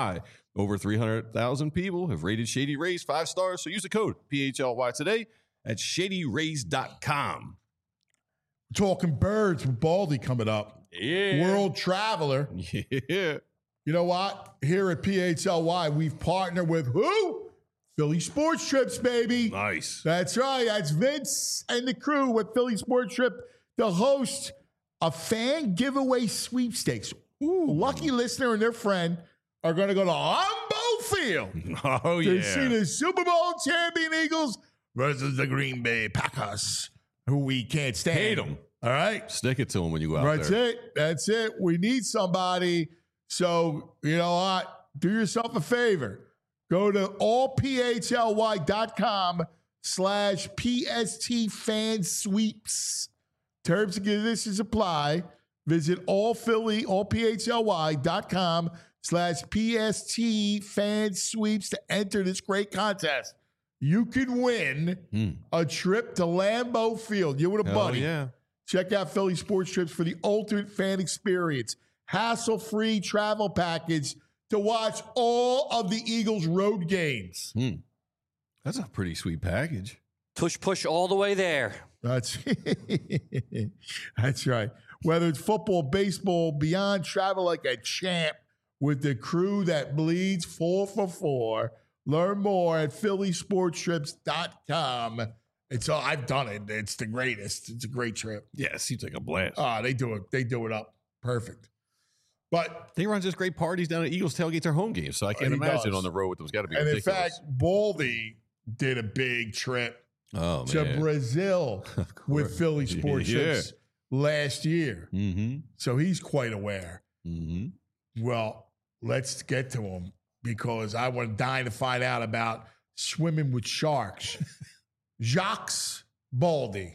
Over three hundred thousand people have rated Shady Rays five stars, so use the code P H L Y today at shady rays dot com. Talking birds with Baldy coming up. Yeah. World Traveler. Yeah. You know what? Here at P H L Y, we've partnered with who? Philly Sports Trips, baby. Nice. That's right. That's Vince and the crew with Philly Sports Trip to host a fan giveaway sweepstakes. Ooh. Lucky listener and their friend are going to go to Lambeau Field oh, to yeah. see the Super Bowl champion Eagles versus the Green Bay Packers, who we can't stand. Hate them. All right? Stick it to them when you go out That's there. it. That's it. We need somebody. So, you know what? Do yourself a favor. Go to allphly.com slash PST fan sweeps. Terms and conditions apply. Visit allphilly, allphly.com slash PST fan sweeps to enter this great contest. You can win Mm. a trip to Lambeau Field. You and a Hell buddy. yeah. Check out Philly Sports Trips for the ultimate fan experience. Hassle-free travel package to watch all of the Eagles' road games. Hmm. That's a pretty sweet package. Push, push all the way there. That's that's right. Whether it's football, baseball, beyond, travel like a champ with the crew that bleeds four for four. Learn more at philly sports trips dot com. It's all I've done it. It's the greatest. It's a great trip. Yeah, it seems like a blast. Ah, they do it. They do it up perfect. But He runs just great parties down at Eagles tailgates or home games, so I can't He imagine does. on the road with them's got to be and ridiculous. in fact, Baldy did a big trip oh, to man. Brazil with Philly Sports Yeah. Trips last year. Mm-hmm. So he's quite aware. Mm-hmm. Well, let's get to him because I want dying to find out about swimming with sharks. Jacques Baldy.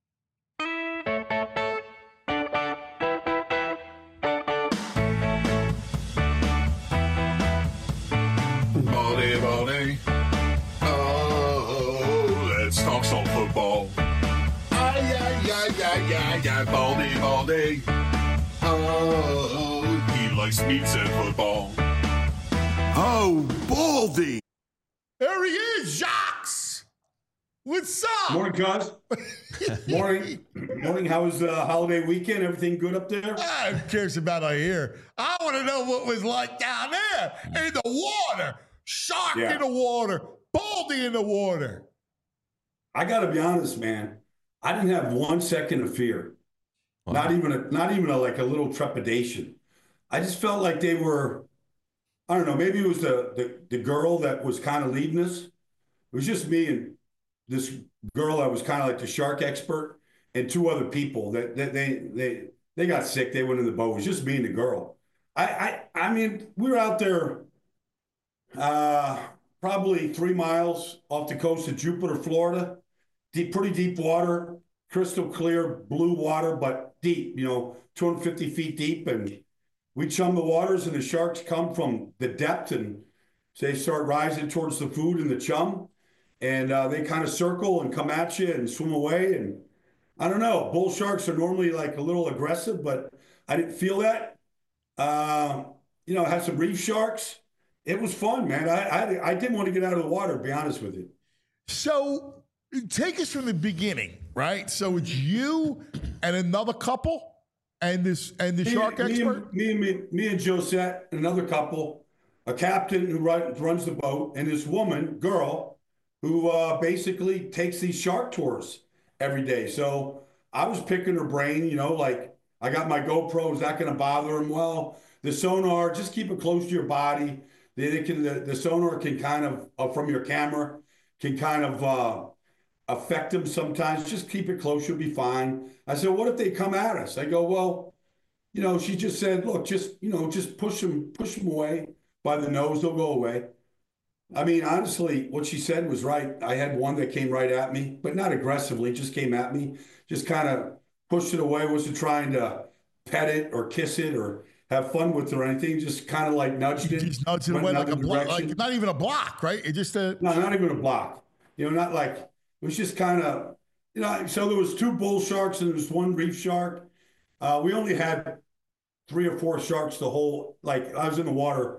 Baldy, Baldy. Oh, let's talk some football. Ay, ay, ay, ay, ay, ay, Baldy, Baldy. Oh, he likes meats and football. Oh, Baldy. There he is, Jacques. What's up? Morning, cuz. Morning. Morning. How was the holiday weekend? Everything good up there? Ah, who cares about out here? I want to know what it was like down there in the water. Shark Yeah. in the water. Baldy in the water. I got to be honest, man. I didn't have one second of fear. Wow. Not even a, not even a, like a little trepidation. I just felt like they were, I don't know, maybe it was the, the, the girl that was kind of leading us. It was just me and this girl that was kind of like the shark expert and two other people that, that they, they, they got sick. They went in the boat. It was just me and the girl. I, I, I mean, we were out there uh, probably three miles off the coast of Jupiter, Florida. Deep, pretty deep water, crystal clear blue water, but deep, you know, two hundred fifty feet deep. And we chum the waters and the sharks come from the depth and they start rising towards the food in the chum. And uh, they kind of circle and come at you and swim away. And I don't know, bull sharks are normally like a little aggressive, but I didn't feel that. Uh, you know, I had some reef sharks. It was fun, man. I, I, I didn't want to get out of the water, to be honest with you. So take us from the beginning, right? So it's you and another couple and this and the Me- shark me expert? And, me, and me, me and Josette, and another couple, a captain who run, runs the boat, and this woman, girl, who uh, basically takes these shark tours every day. So I was picking her brain, you know, like I got my GoPro. Is that going to bother him? Well, the sonar, just keep it close to your body. They, they can, the, the sonar can kind of, uh, from your camera, can kind of uh, affect them sometimes. Just keep it close. You'll be fine. I said, what if they come at us? I go, well, you know, she just said, look, just, you know, just push them, push them away by the nose. They'll go away. I mean, honestly, what she said was right. I had one that came right at me, but not aggressively, just came at me, just kind of pushed it away. Wasn't trying to pet it or kiss it or have fun with it or anything. Just kind of like nudged it. Just nudged it went away like a another block, direction. like not even a block, right? It just a No, not even a block. You know, not like, it was just kind of, you know, so there was two bull sharks and there was one reef shark. Uh, we only had three or four sharks the whole, like I was in the water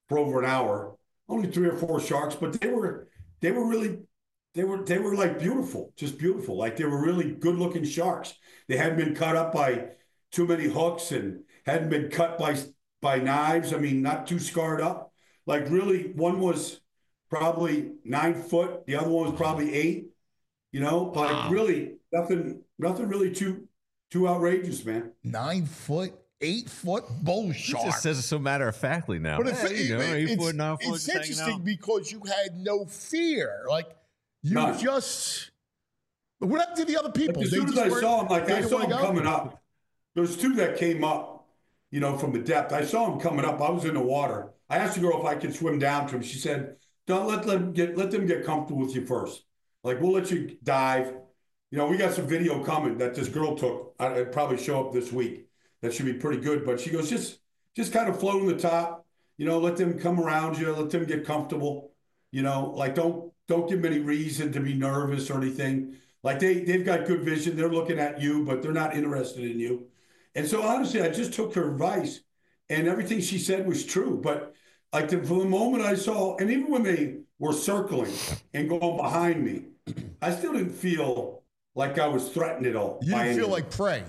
for over an hour. Only three or four sharks, but they were they were really they were they were like beautiful, just beautiful. Like they were really good looking sharks. They hadn't been cut up by too many hooks and hadn't been cut by by knives. I mean, not too scarred up. Like really, one was probably nine foot, the other one was probably eight. You know, like Wow. really nothing, nothing really too too outrageous, man. Nine foot, eight foot bull He shark. just says it so matter of factly now. But Yeah, it's, you know, eight it's, foot, nine foot, it's just hanging interesting out. because you had no fear. Like you None. just. What happened to the other people? Like, as They soon as just I weren't- saw him, like they I didn't saw wanna him go? coming up. There's two that came up, you know, from the depth. I saw him coming up. I was in the water. I asked the girl if I could swim down to him. She said, "Don't let them get let them get comfortable with you first. Like we'll let you dive." You know, we got some video coming that this girl took. I- It'd probably show up this week. That should be pretty good. But she goes, just just kind of float on the top. You know, let them come around you. Let them get comfortable. You know, like don't don't give them any reason to be nervous or anything. Like they they've got good vision. They're looking at you, but they're not interested in you. And so honestly, I just took her advice, and everything she said was true. But like the, from the moment I saw, and even when they were circling and going behind me, I still didn't feel like I was threatened at all. You by didn't feel anything. like prey.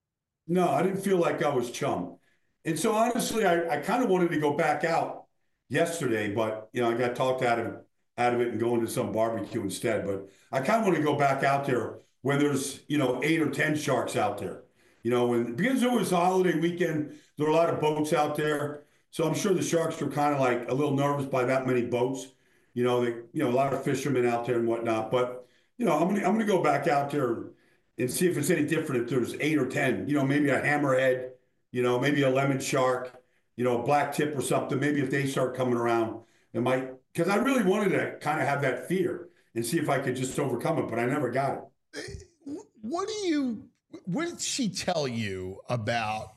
No, I didn't feel like I was chum. And so honestly, I, I kind of wanted to go back out yesterday, but you know, I got talked out of out of it and going to some barbecue instead. But I kind of want to go back out there when there's, you know, eight or ten sharks out there. You know, and because it was a holiday weekend, there were a lot of boats out there. So I'm sure the sharks were kind of like a little nervous by that many boats. You know, they, you know, a lot of fishermen out there and whatnot. But you know, I'm gonna I'm gonna go back out there and see if it's any different if there's eight or ten. You know, maybe a hammerhead, you know, maybe a lemon shark, you know, a black tip or something. Maybe if they start coming around, it might, because I really wanted to kind of have that fear and see if I could just overcome it, but I never got it. What do you? What did she tell you about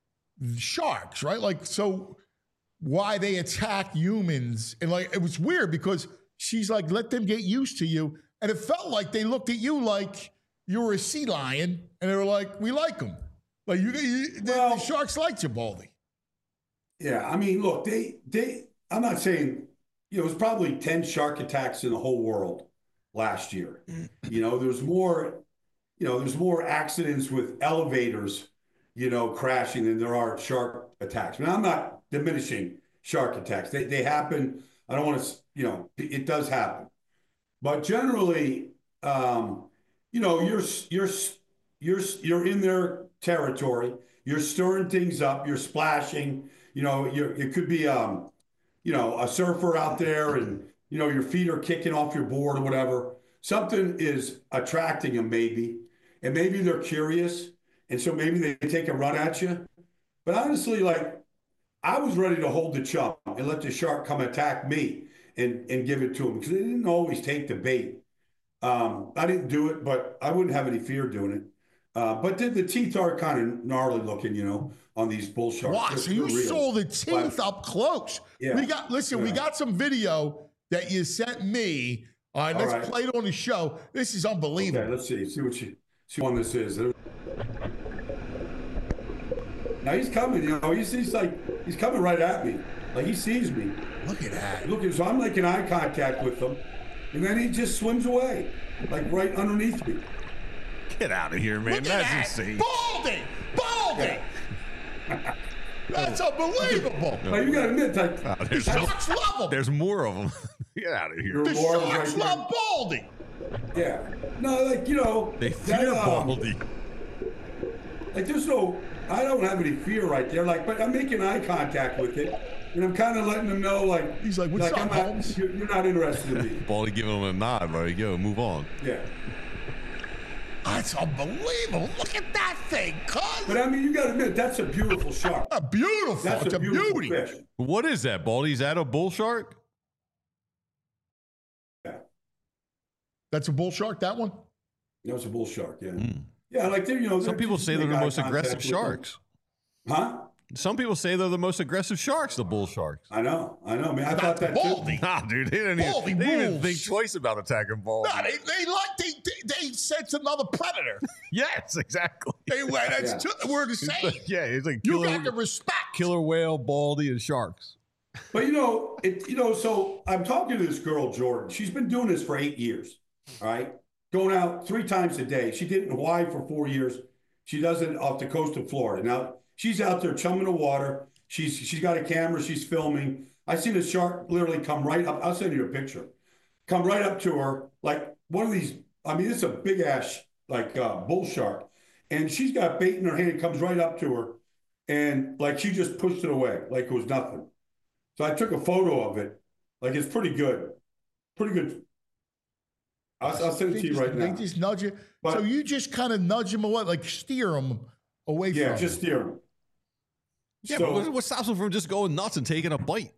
sharks? Right, like so, why they attack humans? And like it was weird because she's like, let them get used to you, and it felt like they looked at you like you were a sea lion, and they were like, we like them. Like you, you the, Well- the sharks liked you, Baldy. Yeah, I mean, look, they they. I'm not saying, you know, it was probably ten shark attacks in the whole world last year. You know, there's more, you know, there's more accidents with elevators, you know, crashing than there are shark attacks. Now, I'm not diminishing shark attacks. They they happen. I don't want to, you know, it does happen, but generally, um, you know, you're you're you're you're in their territory. You're stirring things up. You're splashing. You know, you're, it could be, um, you know, a surfer out there, and you know your feet are kicking off your board or whatever. Something is attracting them, maybe, and maybe they're curious, and so maybe they take a run at you. But honestly, like I was ready to hold the chum and let the shark come attack me and and give it to them because they didn't always take the bait. Um, I didn't do it, but I wouldn't have any fear doing it. Uh, but the, the teeth are kind of gnarly looking, you know, on these bull sharks. Wow, They're- so you they're real. saw the teeth But- up close. Yeah. We got listen, we Yeah. got some video that you sent me. All right, All let's right. play it on the show. This is unbelievable. Okay, let's see. See what you see what one this is. Now he's coming, you know, he's, he's like he's coming right at me. Like he sees me. Look at that. Look, so I'm making eye contact with him, and then he just swims away, like right underneath me. Get out of here, man. Look at That's that. insane. Baldy! Baldy! That's unbelievable. Now you gotta admit, like Oh, The there's, sharks love him. there's more of them. Get out of here. you're The more of sharks like- love Baldy. Yeah. No, like you know, They that, fear um, Baldy. Like there's no, I don't have any fear right there. Like, but I'm making eye contact with it, and I'm kind of letting them know, like, He's like, "What's like up, I'm not, Holmes?" you're, you're not interested in me. Baldy giving him a nod. There you go. Move on. Yeah. That's unbelievable. Look at that thing, cuz. But I mean, you got to admit, that's a beautiful shark. A beautiful. That's it's a a beautiful beauty. fish. What is that, Baldy? Is that a bull shark? Yeah. That's a bull shark, that one? That's a bull shark. Yeah. Mm. Yeah, like they're, you know, Some they're people just say they're make the eye most contact aggressive with them. sharks. Huh? Some people say they're the most aggressive sharks, the bull sharks. I know. I know. I mean, I thought that too. Baldy. Nah, dude, they didn't, even, Baldy they didn't even rules. think twice about attacking Baldy. No, they, they like they, they they sense another predator. Yes, exactly. They well, that's Yeah. two, we're the It's same. like- yeah, it's like You killer, got to respect. killer whale, Baldy, and sharks. But you know, it you know, so I'm talking to this girl, Jordan. She's been doing this for eight years. All right. Going out three times a day. She did it in Hawaii for four years. She does it off the coast of Florida. Now she's out there chumming the water. She's she's got a camera, she's filming. I see the shark literally come right up. I'll send you a picture. Come right up to her, like one of these. I mean, it's a big ass like uh, bull shark, and she's got bait in her hand. Comes right up to her, and like she just pushed it away, like it was nothing. So I took a photo of it. Like it's pretty good, pretty good. I'll, I'll send it to you right they now. They just nudge you. But, so you just kind of nudge them away, like steer them away yeah, from. Yeah, just steer them. Yeah, so, but what, what stops them from just going nuts and taking a bite?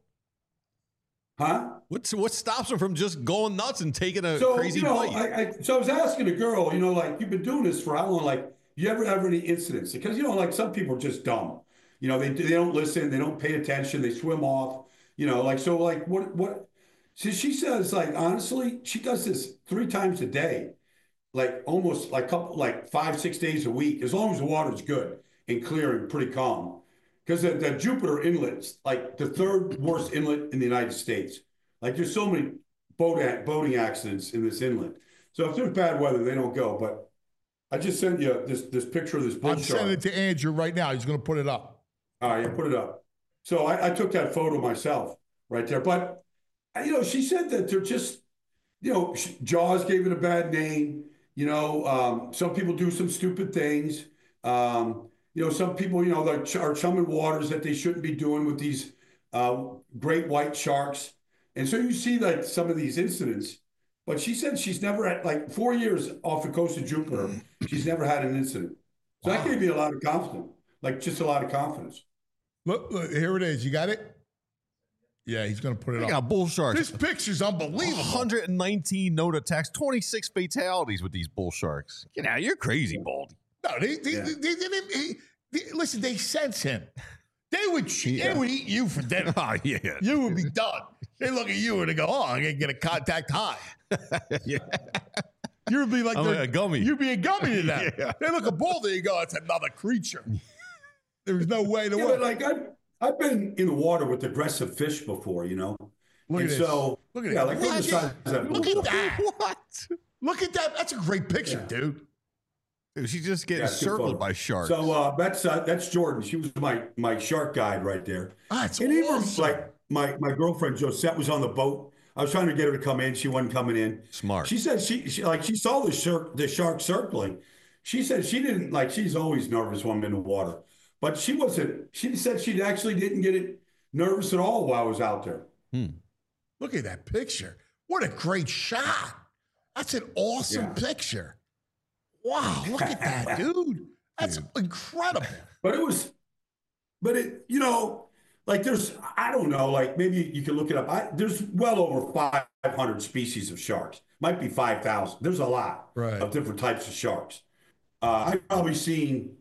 Huh? What's what stops them from just going nuts and taking a so, crazy you know, bite? I, I, so I was asking a girl, you know, like you've been doing this for how long? Like, you ever have any incidents? Because you know, like some people are just dumb. You know, they they don't listen, they don't pay attention, they swim off. You know, like so, like what what? So she says, like honestly, she does this three times a day, like almost like couple, like five six days a week, as long as the water's good and clear and pretty calm. Because the, the Jupiter Inlet's like the third worst inlet in the United States. Like there's so many boat boating accidents in this inlet. So if there's bad weather, they don't go. But I just sent you this this picture of this bull I'm shark. sending it to Andrew right now. He's going to put it up. All right, yeah, put it up. So I, I took that photo myself right there. But, you know, she said that they're just, you know, Jaws gave it a bad name. You know, um, some people do some stupid things. Um, you know, some people, you know, are chumming waters that they shouldn't be doing with these uh, great white sharks. And so you see like some of these incidents. But she said she's never had, like four years off the coast of Jupiter, she's never had an incident. So wow. That gave me a lot of confidence, like just a lot of confidence. Look, look, here it is. You got it? Yeah, he's going to put it I up. got bull sharks. This picture's unbelievable. one hundred nineteen known attacks, twenty-six fatalities with these bull sharks. You know, you're crazy, Baldy. No, they, they, yeah. they, they didn't. They, they, listen, they sense him. They would, yeah. they would eat you for dinner. Oh, yeah. You would be done. They look at you and they go, oh, I'm going to get a contact high. Yeah. You'd be like, I'm a gummy. You'd be a gummy to them. Yeah. They look at Baldy and you go, it's another creature. There's no way to yeah, work. Like I've, I've been in the water with aggressive fish before, you know. Look and at so, this. Look at yeah, it. like look, at that. look at that. What? Look at that. That's a great picture, yeah. dude. Dude, she's just getting yeah, circled by sharks. So uh, that's uh, that's Jordan. She was my my shark guide right there. Ah, it's and awesome. even like my my girlfriend Josette was on the boat. I was trying to get her to come in. She wasn't coming in. Smart. She said she, she like she saw the shark the shark circling. She said she didn't like. She's always nervous when I'm in the water, but she wasn't. She said she actually didn't get it nervous at all while I was out there. Hmm. Look at that picture. What a great shot. That's an awesome yeah. picture. Wow, look at that, dude. That's dude. incredible. But it was, but it, you know, like there's, I don't know, like maybe you can look it up. I, there's well over five hundred species of sharks. Might be five thousand. There's a lot right. of different types of sharks. Uh, I've probably seen,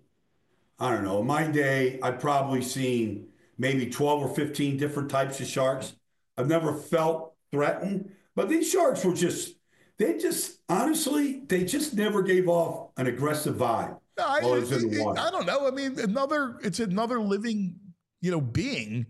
I don't know, in my day, I've probably seen maybe twelve or fifteen different types of sharks. I've never felt threatened, but these sharks were just, they just, honestly, they just never gave off an aggressive vibe. No, I, while it was in the it, water. I don't know. I mean, another, it's another living, you know, being.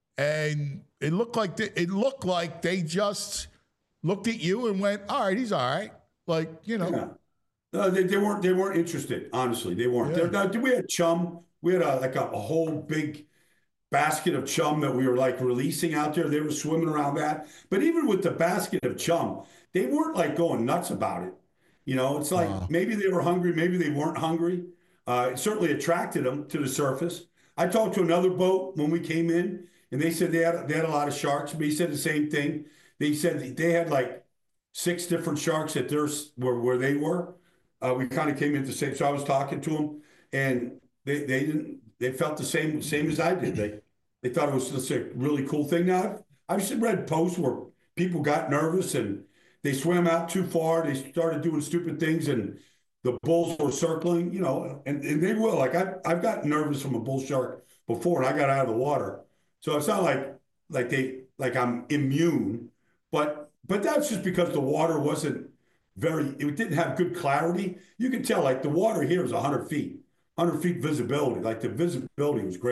And it looked like, they, it looked like they just looked at you and went, all right, he's all right. Like, you know. Yeah. No, they, they weren't, they weren't interested. Honestly, they weren't. Yeah. Now, we had chum. We had a, like a, a whole big basket of chum that we were like releasing out there. They were swimming around that. But even with the basket of chum, they weren't like going nuts about it. You know, it's like wow. maybe they were hungry, maybe they weren't hungry. Uh, it certainly attracted them to the surface. I talked to another boat when we came in, and they said they had they had a lot of sharks. But he said the same thing. They said they had like six different sharks at their where where they were. Uh, we kind of came into the same. So I was talking to them, and they they didn't. They felt the same same as I did. They they thought it was just a really cool thing. Now I've, I've read posts where people got nervous and they swam out too far. They started doing stupid things, and the bulls were circling. You know, and, and they will. Like I I've gotten nervous from a bull shark before, and I got out of the water. So it's not like like they like I'm immune, but but that's just because the water wasn't very. It didn't have good clarity. You can tell like the water here is one hundred feet. one hundred feet visibility, like the visibility was great.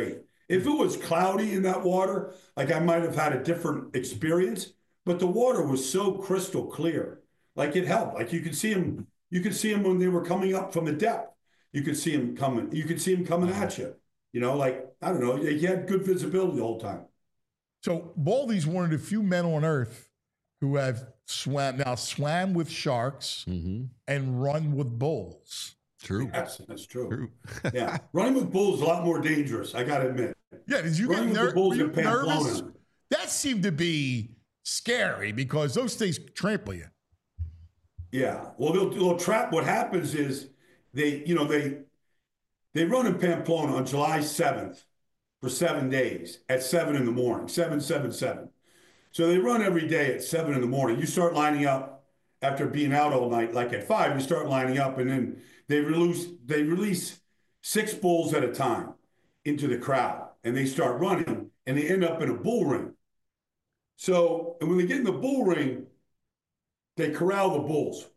If it was cloudy in that water, like I might have had a different experience, but the water was so crystal clear. Like it helped. Like you could see them, you could see them when they were coming up from the depth. You could see them coming, you could see them coming at you. You know, like, I don't know, you had good visibility the whole time. So Baldy's one of the few men on earth who have swam now swam with sharks mm-hmm. and run with bulls. True. Yes, that's true. True. Yeah. Running with bulls is a lot more dangerous, I got to admit. Yeah, did you Running get with ner- the bulls were in you nervous? Pamplona. That seemed to be scary because those things trample you. Yeah. Well, they'll, they'll trap. What happens is they, you know, they they run in Pamplona on July seventh for seven days at seven in the morning, seven, seven, seven. So they run every day at seven in the morning. You start lining up after being out all night, like at five, you start lining up, and then they release they release six bulls at a time into the crowd, and they start running, and they end up in a bull ring. So, and when they get in the bull ring, they corral the bulls.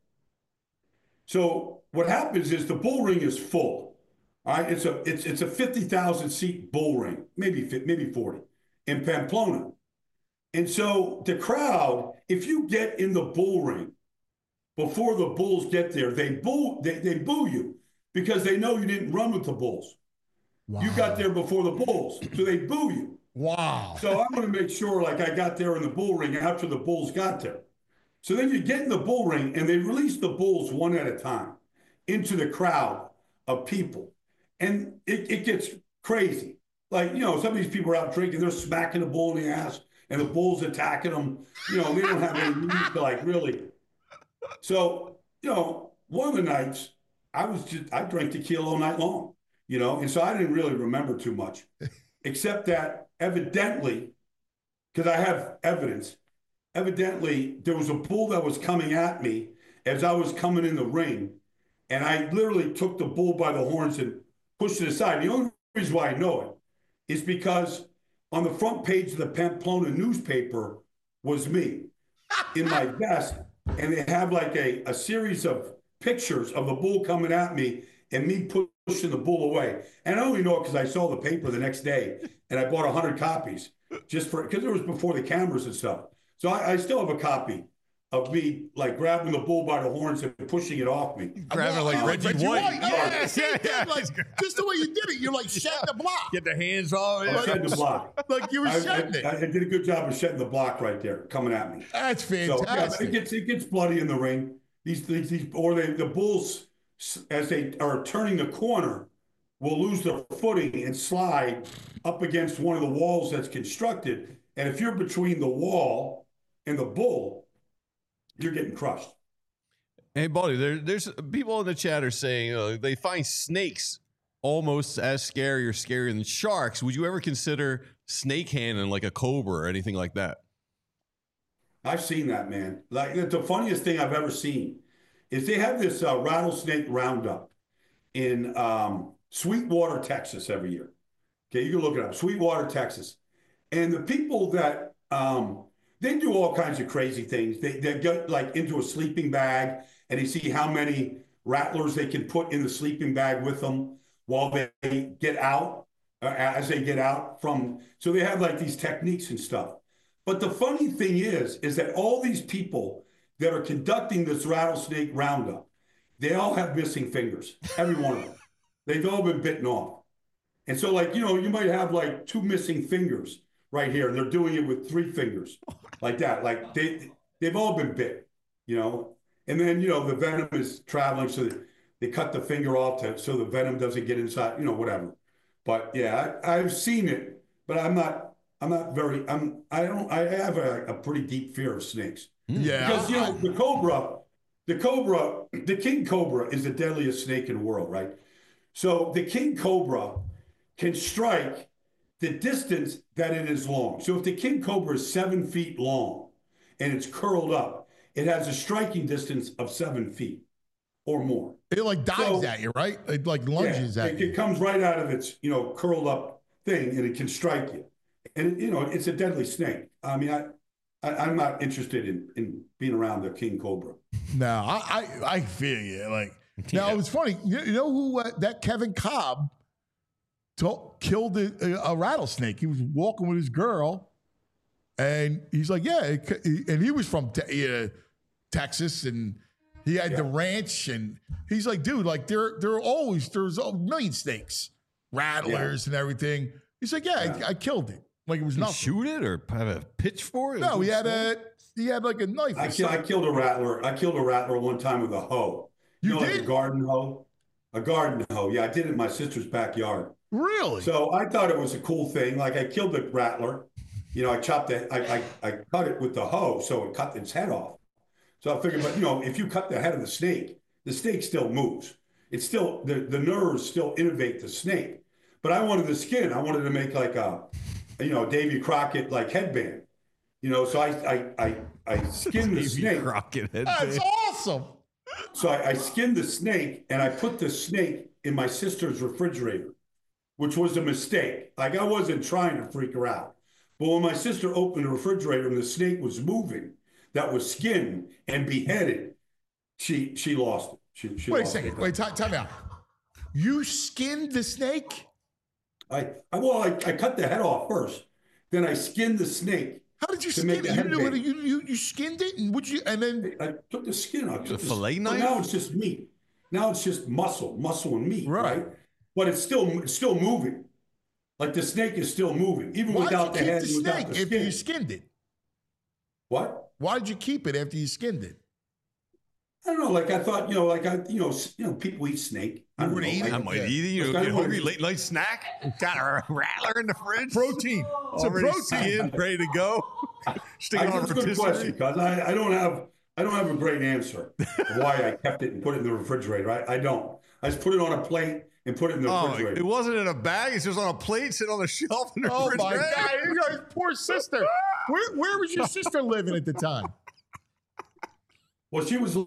So what happens is the bull ring is full. All right, it's a it's it's a fifty thousand seat bull ring, maybe maybe forty in Pamplona. And so the crowd, if you get in the bull ring before the bulls get there, they boo they, they boo you because they know you didn't run with the bulls. Wow. You got there before the bulls, so they boo you. Wow. So I'm going to make sure like I got there in the bull ring after the bulls got there. So then you get in the bull ring and they release the bulls one at a time into the crowd of people. And it, it gets crazy. Like, you know, some of these people are out drinking, they're smacking the bull in the ass and the bull's attacking them. You know, they don't have any need to like really. So, you know, one of the nights I was just, I drank tequila all night long, you know, and so I didn't really remember too much, except that evidently, because I have evidence, evidently there was a bull that was coming at me as I was coming in the ring. And I literally took the bull by the horns and pushed it aside. The only reason why I know it is because on the front page of the Pamplona newspaper was me in my vest. And they have like a, a series of pictures of the bull coming at me and me pushing the bull away. And I only know it because I saw the paper the next day and I bought one hundred copies just for, because it was before the cameras and stuff. So I, I still have a copy of me like grabbing the bull by the horns and pushing it off me. Grabbing like uh, Reggie, Reggie White. White. Yeah, yeah, yeah. Like, just the way you did it, you're like shedding the block. Get the hands off. I shed the block. Like you were I, shedding I, it. I did a good job of shedding the block right there, coming at me. That's So yeah, fantastic. it gets it gets bloody in the ring. These these, these or they, the bulls, as they are turning the corner, will lose their footing and slide up against one of the walls that's constructed. And if you're between the wall and the bull, you're getting crushed. Hey, buddy, there, there's people in the chat are saying uh, they find snakes almost as scary or scarier than sharks. Would you ever consider snake handling like a cobra or anything like that? I've seen that, man. Like the funniest thing I've ever seen is they have this uh, rattlesnake roundup in um, Sweetwater, Texas every year. Okay, you can look it up, Sweetwater, Texas. And the people that, um, they do all kinds of crazy things. They, they get like into a sleeping bag and they see how many rattlers they can put in the sleeping bag with them while they get out, uh, as they get out from, so they have like these techniques and stuff. But the funny thing is, is that all these people that are conducting this rattlesnake roundup, they all have missing fingers, every one of them. They've all been bitten off. And so like, you know, you might have like two missing fingers right here, and they're doing it with three fingers like that. Like they, they've all been bit, you know? And then, you know, the venom is traveling, so they, they cut the finger off to, so the venom doesn't get inside, you know, whatever. But yeah, I, I've seen it, but I'm not, I'm not very, I'm, I don't, I have a, a pretty deep fear of snakes. Yeah. Because, you know, the cobra, the cobra, the king cobra is the deadliest snake in the world, right? So the king cobra can strike the distance that it is long. So if the king cobra is seven feet long and it's curled up, it has a striking distance of seven feet or more. It like dives So- at you, right? It like lunges yeah, at it, you. it comes right out of its, you know, curled up thing, and it can strike you. And, you know, it's a deadly snake. I mean, I, I, I'm not interested in, in being around the king cobra. No, I, I, I feel you. Like, now Yeah. it was funny. You, you know who uh, that Kevin Cobb to- killed a, a rattlesnake. He was walking with his girl, and he's like, yeah, it, and he was from te- uh, Texas, and he had yeah. the ranch, and he's like, dude, like there, there are always there's a million snakes, rattlers, yeah. and everything. He's like, yeah, yeah. I, I killed it. Like it was Did nothing. Shoot it or have a pitch for it? No, he had a he had like a knife. I, ki- I killed a rattler. I killed a rattler one time with a hoe. You, you know, did? Like a garden hoe. A garden hoe. Yeah, I did it in my sister's backyard. Really? So I thought it was a cool thing. Like I killed the rattler. You know, I chopped it. I, I I cut it with the hoe, so it cut its head off. So I figured, but you know, if you cut the head of the snake, the snake still moves. It's still the the nerves still innervate the snake. But I wanted the skin. I wanted to make like a, you know, Davy Crockett like headband. You know, so I I I, I skinned the snake. Crockett headband. That's awesome. So I, I skinned the snake and I put the snake in my sister's refrigerator, which was a mistake. Like I wasn't trying to freak her out. But when my sister opened the refrigerator and the snake was moving, that was skinned and beheaded, she she lost it. She, she Wait a lost second. it. Wait, time, time out. You skinned the snake? I, I well, I, I cut the head off first. Then I skinned the snake. How did you to skin make it? the You, knew headband. it, you, you you skinned it, and would you? And then I took the skin off. The Took fillet so knife? now it's just meat. Now it's just muscle, muscle and meat, Right. right? But it's still it's still moving. Like the snake is still moving, even why without did the you head keep and the without snake the after skin. you skinned it? What? Why did you keep it after you skinned it? I don't know. Like I thought, you know, like I, you know, s- you know, people eat snake. I You don't would know, eat like- it? I might Yeah. eat it. You Like, know, I get would- hungry, late night snack. Got a rattler in the fridge. Protein. It's a Already protein. skinned, ready to go. Stick I, it on a that's a good rotisserie. question because I, I don't have I don't have a great answer of why I kept it and put it in the refrigerator. I, I don't. I just put it on a plate and put it in the Oh, refrigerator. it wasn't in a bag. It's just on a plate, sitting on the shelf in the Oh my refrigerator. God! You guys, poor sister. Where where was your sister living at the time? Well, she was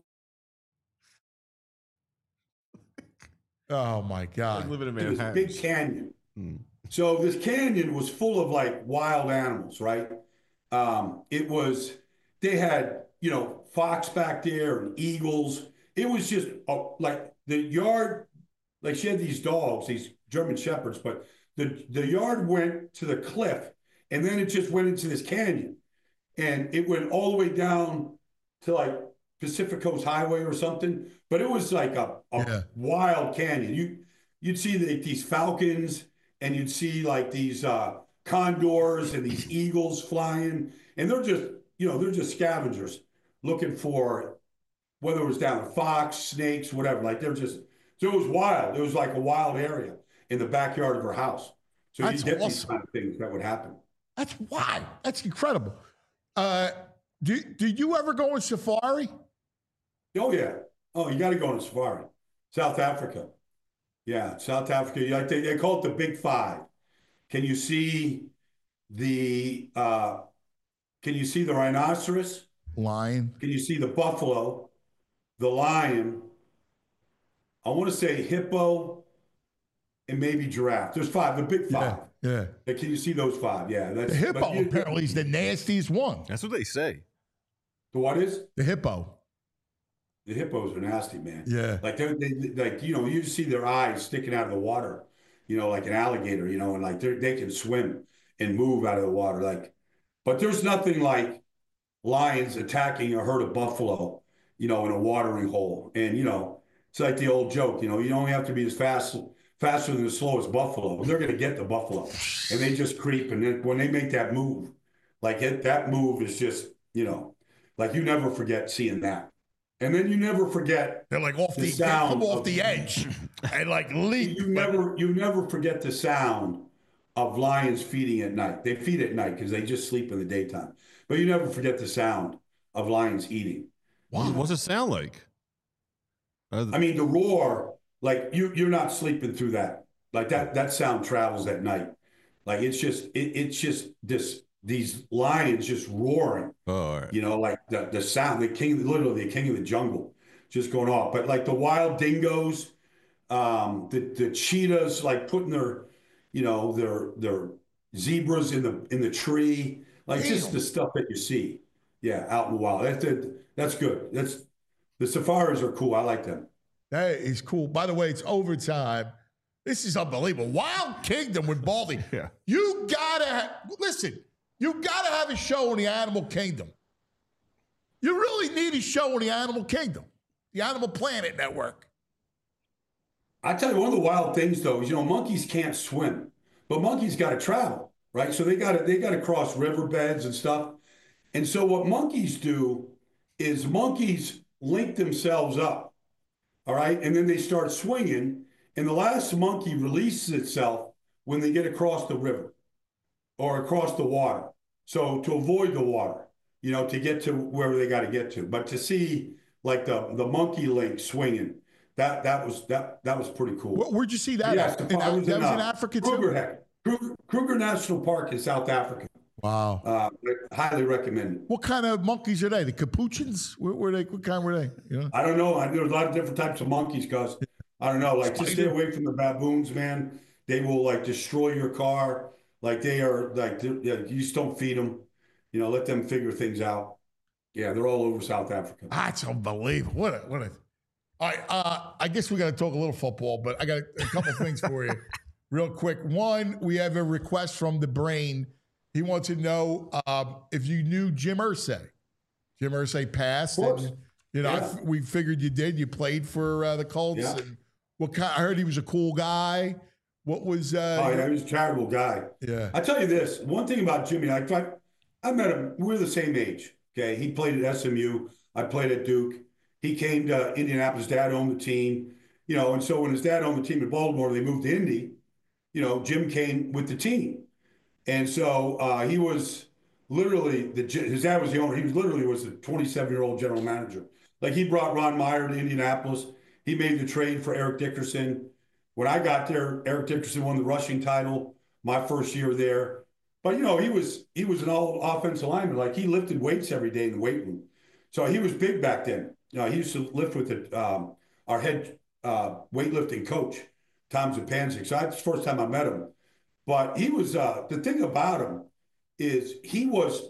Oh my God! living in in this Manhattan. big canyon. Hmm. So this canyon was full of like wild animals, right? Um, it was, they had, you know, fox back there and eagles. It was just uh, like the yard, like she had these dogs, these German Shepherds, but the, the yard went to the cliff and then it just went into this canyon. And it went all the way down to like Pacific Coast Highway or something. But it was like a, a Yeah. wild canyon. You, you'd see the, these falcons and you'd see like these uh, condors and these eagles flying. And they're just, you know, they're just scavengers looking for, whether it was down fox, snakes, whatever. Like they're just, so it was wild. It was like a wild area in the backyard of her house. So That's you get these awesome. kind of things that would happen. That's wild. That's incredible. Uh, do did you ever go on safari? Oh yeah. Oh, you got to go on a safari. South Africa. Yeah, South Africa. You like they, they call it the Big Five. Can you see the uh, Can you see the rhinoceros? Lion. Can you see the buffalo, the lion? I want to say hippo, and maybe giraffe. There's five. The Big Five. Yeah. Uh, Can you see those five? Yeah, that's The hippo but you- apparently is the nastiest one. That's what they say. The what is? The hippo. The hippos are nasty, man. Yeah. Like they, they like you know, you see their eyes sticking out of the water, you know, like an alligator, you know, and like they they can swim and move out of the water, like. But there's nothing like lions attacking a herd of buffalo, you know, in a watering hole, and you know, it's like the old joke, you know, you only have to be as fast faster than the slowest buffalo. They're gonna get the buffalo, and they just creep, and then when they make that move, like it, that move is just, you know, like you never forget seeing that. And then you never forget They're like off the the, they sound come off of- the edge and like leap. you never you never forget the sound of lions feeding at night. They feed at night because they just sleep in the daytime. But you never forget the sound of lions eating. Wow. What's it sound like? Are the- I mean, the roar, like you you're not sleeping through that. Like that that sound travels at night. Like it's just it, it's just this these lions just roaring. oh, all right. You know, like the, the sound, the king, literally the king of the jungle just going off. But like the wild dingoes, um, the, the cheetahs, like putting their, you know, their, their zebras in the, in the tree, like just the stuff that you see. Yeah. Out in the wild. That's, that's good. That's, the safaris are cool. I like them. That is cool. By the way, it's overtime. This is unbelievable. Wild Kingdom with Baldy. Yeah. You gotta ha- listen. You gotta have a show in the Animal Kingdom. You really need a show in the Animal Kingdom, the Animal Planet Network. I tell you, one of the wild things though is, you know, monkeys can't swim, but monkeys got to travel, right? So they got to they got to cross riverbeds and stuff. And so what monkeys do is monkeys link themselves up, all right, and then they start swinging. And the last monkey releases itself when they get across the river or across the water. So to avoid the water, you know, to get to wherever they got to get to. But to see like the the monkey link swinging, that that was that that was pretty cool. Where, where'd you see that? Yes, at? the, In, I was that in, was uh, in Africa Kruger, too. heck, Kruger, Kruger National Park in South Africa. Wow. Uh, highly recommended. What kind of monkeys are they? The capuchins? Where were they? What kind were they? You know? I don't know. I, there's a lot of different types of monkeys, Gus. I don't know. Like, just stay away from the baboons, man. They will like destroy your car. Like they are like yeah, you just don't feed them. You know, let them figure things out. Yeah, they're all over South Africa. That's unbelievable. What a what a. All right, uh, I guess we got to talk a little football, but I got a, a couple things for you, real quick. One, we have a request from the Brain. He wants to know um, if you knew Jim Irsay. Jim Irsay passed. Of course. And, you know, Yeah. I f- we figured you did. You played for uh, the Colts. Yeah. And what kind? I heard he was a cool guy. What was? Uh, Oh yeah, he was a charitable guy. Yeah. I tell you this, one thing about Jimmy, I I, I met him. We were the same age. Okay, he played at S M U. I played at Duke. He came to Indianapolis. Dad owned the team. You know, and so when his dad owned the team in Baltimore, they moved to Indy. You know, Jim came with the team. And so uh, he was literally, the his dad was the owner. He was literally was the twenty-seven-year-old general manager. Like he brought Ron Meyer to Indianapolis. He made the trade for Eric Dickerson. When I got there, Eric Dickerson won the rushing title my first year there. But, you know, he was he was an all offensive lineman. Like he lifted weights every day in the weight room. So he was big back then. You know, he used to lift with the, um, our head uh, weightlifting coach, Tom Zupancic. So that's the first time I met him. But he was, uh, the thing about him is he was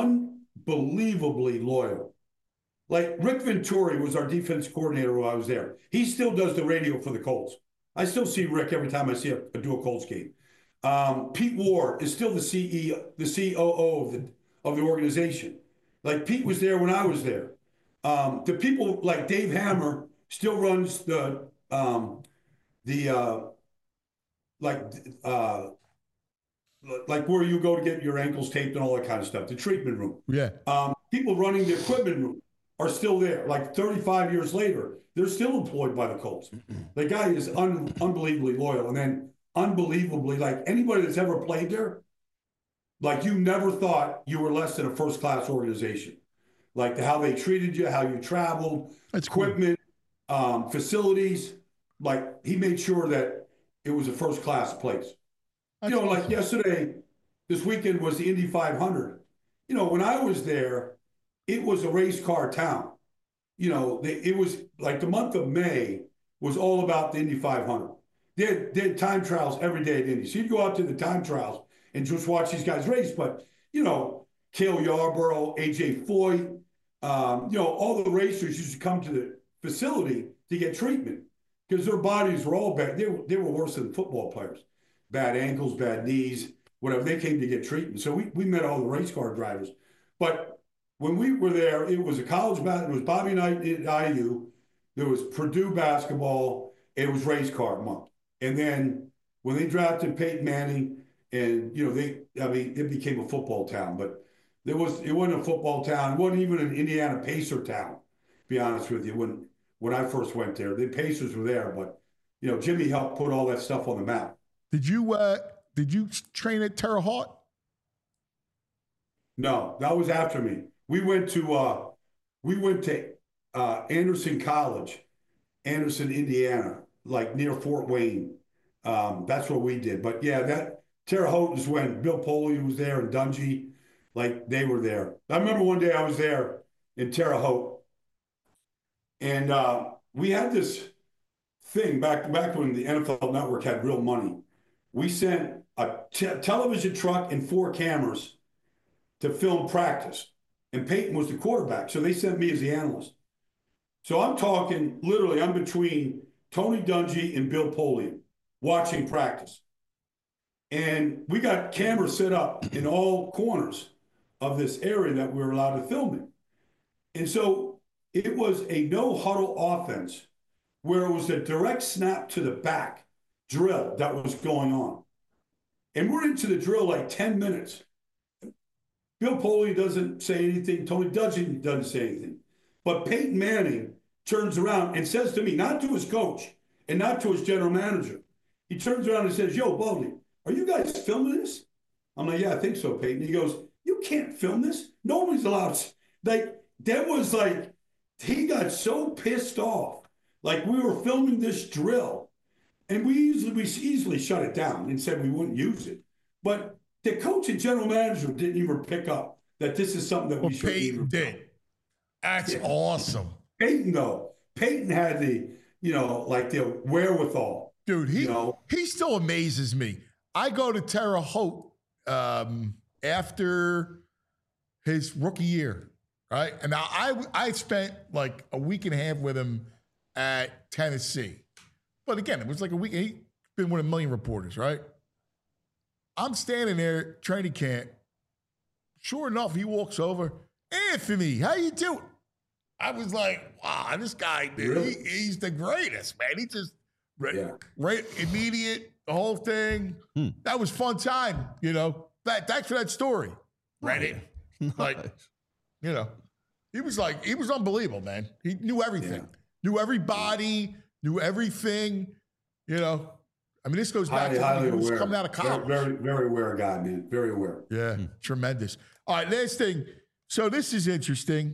unbelievably loyal. Like Rick Venturi was our defense coordinator while I was there. He still does the radio for the Colts. I still see Rick every time I see a, a do a Colts game. Um, Pete Ward is still the C E O, the C O O of the, of the organization. Like Pete was there when I was there. Um, the people like Dave Hammer still runs the, um, the, uh, like, uh, like where you go to get your ankles taped and all that kind of stuff, the treatment room. Yeah. Um, people running the equipment room are still there. Like thirty-five years later, they're still employed by the Colts. The guy is un- unbelievably loyal. And then unbelievably, like anybody that's ever played there, like you never thought you were less than a first-class organization. Like the, how they treated you, how you traveled, That's cool. equipment, um, facilities. Like he made sure that it was a first-class place. That's you know, like awesome. yesterday, this weekend was the Indy five hundred. You know, when I was there, it was a race car town. You know, they, it was like the month of May was all about the Indy five hundred. They had, they had time trials every day at Indy. So you'd go out to the time trials and just watch these guys race. But, you know, Cale Yarborough, A J Foyt, um, you know, all the racers used to come to the facility to get treatment because their bodies were all bad. They were, they were worse than football players. Bad ankles, bad knees, whatever. They came to get treatment. So we, we met all the race car drivers. But when we were there, it was a college basketball. It was Bobby Knight at I U. There was Purdue basketball. It was race car month. And then when they drafted Peyton Manning, and you know they, I mean, it became a football town. But there was it wasn't a football town. It wasn't even an Indiana Pacer town. To be honest with you, when when I first went there, the Pacers were there, but you know Jimmy helped put all that stuff on the map. Did you uh, did you train at Terre Haute? No, that was after me. We went to uh, we went to uh, Anderson College, Anderson, Indiana, like near Fort Wayne. Um, that's what we did. But yeah, that Terre Haute is when Bill Polian was there and Dungy, like they were there. I remember one day I was there in Terre Haute, and uh, we had this thing back back when the N F L Network had real money. We sent a te- television truck and four cameras to film practice. And Peyton was the quarterback. So they sent me as the analyst. So I'm talking, literally, I'm between Tony Dungy and Bill Polian. watching practice. And we got cameras set up in all corners of this area that we were allowed to film in. And so it was a no huddle offense where it was a direct snap to the back drill that was going on. And we're into the drill like ten minutes. Bill Polian doesn't say anything. Tony Dungy doesn't say anything. But Peyton Manning turns around and says to me, not to his coach and not to his general manager. He turns around and says, yo, Baldy, are you guys filming this? I'm like, yeah, I think so, Peyton. He goes, you can't film this. Nobody's allowed. Like, that was like, he got so pissed off. Like, we were filming this drill. And we easily, we easily shut it down and said we wouldn't use it. But the coach and general manager didn't even pick up that this is something that well, we should Peyton did. That's yeah. awesome. Peyton, though, Peyton had the, you know, like the wherewithal. Dude, he you know? he still amazes me. I go to Terre Haute um, after his rookie year, right? And now I I spent like a week and a half with him at Tennessee. But again, it was like a week. He's been with a million reporters, right? I'm standing there, training camp. Sure enough, he walks over. Anthony, how you doing? I was like, wow, this guy, dude, really? he, he's the greatest, man. He just, yeah. right, immediate, the whole thing. Hmm. That was fun time, you know. That Thanks for that story. Reddit. Nice. Like, you know, he was like, he was unbelievable, man. He knew everything. Yeah. Knew everybody. Knew everything, you know. I mean, this goes back highly, to highly when he was aware. coming out of college. Very, very, very aware guy, man. Very aware. Yeah, hmm. Tremendous. All right, last thing. So this is interesting.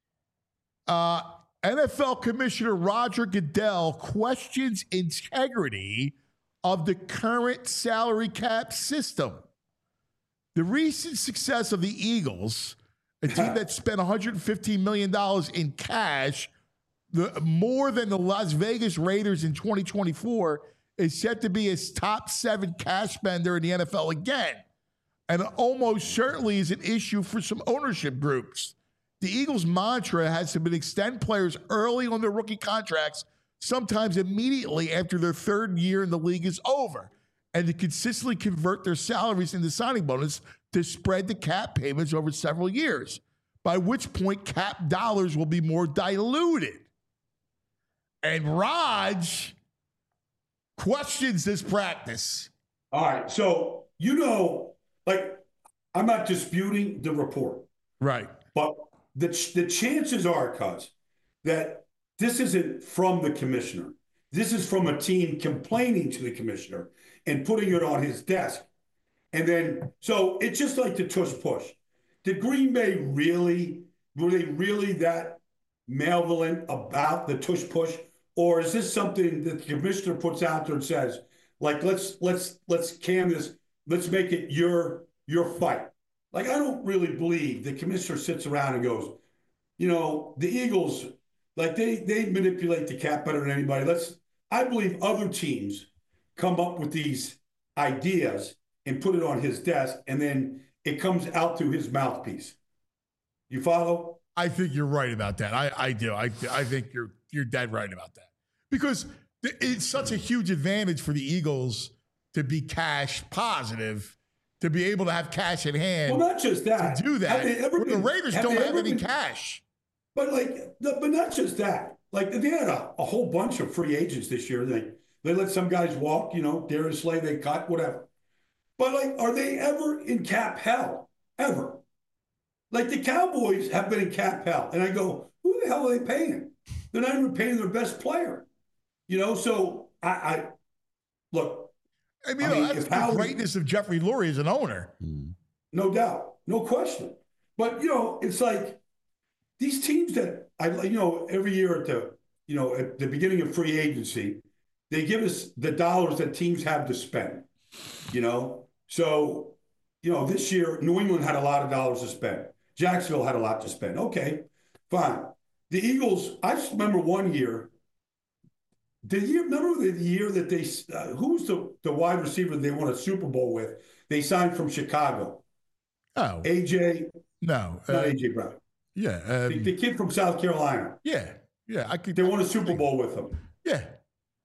Uh, N F L Commissioner Roger Goodell questions integrity of the current salary cap system. The recent success of the Eagles, a team that spent one hundred fifteen million dollars in cash, the, more than the Las Vegas Raiders in twenty twenty-four, is set to be his top seven cash spender in the N F L again. And almost certainly is an issue for some ownership groups. The Eagles' mantra has been extend players early on their rookie contracts, sometimes immediately after their third year in the league is over, and to consistently convert their salaries into signing bonus to spread the cap payments over several years, by which point cap dollars will be more diluted. And Raj questions this practice. All right. So, you know, like, I'm not disputing the report. Right. But the, the chances are, cuz, that this isn't from the commissioner. This is from a team complaining to the commissioner and putting it on his desk. And then, so it's just like the tush push. Did Green Bay really, were they really that malevolent about the tush push? Or is this something that the commissioner puts out there and says, like, let's let's let's can this, let's make it your your fight? Like, I don't really believe the commissioner sits around and goes, you know, the Eagles, like they they manipulate the cap better than anybody. Let's I believe other teams come up with these ideas and put it on his desk, and then it comes out through his mouthpiece. You follow? I think you're right about that. I, I do. I I think you're you're dead right about that. Because it's such a huge advantage for the Eagles to be cash positive, to be able to have cash in hand. Well, not just that. To do that. Been, the Raiders have don't have any been, cash. But like, but not just that. Like, they had a, a whole bunch of free agents this year. They they let some guys walk. You know, Darius Slay they cut, whatever. But like, are they ever in cap hell? Ever? Like, the Cowboys have been in cap hell, and I go, who the hell are they paying? They're not even paying their best player. You know, so I, I look. I mean, I mean that's the greatness of Jeffrey Lurie as an owner. No doubt. No question. But, you know, it's like these teams that, I, you know, every year at the, you know, at the beginning of free agency, they give us the dollars that teams have to spend, you know. So, you know, this year, New England had a lot of dollars to spend. Jacksonville had a lot to spend. Okay, fine. The Eagles, I just remember one year, the year, remember the year that they, uh, who was the, the wide receiver they won a Super Bowl with? They signed from Chicago. Oh. A J. No. Not uh, A J Brown. Yeah. Um, the, the kid from South Carolina. Yeah. Yeah. I could, they won a Super Bowl with him. Yeah.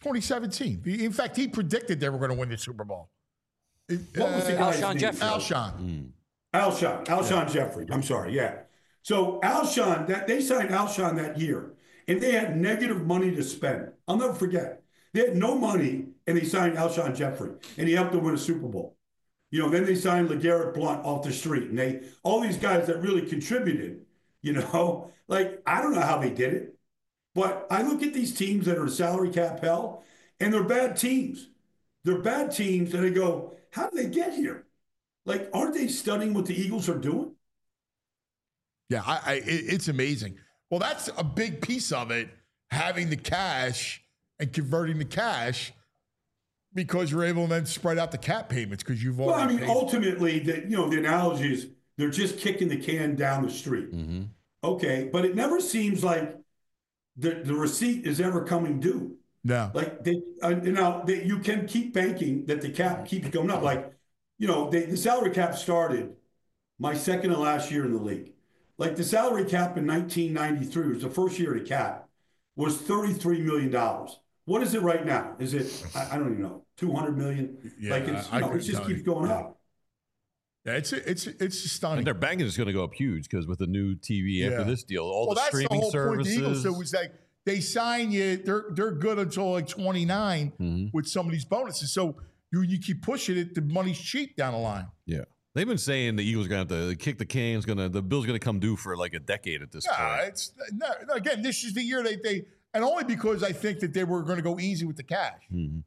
twenty seventeen. In fact, he predicted they were going to win the Super Bowl. What was the Uh, guy's Alshon name? Jeffrey. Alshon. Mm. Alshon, Alshon Jeffrey. I'm sorry, yeah. So Alshon, that they signed Alshon that year, and they had negative money to spend. I'll never forget. They had no money, and they signed Alshon Jeffrey, and he helped them win a Super Bowl. You know, then they signed LeGarrette Blount off the street, and they all these guys that really contributed. You know, like I don't know how they did it, but I look at these teams that are salary cap hell, and they're bad teams. They're bad teams, and I go, how did they get here? Like, aren't they studying what the Eagles are doing? Yeah, I, I, it, it's amazing. Well, that's a big piece of it, having the cash and converting the cash because you're able to then spread out the cap payments because you've already Well, I mean, paid. ultimately, the, you know, the analogy is they're just kicking the can down the street. Mm-hmm. Okay, but it never seems like the, the receipt is ever coming due. No. Like, they, uh, you know, they, you can keep banking that the cap keeps going up. Like, you know, they, the salary cap started my second to last year in the league. Like the salary cap in nineteen ninety-three was the first year of the cap was thirty-three million dollars. What is it right now? Is it, I, I don't even know, two hundred million dollars? Yeah, like it's, I- you I know, it couldn't just tell keeps you. going Yeah. up. Yeah, it's it's it's stunning. And their banking is going to go up huge because with the new T V after Yeah. this deal, all well, the that's streaming the whole services. point. The Eagles, so it was like they sign you, they're they're good until like twenty-nine Mhm. with some of these bonuses. So you you keep pushing it, the money's cheap down the line. Yeah. They've been saying the Eagles are going to have to kick the can's going to, the bill's going to come due for like a decade at this No, point. it's no, no, again, this is the year they they and only because I think that they were going to go easy with the cash. Mhm.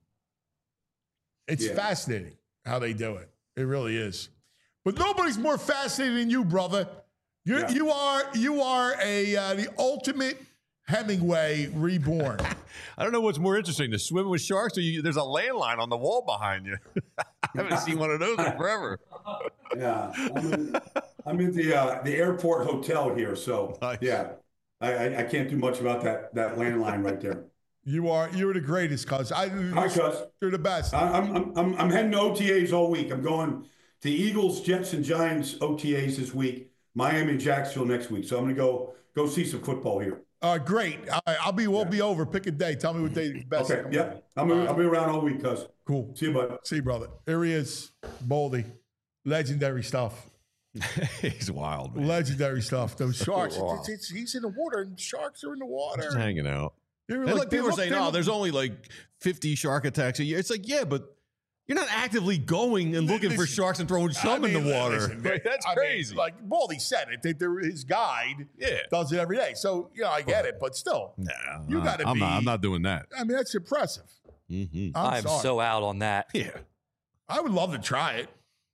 It's Yeah. fascinating how they do it. It really is. But nobody's more fascinating than you, brother. You Yeah. you are you are a uh, the ultimate Hemingway reborn. I don't know what's more interesting, to swim with sharks or you, there's a landline on the wall behind you. I haven't seen one of those in forever. Yeah, I'm in, I'm in the uh, the airport hotel here, so Nice. yeah, I, I I can't do much about that that landline right there. You are you're the greatest, cuz. I Hi, cuz. you're the best. I- I'm I'm I'm I'm heading to O T As all week. I'm going to Eagles, Jets, and Giants O T As this week. Miami and Jacksonville next week. So I'm gonna go go see some football here. Uh, great. All right, I'll be we'll be over. Pick a day. Tell me what day is best. Okay, yep. I'm gonna, I'll be around all week, cuz. Cool. See you, bud. See you, brother. Here he is, Boldy. Legendary stuff. He's wild, man. Legendary stuff. Those sharks. It's, it's, he's in the water, and sharks are in the water. Just hanging out. They were And like, they people are look- saying, they oh, look- there's only like fifty shark attacks a year. It's like, yeah, but you're not actively going and looking for Listen, sharks and throwing some I mean, in the water. listen, Like, that's I mean, crazy. like Baldy said it. They, they're, his guide Yeah. does it every day. So, you know, I get it, but still, nah, you I- gotta I'm be- Not, I'm not doing that. I mean, that's impressive. Mm-hmm. I'm, I'm sorry. so out on that. Yeah. I would love to try it.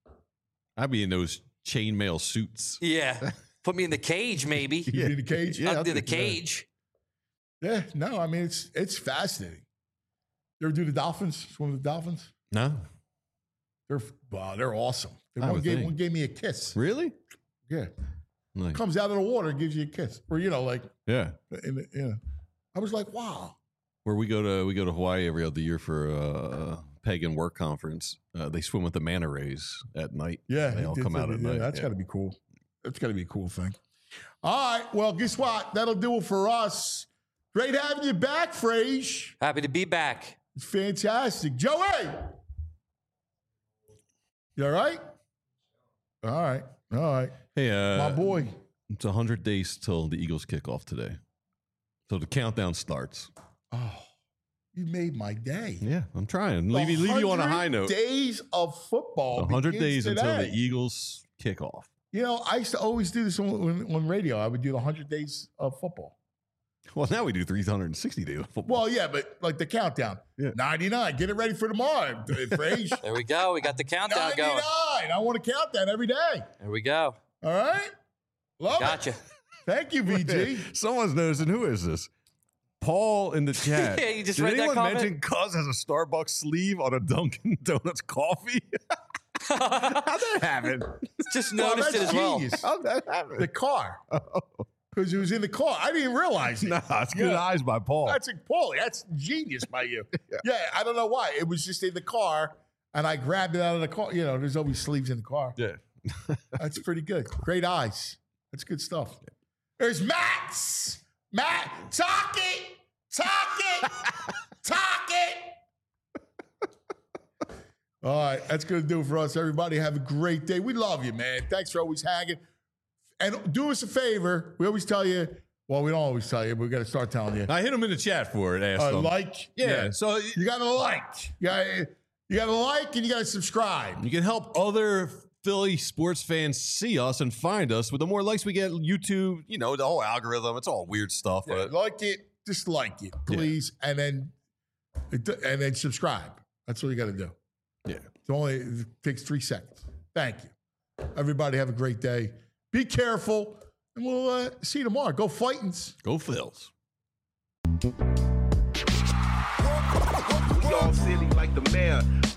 I'd be in those chainmail suits. Yeah. Put me in the cage, maybe. You be in the cage? Yeah, I'll I'll do the do- cage. Yeah, no, I mean, it's it's fascinating. You ever do the dolphins? Swim with the dolphins? No. They're wow, they're awesome. They I one, would gave, think. one gave me a kiss. Really? Yeah. Like, Comes out of the water and gives you a kiss. Or, you know, like, yeah. in the, you know. I was like, wow. Where we go to we go to Hawaii every other year for a pagan work conference. Uh, they swim with the manta rays at night. Yeah. They it all did come say out that. at Yeah, night. That's yeah. got to be cool. That's got to be a cool thing. All right. Well, guess what? That'll do it for us. Great having you back, Frage. Happy to be back. It's fantastic. Joey! You all right? All right. All right. Hey, uh, My boy. It's one hundred days till the Eagles kick off today. So the countdown starts. Oh, you made my day. Yeah, I'm trying. Leave, you- leave you on a high note. Days of football. one hundred begins days until today. the Eagles kick off. You know, I used to always do this on, on, on radio. I would do the one hundred days of football. Well, now we do three hundred sixty days of football. Well, yeah, but like the countdown. Yeah. ninety-nine. Get it ready for tomorrow, Frage. There we go. We got the countdown going. ninety-nine. I want to count that every day. There we go. All right? Love Gotcha. it. Thank you, V G. Someone's noticing. Who is this? Paul in the chat. Yeah, you just Did read that anyone comment? mention Cuz has a Starbucks sleeve on a Dunkin' Donuts coffee? How'd that happen? Just Well, noticed it that's as well. genius. How'd that happen? The car. Because it was in the car. I didn't realize it. Nah, it's good Yeah. eyes by Paul. That's a Paulie. That's genius by you. yeah. I don't know why. It was just in the car, and I grabbed it out of the car. You know, there's always sleeves in the car. yeah. That's pretty good. Great eyes. That's good stuff. There's Max. Matt, talk it. Talk it. Talk it. All right, that's going to do it for us, everybody. Have a great day. We love you, man. Thanks for always hanging. And do us a favor. We always tell you, well, we don't always tell you, but we got to start telling you. I hit them in the chat for it. Ask Uh, them. like. Yeah, Yeah. so You got to like. You got you got to like and you got to subscribe. you can help other Philly sports fans see us and find us. With the more likes we get, YouTube, you know, the whole algorithm, it's all weird stuff. Yeah, But like it. Just like it, please. And then and then subscribe. That's all you got to do. yeah. It's only it takes three seconds. Thank you. Everybody have a great day. Be careful. And we'll uh, see you tomorrow. Go Fightins. Go Phils. We all silly like the mayor.